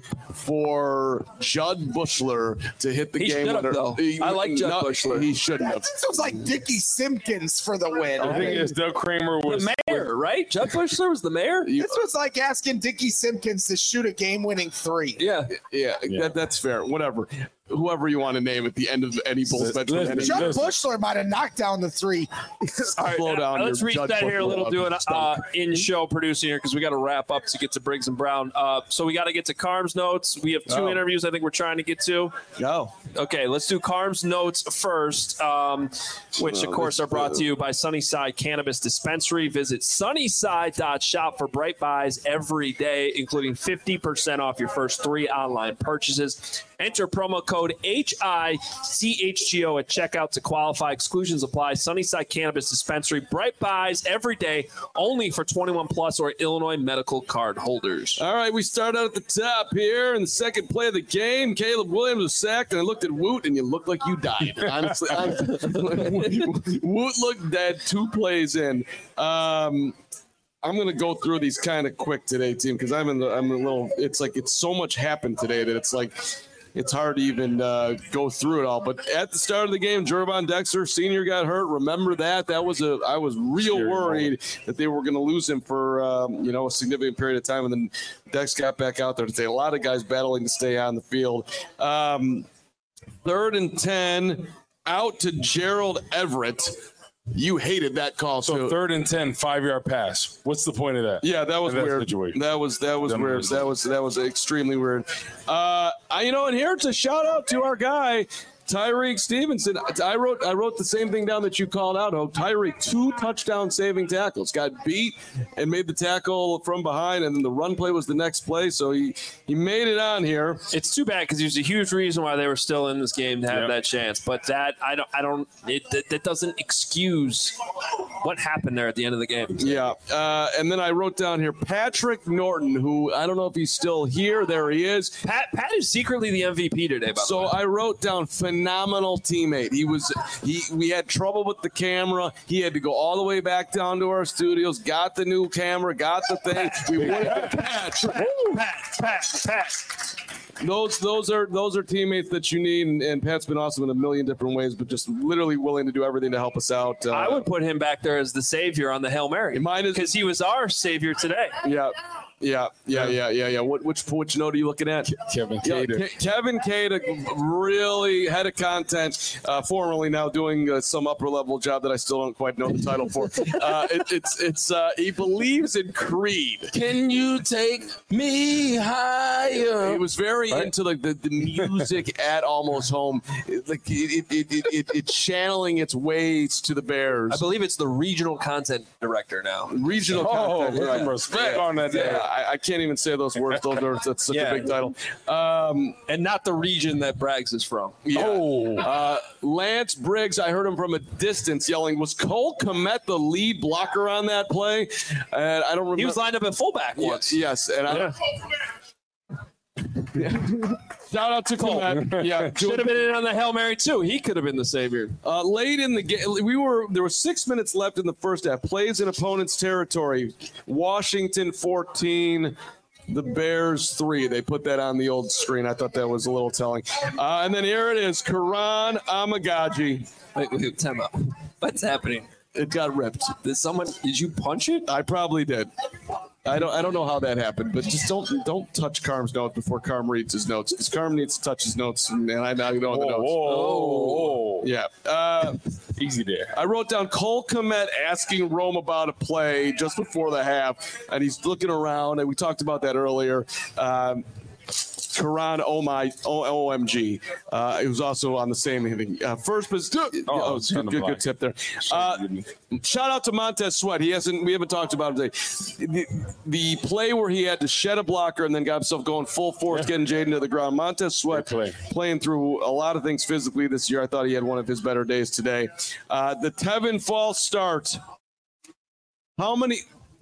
for Judd Bushler to hit the He game should've, winner. though. He- I like Judd no, Bushler. He shouldn't have. This was like Dickie Simpkins for the win. I think it's Doug Kramer was The mayor, right? Judd Bushler was the mayor? This was like asking Dickie Simpkins to shoot a game-winning three. Yeah. Yeah, Yeah. That, that's fair. Whatever. Whoever you want to name at the end of any Bulls bench. Listen, Judd Listen. Bushler might have knocked down the three. Slow down. Let's your reach Judd that here a Bushler little, up. doing uh, Stop. in-show producing here because we got to wrap up to get to Briggs and Brown. Uh, so we got to get to Carm's notes. We have two Oh. interviews I think we're trying to get to. Go. Okay, let's do Carm's notes first, um, which, of Oh, course, this- are brought to you by Sunnyside Cannabis Dispensary. Visit sunnyside dot shop for bright buys every day, including fifty percent off your first three online purchases. Enter promo code H I C H G O at checkout to qualify. Exclusions apply. Sunnyside Cannabis Dispensary. Bright buys every day, only for twenty-one plus or Illinois medical card holders. All right, we start out at the top here in the second play of the game. Caleb Williams was sacked, and I looked at Woot, and you looked like you died. Honestly, honestly. Woot looked dead two plays in. Um, I'm gonna go through these kind of quick today, team, because I'm in the I'm a little. It's like it's so much happened today that it's like. It's hard to even uh, go through it all. But at the start of the game, Jervon Dexter, senior, got hurt. Remember that? That was a. I was real Scary worried moment. that they were going to lose him for um, you know a significant period of time, and then Dex got back out there today. A lot of guys battling to stay on the field. Um, third and ten, out to Gerald Everett. You hated that call. so too. third and ten, five yard pass. What's the point of that? Yeah, that was In that weird. situation. That was that was That weird. was- That was that was extremely weird. Uh, I, you know, and here's a shout out to our guy Tyreek Stevenson. I wrote I wrote the same thing down that you called out. Oh, Tyreek, two touchdown saving tackles. Got beat and made the tackle from behind, and then the run play was the next play. So he he made it on here. It's too bad because there's a huge reason why they were still in this game to have Yep. that chance. But that I don't I don't it that, that doesn't excuse what happened there at the end of the game. Yeah, uh, and then I wrote down here Patrick Norton, who I don't know if he's still here. There he is. Pat Pat is secretly the M V P today. By the So way. I wrote down phenomenal teammate. He was he we had trouble with the camera. He had to go all the way back down to our studios, got the new camera, got the thing. We went Pat. Pat Pat Pat. Those those are those are teammates that you need, and, and Pat's been awesome in a million different ways, but just literally willing to do everything to help us out. Uh, I would put him back there as the savior on the Hail Mary. Mine is- because he was our savior today. Yeah. Yeah, yeah, yeah, yeah, yeah. What, which which note are you looking at? Kevin Yeah, Cater. Ke- Kevin Cater, really head of content, uh, formerly now doing uh, some upper level job that I still don't quite know the title for. Uh, it, it's it's uh, he believes in Creed. Can you take me higher? He was very Right. into like the, the music at Almost Home, It- like it it, it, it it channeling its ways to the Bears. I believe it's the regional content director now. Regional Oh, content. put right. some respect Yeah, on that. yeah, I, I can't even say those words. Those are that's such Yeah. a big title. Um, And not the region that Braggs is from. yeah. Oh. Uh, Lance Briggs, I heard him from a distance yelling, was Cole Kmet the lead blocker on that play? And I don't remember. He was lined up at fullback Yeah, once. yes, and I, shout out to Kmet. Yeah, Should have been in on the Hail Mary too. He could have been the savior. Uh, late in the game, we were there were six minutes left in the first half. Plays in opponent's territory. Washington fourteen, the Bears three. They put that on the old screen. I thought that was a little telling. Uh, and then here it is, Karan Amagaji. Wait, wait, time out. What's happening? It got ripped. Did someone? Did you punch it? I probably did. I don't I don't know how that happened, but just don't don't touch Carm's notes before Carm reads his notes, because Carm needs to touch his notes, and I'm not going the notes. Whoa, whoa. Yeah. Uh, Easy there. I wrote down Cole Kmet asking Rome about a play just before the half, and he's looking around, and we talked about that earlier. Um, Karan oh my O M G. Uh, it was also on the same thing. Uh, first, but oh, oh good, good, good tip there. Uh, shout out to Montez Sweat. He hasn't. We haven't talked about him today. The, the play where he had to shed a blocker and then got himself going full force, yeah. getting Jaden to the ground. Montez Sweat play. playing through a lot of things physically this year. I thought he had one of his better days today. Uh, the Tevin false start. How many?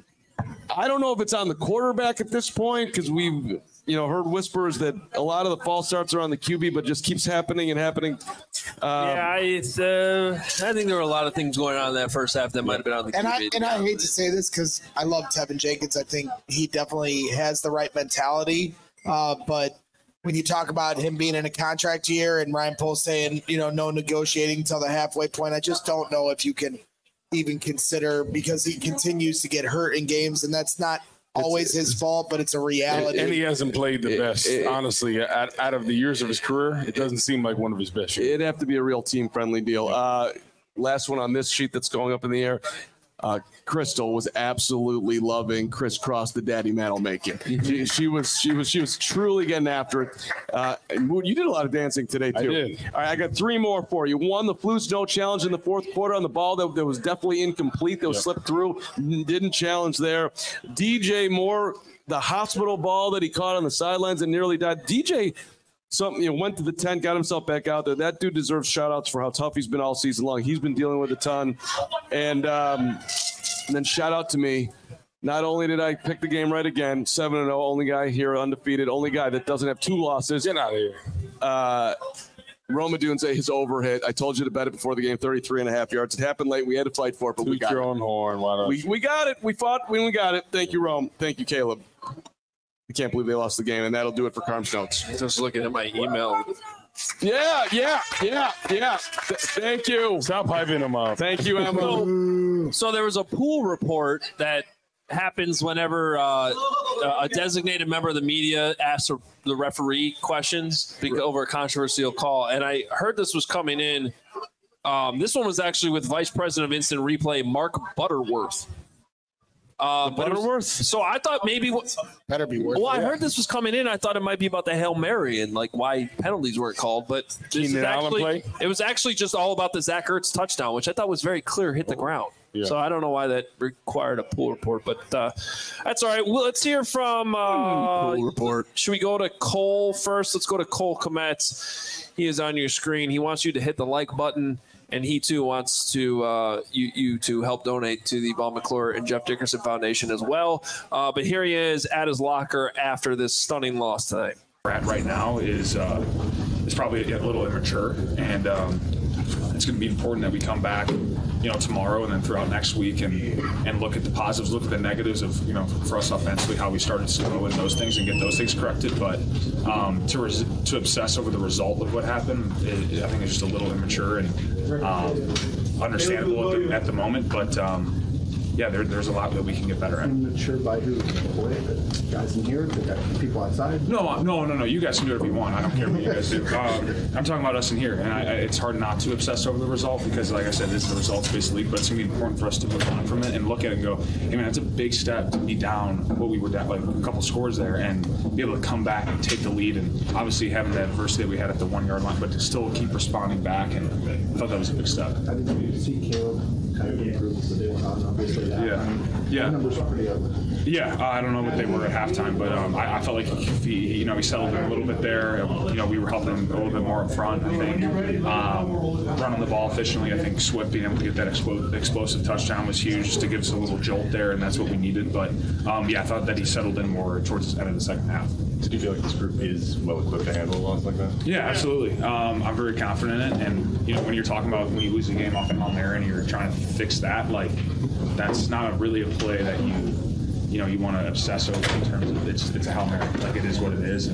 I don't know if it's on the quarterback at this point, because we've. You know, heard whispers that a lot of the false starts are on the Q B, but just keeps happening and happening. Um, yeah, it's, uh, I think there were a lot of things going on in that first half that might have been on the and Q B. I, and I hate to say this because I love Tevin Jenkins. I think he definitely has the right mentality. Uh, but when you talk about him being in a contract year and Ryan Poles saying, you know, no negotiating until the halfway point, I just don't know if you can even consider, because he continues to get hurt in games, and that's not – always his fault, but it's a reality. And, and he hasn't played the it, best, it, honestly. Out, out of the years of his career, it doesn't seem like one of his best years. It'd have to be a real team-friendly deal. Uh, last one on this sheet that's going up in the air. Uh, Crystal was absolutely loving crisscross the daddy mantle making. She, she was she was she was truly getting after it. Uh, you did a lot of dancing today too. I did. All right, I got three more for you. One, the flu snow challenge in the fourth quarter on the ball that, that was definitely incomplete. That was yep. slipped through. Didn't challenge there. D J Moore, the hospital ball that he caught on the sidelines and nearly died. D J. Something, you know, went to the tent, got himself back out there. That dude deserves shout outs for how tough he's been all season long. He's been dealing with a ton. And, um, and then shout out to me. Not only did I pick the game right again, seven and oh, only guy here undefeated, only guy that doesn't have two losses. Get out of here. Uh, Roma Dunze, his overhit. I told you to bet it before the game, thirty-three and a half yards. It happened late. We had to fight for it, but Toot we got your it. own horn. Why not? We, we got it. We fought when we got it. Thank you, Rome. Thank you, Caleb. I can't believe they lost the game, and that'll do it for Carm's notes. Just looking at my email. Yeah, yeah, yeah, yeah. Th- thank you. Stop hyping them up. Thank you, Emma. So, so there was a pool report that happens whenever uh, a designated member of the media asks the referee questions over a controversial call, and I heard this was coming in. Um, this one was actually with Vice President of Instant Replay, Mark Butterworth. Uh, Butterworth? So I thought maybe better be worth. Well, I yeah. heard this was coming in. I thought it might be about the Hail Mary and like why penalties weren't called, but this is actually, play? It was actually just all about the Zach Ertz touchdown, which I thought was very clear, hit the ground. Yeah. So I don't know why that required a pool report, but uh, that's all right. Well, let's hear from uh, pool report. Should we go to Cole first? Let's go to Cole Kmet. He is on your screen. He wants you to hit the like button. And he, too, wants to uh, you, you to help donate to the Von McClure and Jeff Dickerson Foundation as well. Uh, but here he is at his locker after this stunning loss tonight. At right now is uh, is probably a little immature, and um, it's going to be important that we come back, you know, tomorrow and then throughout next week and and look at the positives, look at the negatives of, you know, for us offensively, how we started slow and those things and get those things corrected. But um, to res- to obsess over the result of what happened, it, I think it's just a little immature and um, understandable at the, at the moment. But um, yeah, there, there's a lot that we can get better at. Immature by who? The guys in here, the people outside? No, no, no, no. You guys can do whatever you want. I don't care what you guys do. Um, I'm talking about us in here, and I, I, it's hard not to obsess over the result because, like I said, this is the results-based league. But it's going to be important for us to move on from it and look at it and go, "Hey, man, that's a big step to be down what we were down, like a couple scores there, and be able to come back and take the lead." And obviously having the adversity that we had at the one-yard line, but to still keep responding back, and I thought that was a big step. How did you see Caleb kind of improve as the day went on? Obviously, that yeah, yeah. The numbers are pretty ugly. Yeah, uh, I don't know what they were at halftime, but um, I, I felt like he, you know, he settled in a little bit there. You know, we were helping him a little bit more up front. I think um, running the ball efficiently. I think Swift being able to get that expo- explosive touchdown was huge, just to give us a little jolt there, and that's what we needed. But um, yeah, I thought that he settled in more towards the end of the second half. Did you feel like this group is well equipped to handle a loss like that? Yeah, absolutely. Um, I'm very confident in it, and you know, when you're talking about when you lose a game off and on there, and you're trying to fix that, like that's not a, really a play that you. You know, you want to obsess over in terms of it's it's a Hail Mary. Like, it is what it is. And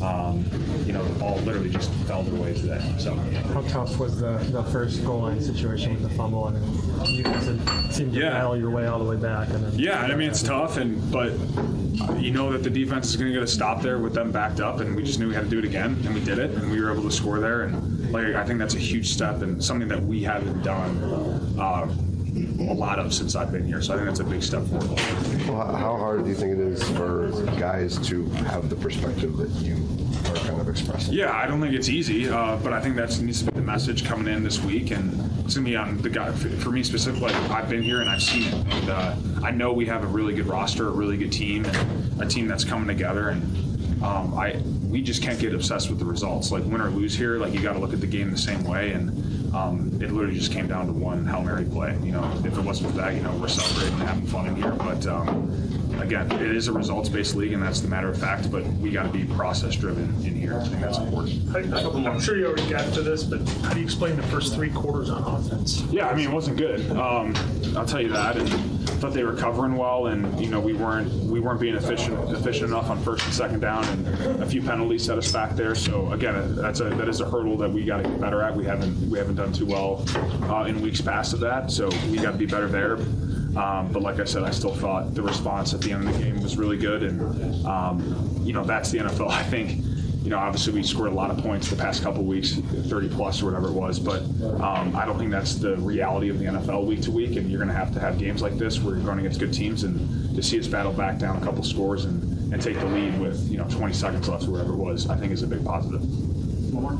um, you know, the ball literally just fell their way today. So, how tough was the, the first goal line situation with the fumble? I mean, you guys had seemed to yeah. battle your way all the way back. And then yeah, I mean, it's tough, and but you know that the defense is going to get a stop there with them backed up, and we just knew we had to do it again, and we did it, and we were able to score there. And like I think that's a huge step and something that we haven't done uh, a lot of since I've been here. So I think that's a big step forward. Well, how hard do you think it is for guys to have the perspective that you are kind of expressing? Yeah, I don't think it's easy, uh, but I think that needs to be the message coming in this week, and it's going to be on the guy. For me specifically, I've been here and I've seen it, and uh, I know we have a really good roster, a really good team, and a team that's coming together, and um, I we just can't get obsessed with the results. Like win or lose here, like you got to look at the game the same way, and um, it literally just came down to one Hail Mary play. You know, if it wasn't for that, you know, we're celebrating and having fun in here, but um, again, it is a results-based league, and that's the matter of fact, but we got to be process-driven in here. I think that's important. I, I'm sure you already got to this, but how do you explain the first three quarters on offense? Yeah, I mean, it wasn't good. Um, I'll tell you that. And I thought they were covering well, and you know, we weren't we weren't being efficient efficient enough on first and second down, and a few penalties set us back there. So again, that's a that is a hurdle that we got to get better at. We haven't we haven't done too well uh, in weeks past of that, so we got to be better there. Um, but like I said, I still thought the response at the end of the game was really good, and um, you know, that's the N F L. I think, you know, obviously we scored a lot of points the past couple of weeks, thirty plus or whatever it was, but um, I don't think that's the reality of the N F L week to week, and you're going to have to have games like this where you're going against good teams, and to see us battle back down a couple scores and, and take the lead with, you know, twenty seconds left or whatever it was, I think is a big positive. All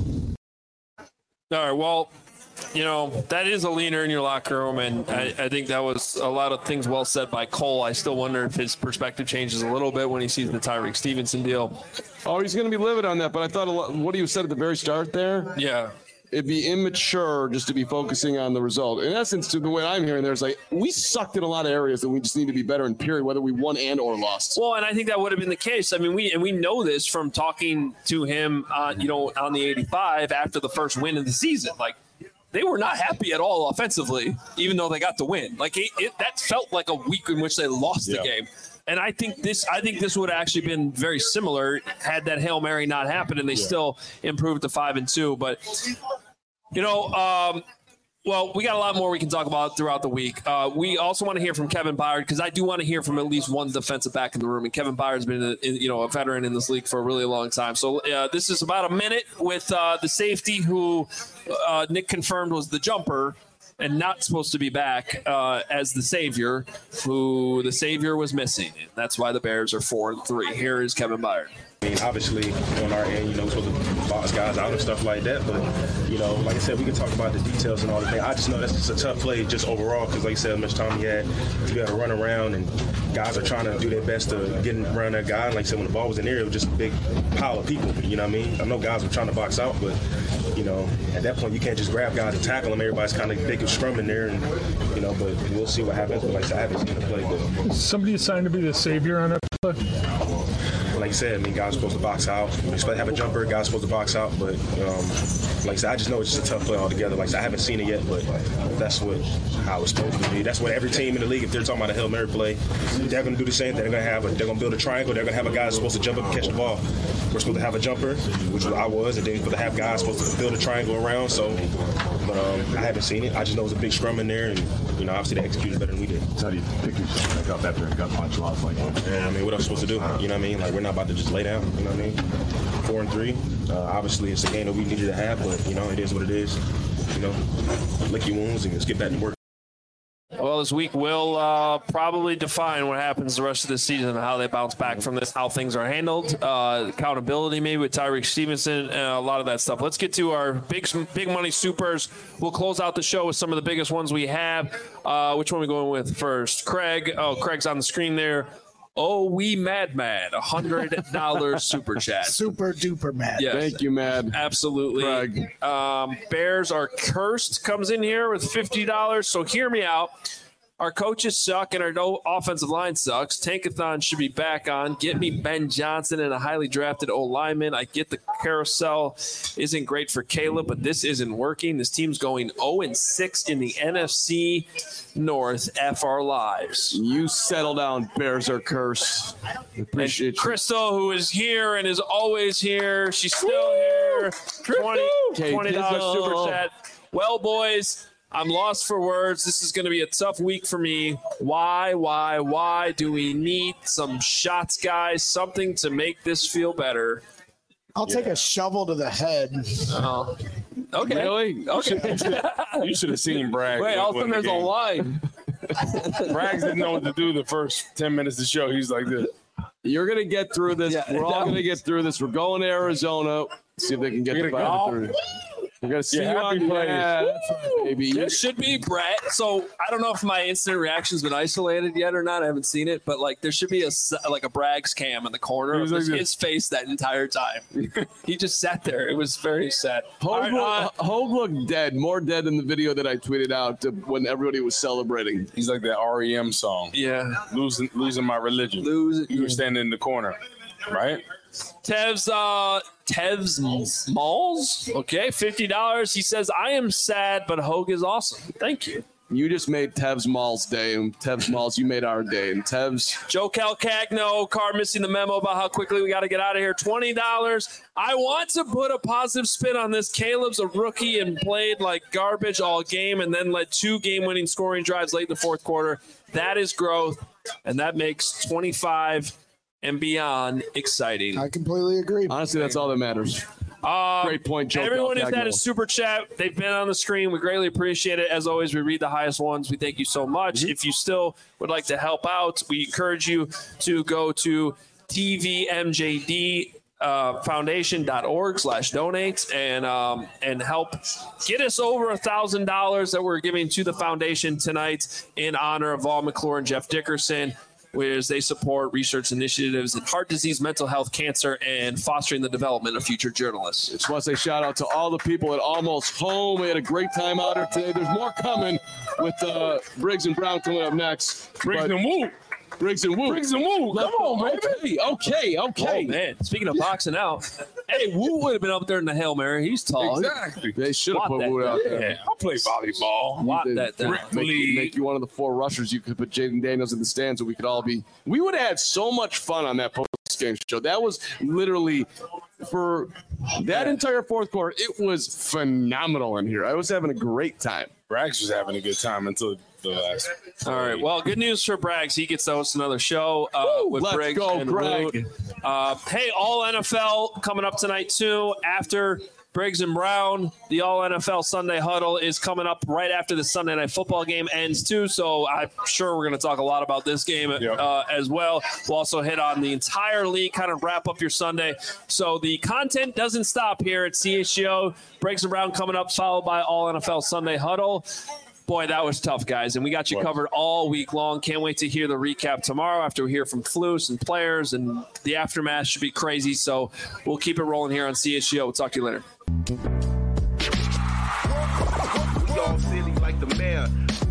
right, well, you know, that is a leaner in your locker room, and I, I think that was a lot of things well said by Cole. I still wonder if his perspective changes a little bit when he sees the Tyreek Stevenson deal. Oh, he's going to be livid on that, but I thought a lot, what you said at the very start there, yeah, it'd be immature just to be focusing on the result. In essence, to the way I'm hearing, there's like, we sucked in a lot of areas that we just need to be better in, period, whether we won and or lost. Well, and I think that would have been the case. I mean, we and we know this from talking to him, uh, you know, on the eighty-five after the first win of the season. Like, they were not happy at all offensively, even though they got the win. Like it, it, that felt like a week in which they lost yeah. the game. And I think this, I think this would have actually been very similar had that Hail Mary not happened, and they yeah. still improved to five and two. But you know, um, well, we got a lot more we can talk about throughout the week. Uh, we also want to hear from Kevin Byard, because I do want to hear from at least one defensive back in the room. And Kevin Byard's been, a, you know, a veteran in this league for a really long time. So uh, this is about a minute with uh, the safety who uh, Nick confirmed was the jumper and not supposed to be back uh, as the savior, who the savior was missing. And that's why the Bears are four and three. Here is Kevin Byard. I mean, obviously, on our end, you know, we're supposed to box guys out and stuff like that. But, you know, like I said, we can talk about the details and all the things. I just know that's just a tough play just overall because, like I said, how much time he had, you got to run around, and guys are trying to do their best to get around that guy. And like I said, when the ball was in the air, it was just a big pile of people. You know what I mean? I know guys were trying to box out, but, you know, at that point, you can't just grab guys and tackle them. Everybody's kind of big and scrumming there, and, you know, but we'll see what happens. But like I said, I haven't seen the play. But somebody assigned to be the savior on that play? Like you said, I mean, guys are supposed to box out. We're supposed to have a jumper, guys supposed to box out. But, um, like I said, I just know it's just a tough play altogether. Like I said, I haven't seen it yet, but that's what how it's supposed to be. That's what every team in the league, if they're talking about a Hail Mary play, they're going to do the same thing. They're going to have a, they're going to build a triangle. They're going to have a guy that's supposed to jump up and catch the ball. We're supposed to have a jumper, which I was, and then we're supposed to have guys supposed to build a triangle around. So, but um, I haven't seen it. I just know it's a big scrum in there, and, you know, obviously they executed better than we did. So how do you pick yourself back up after a gut punch loss like that? Yeah, I mean, what else supposed to do? You know what I mean? Like, we're not about to just lay down. You know what I mean? Four and three. Uh, obviously, it's a game that we needed to have, but, you know, it is what it is. You know, lick your wounds and just get back to work. Well, this week will uh, probably define what happens the rest of the season and how they bounce back from this, how things are handled, uh, accountability maybe with Tyreek Stevenson, and a lot of that stuff. Let's get to our big big money supers. We'll close out the show with some of the biggest ones we have. Uh, which one are we going with first? Craig. Oh, Craig's on the screen there. Oh, we mad mad, a hundred dollars super chat. Super duper mad. Yes. Thank you, Mad. Absolutely. Craig. Um, Bears are cursed comes in here with fifty dollars. So hear me out. Our coaches suck and our no offensive line sucks. Tankathon should be back on. Get me Ben Johnson and a highly drafted O-lineman. I get the carousel isn't great for Caleb, but this isn't working. This team's going oh and six in the N F C North. F our lives. You settle down, Bears are cursed. Appreciate and Crystal, who is here and is always here. She's still here. twenty dollars super chat. Well, boys, I'm lost for words. This is going to be a tough week for me. Why, why, why do we need some shots, guys? Something to make this feel better. I'll yeah. take a shovel to the head. Oh, okay. Really? Okay. You should have seen Bragg. Wait, all of a sudden there's a line. Bragg didn't know what to do the first ten minutes of the show. He's like this. You're going to get through this. Yeah, We're all going to get through this. We're going to Arizona. See if they can get the five through. We're going to see yeah, you on the yeah, that's right, baby. This should be Brett. So I don't know if my instant reaction's been isolated yet or not. I haven't seen it, but like there should be a like a Bragg's cam in the corner of like his, his face that entire time. He just sat there. It was very sad. Hogue, right, uh, Hogue looked dead, more dead than the video that I tweeted out when everybody was celebrating. He's like that R E M song. Yeah, losing losing my religion. Lose. You were standing in the corner, right? Tev's uh Tev's Malls. Okay, fifty dollars. He says, I am sad, but Hogue is awesome. Thank you. You just made Tev's Malls day, and Tev's Malls, you made our day. And Tev's Joe Calcagno, car missing the memo about how quickly we got to get out of here. twenty dollars. I want to put a positive spin on this. Caleb's a rookie and played like garbage all game and then led two game-winning scoring drives late in the fourth quarter. That is growth, and that makes twenty-five and beyond exciting. I completely agree. Honestly, that's all that matters. Um, Great point, Joe. Everyone Calcagno. has had a super chat. They've been on the screen. We greatly appreciate it. As always, we read the highest ones. We thank you so much. Mm-hmm. If you still would like to help out, we encourage you to go to T V M J D uh, foundation.org slash donate and um, and help get us over a thousand dollars that we're giving to the foundation tonight in honor of Vol McClure and Jeff Dickerson, whereas they support research initiatives in heart disease, mental health, cancer, and fostering the development of future journalists. Just want to say shout out to all the people at Almost Home. We had a great time out here today. There's more coming with uh, Briggs and Brown coming up next. Briggs but, and Woo. Briggs and Woo. Briggs and Woo. Come on, baby. Okay, okay. Oh, man. Speaking of boxing out, hey, Woo would have been up there in the Hail Mary. He's tall. Exactly. They should have put Woo out there. Yeah, I'll play volleyball. Lot that down. Make, make you one of the four rushers. You could put Jaden Daniels in the stands so we could all be. We would have had so much fun on that post-game show. That was literally for that entire fourth quarter. It was phenomenal in here. I was having a great time. Braggs was having a good time until the last. All right. Well, good news for Braggs. He gets to host another show uh, with Let's Briggs go, and Greg. Uh, hey, all N F L coming up tonight too. After Briggs and Brown, the all N F L Sunday Huddle is coming up right after the Sunday Night Football game ends too. So I'm sure we're going to talk a lot about this game yep. uh, as well. We'll also hit on the entire league, kind of wrap up your Sunday. So the content doesn't stop here at C H G O. Briggs and Brown coming up, followed by all N F L Sunday Huddle. Boy, that was tough, guys, and we got you what? covered all week long. Can't wait to hear the recap tomorrow after we hear from Flus and players, and the aftermath should be crazy. So we'll keep it rolling here on C H G O. We'll talk to you later. We all silly like the mayor.